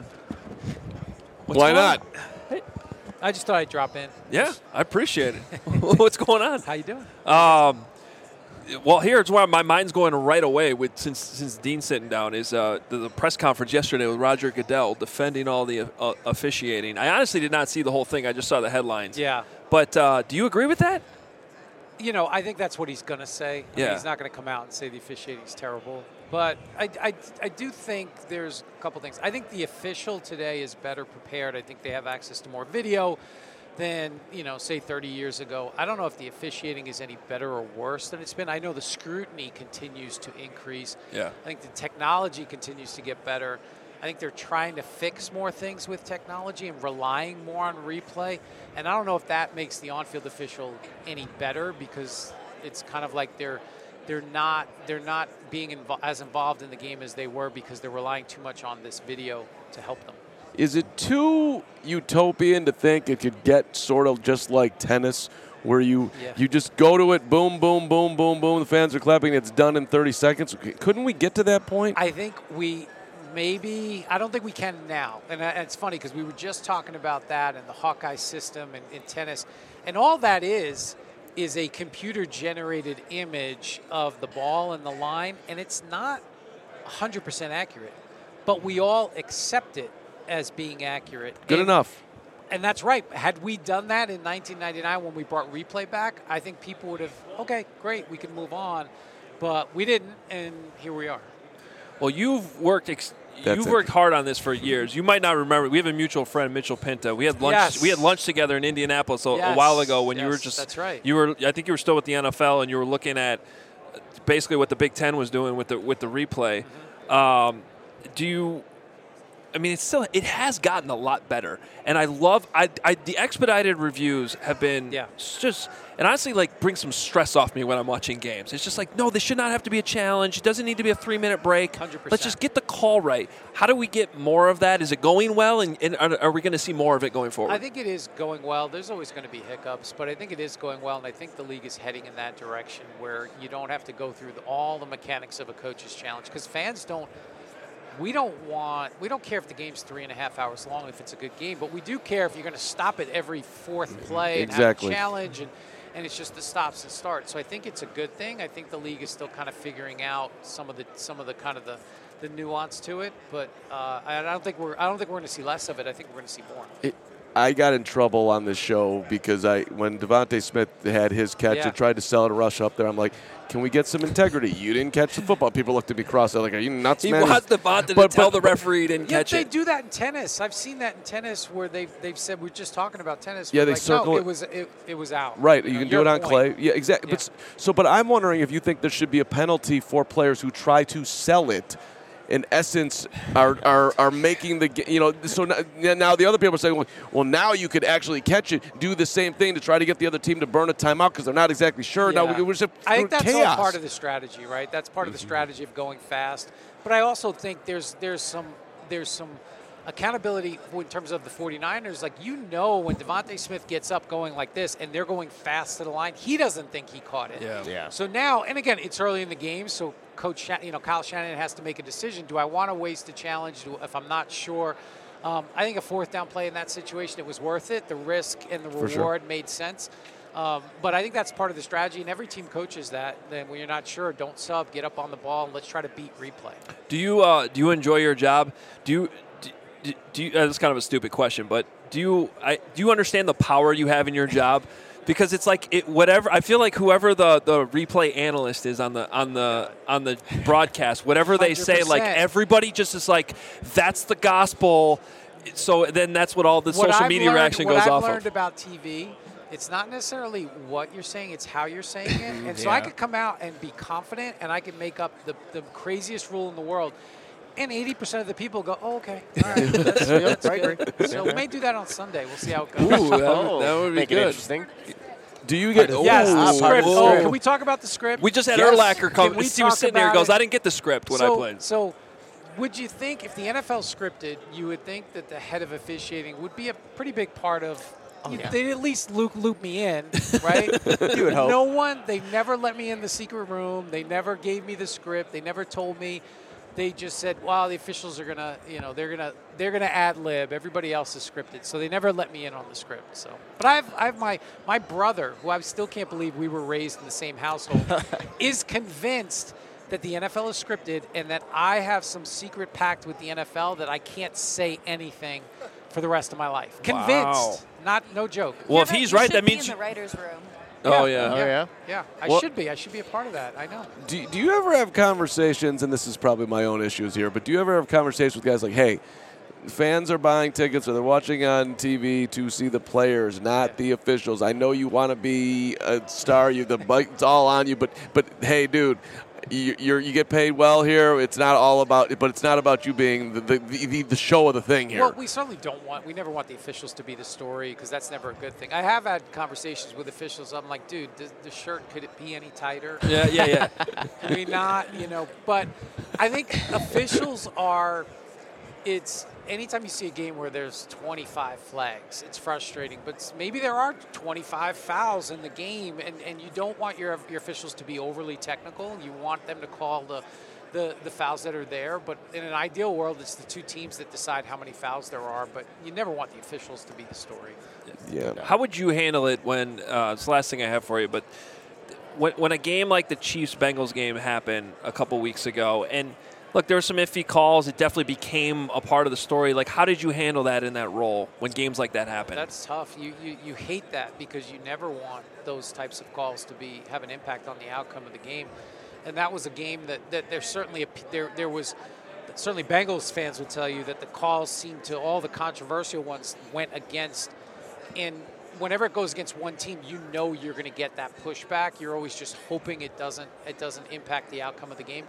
What's Why going not? on? I just thought I'd drop in. Yeah, I appreciate it. What's going on? How you doing? Um, well, here's where my mind's going right away with since since Dean's sitting down is uh, the, the press conference yesterday with Roger Goodell defending all the uh, officiating. I honestly did not see the whole thing. I just saw the headlines. Yeah. But uh, do you agree with that? You know, I think that's what he's going to say. I mean, Yeah. he's not going to come out and say the officiating is terrible. But I, I, I do think there's a couple things. I think the official today is better prepared. I think they have access to more video than, you know, say thirty years ago. I don't know if the officiating is any better or worse than it's been. I know the scrutiny continues to increase. Yeah. I think the technology continues to get better. I think they're trying to fix more things with technology and relying more on replay. And I don't know if that makes the on-field official any better because it's kind of like they're they're not they're not being invo- as involved in the game as they were because they're relying too much on this video to help them. Is it too utopian to think it could get sort of just like tennis, where you Yeah. you just go to it, boom, boom, boom, boom, boom, the fans are clapping, it's done in thirty seconds? Couldn't we get to that point? I think we maybe, I don't think we can now. And uh, it's funny because we were just talking about that and the Hawkeye system in, in tennis. And all that is, is a computer-generated image of the ball and the line, and it's not one hundred percent accurate. But we all accept it as being accurate. Good And- enough. And that's right. Had we done that in nineteen ninety-nine when we brought replay back, I think people would have, okay, great, we can move on. But we didn't, and here we are. Well, you've worked ex- That's you've it. worked hard on this for years. You might not remember. We have a mutual friend, Mitchell Pinta. We had lunch. Yes. We had lunch together in Indianapolis a, a Yes. while ago when you were Yes, just. that's right. You were. I think you were still with the N F L, and you were looking at basically what the Big Ten was doing with the with the replay. Mm-hmm. Um, do you? I mean, it's still it has gotten a lot better, and I love I, I the expedited reviews have been Yeah. just and honestly like bring some stress off me when I'm watching games. It's just like no, this should not have to be a challenge. It doesn't need to be a three minute break. one hundred percent. Let's just get the call right. How do we get more of that? Is it going well, and, and are, are we going to see more of it going forward? I think it is going well. There's always going to be hiccups, but I think it is going well, and I think the league is heading in that direction where you don't have to go through the, all the mechanics of a coach's challenge because fans don't. We don't want. We don't care if the game's three and a half hours long if it's a good game, but we do care if you're going to stop it every fourth play and Exactly. have a challenge, and, and it's just the stops and starts. So I think it's a good thing. I think the league is still kind of figuring out some of the some of the kind of the, the nuance to it, but uh, I don't think we're I don't think we're going to see less of it. I think we're going to see more. It, I got in trouble on this show because I, when Devontae Smith had his catch Yeah. and tried to sell it a rush up there, I'm like, can we get some integrity? You didn't catch the football. People looked at me cross. They're like, are you nuts, He man? wants Devontae to But- tell but- the referee he didn't Yeah, catch they it. do that in tennis. I've seen that in tennis where they've they've said we're just talking about tennis. Yeah, We're they like, circle no, it. it was it, it was out. Right, you know, can do your it on point. clay. Yeah, exactly. But s- so, but I'm wondering if you think there should be a penalty for players who try to sell it. In essence, are are are making the ga- you know. So now, now the other people are saying, well, well, now you could actually catch it, do the same thing to try to get the other team to burn a timeout because they're not exactly sure. Now Yeah. we, we're just I think that's chaos. all part of the strategy, right? That's part of the strategy of going fast. But I also think there's there's some there's some accountability in terms of the 49ers. Like, you know, when Devontae Smith gets up going like this and they're going fast to the line, he doesn't think he caught it. Yeah. Yeah. So now, and again, it's early in the game, so Coach, Shan- you know, Kyle Shanahan has to make a decision. Do I want to waste a challenge Do- if I'm not sure? Um, I think a fourth down play in that situation, it was worth it. The risk and the For reward sure. made sense. Um, but I think that's part of the strategy, and every team coaches that. Then when you're not sure, don't sub, get up on the ball, and let's try to beat replay. Do you uh, do you enjoy your job? Do you do, do, do you? Uh, this is kind of a stupid question, but do you I, do you understand the power you have in your job? Because it's like it, whatever. I feel like whoever the, the replay analyst is on the on the on the broadcast, whatever they say, like one hundred percent. everybody just is like, that's the gospel. So then that's what all the What social I've media learned- reaction what goes I've off learned of. about T V, it's not necessarily what you're saying, it's how you're saying it. And so Yeah. I could come out and be confident, and I could make up the, the craziest rule in the world. And eighty percent of the people go, oh, okay. All right, that's, that's I agree. good. So we may do that on Sunday. We'll see how it goes. Ooh, that, would- that would be Make it good. interesting. Do you get? Yes, Ooh. the script. whoa. Oh, can we talk about the script? We just had Yes. Urlacher come. Can we He was talk sitting there and about goes, it? I didn't get the script when so, I played. So, would you think if the N F L scripted, you would think that the head of officiating would be a pretty big part of? you- yeah. They'd at least loop, loop me in, right? You would hope. No one. They never let me in the secret room. They never gave me the script. They never told me. They just said, "Well, the officials are gonna, you know, they're gonna, they're gonna ad lib. Everybody else is scripted." So they never let me in on the script. So, but I've, I have my, my brother, who I still can't believe we were raised in the same household, is convinced that the N F L is scripted and that I have some secret pact with the N F L that I can't say anything for the rest of my life. Convinced, Wow. not no joke. Well, if You he's should right, that be means in you, the writers' room. Oh yeah. Oh, yeah? Yeah, I Well- should be. I should be a part of that. I know. Do, do you ever have conversations, and this is probably my own issues here, but do you ever have conversations with guys like, hey, fans are buying tickets or they're watching on T V to see the players, not the officials. I know you want to be a star, you the it's all on you, but but hey, dude, you you're, you get paid well here. It's not all about, but it's not about you being the the, the, the show of the thing here. Well, we certainly don't want, we never want the officials to be the story because that's never a good thing. I have had conversations with officials. I'm like, dude, the, the shirt, could it be any tighter? Yeah, yeah, yeah. Can we not, you know, but I think officials are, it's, anytime you see a game where there's twenty-five flags, it's frustrating. But maybe there are twenty-five fouls in the game, and, and you don't want your your officials to be overly technical. You want them to call the, the, the fouls that are there. But in an ideal world, it's the two teams that decide how many fouls there are. But you never want the officials to be the story. Yeah. How would you handle it when, uh, it's the last thing I have for you, but when, when a game like the Chiefs-Bengals game happened a couple weeks ago, and look, there were some iffy calls. It definitely became a part of the story. Like, how did you handle that in that role when games like that happen? That's tough. You, you you hate that because you never want those types of calls to be have an impact on the outcome of the game. And that was a game that, that there's certainly a, there there was certainly Bengals fans would tell you that the calls seemed to, all the controversial ones went against. And whenever it goes against one team, you know you're going to get that pushback. You're always just hoping it doesn't it doesn't impact the outcome of the game.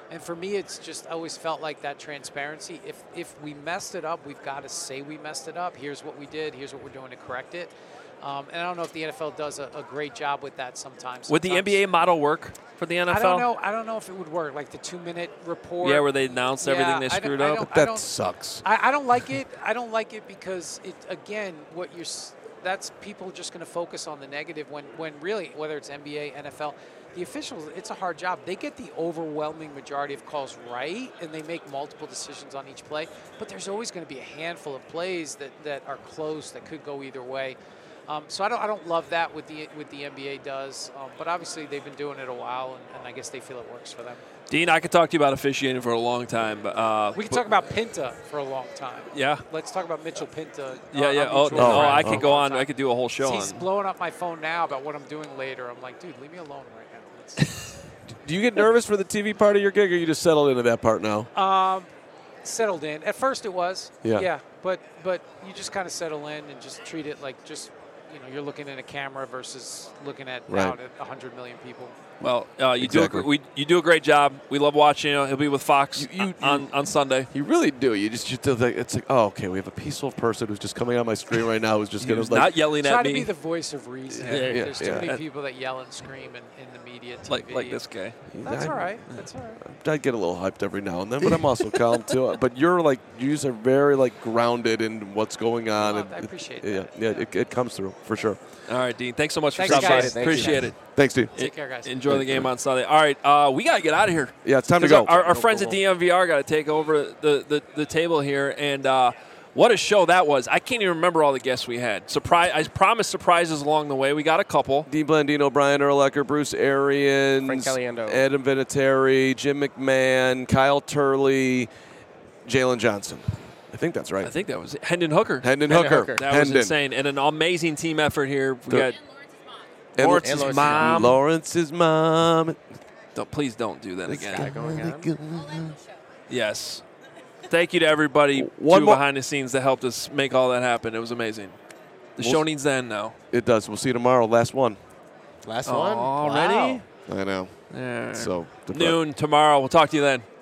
And for me, it's just I always felt like that transparency. If if we messed it up, we've got to say we messed it up. Here's what we did. Here's what we're doing to correct it. Um, and I don't know if the N F L does a, a great job with that sometimes. Would the N B A model work for the N F L? I don't know. I don't know if it would work. Like the two-minute report. Yeah, where they announce Yeah, everything they I don't- screwed I up. don't- I That don't- sucks. I, I don't like it. I don't like it because it again, what you're s- that's people just going to focus on the negative when when really whether it's N B A, N F L, the officials, it's a hard job. They get the overwhelming majority of calls right, and they make multiple decisions on each play. But there's always going to be a handful of plays that, that are close that could go either way. Um, so I don't I don't love that what the what the N B A does. Um, but obviously they've been doing it a while, and, and I guess they feel it works for them. Dean, I could talk to you about officiating for a long time. But, uh, We could but- talk about Pinta for a long time. Yeah. Let's talk about Mitchell Pinta. Yeah, uh, yeah. on Oh, mutual no, friends I for a could go long on. time. I could do a whole show He's on. blowing up my phone now about what I'm doing later. I'm like, dude, leave me alone right now. Let's- Do you get nervous for the T V part of your gig, or you just settled into that part now? um, settled in. At first, it was. Yeah. Yeah. But but you just kind of settle in and just treat it like just you know you're looking at a camera versus looking at Right. out at one hundred million people. Well, uh, you Exactly. do a, we, you do a great job. We love watching you. He'll be with Fox You- you- on, on Sunday. You really do. You just, you just it's like, oh, okay, we have a peaceful person who's just coming on my screen right now who's just going Who's to like not yelling Try at to me. be the voice of reason. Yeah, yeah, There's too yeah. many people that yell and scream in, in the media. T V. Like like this guy. That's I- all right. That's all right. I get a little hyped every now and then, but I'm also calm too. But you're like, you are very like grounded in what's going on. Well, and I appreciate Yeah, that. yeah, it, it comes through for sure. All right, Dean. Thanks so much for Thanks, stopping by. guys. Thank you. Appreciate it. Thanks, Steve. Take care, guys. Enjoy the game on Sunday. All right, uh, we got to get out of here. Yeah, it's time to 'Cause go. Our, our friends at D M V R got to take over the, the, the table here. And uh, what a show that was. I can't even remember all the guests we had. Surprise! I promised surprises along the way. We got a couple. Dean Blandino, Brian Urlacher, Bruce Arians, Frank Caliendo. Adam Vinatieri, Jim McMahon, Kyle Turley, Jalen Johnson. I think that's right. I think that was it. Hendon Hooker. Hendon Hooker. That Hendon. was insane. And an amazing team effort here. We The- got And Lawrence's Lawrence's mom. Lawrence's mom. Don't, please don't do that This again. guy going on. Yes. Thank you to everybody One too more- behind the scenes that helped us make all that happen. It was amazing. The We'll show s- needs to end now. It does. We'll see you tomorrow. Last one. Last Oh, one already? Wow. I know. Yeah. So depre- Noon tomorrow. We'll talk to you then.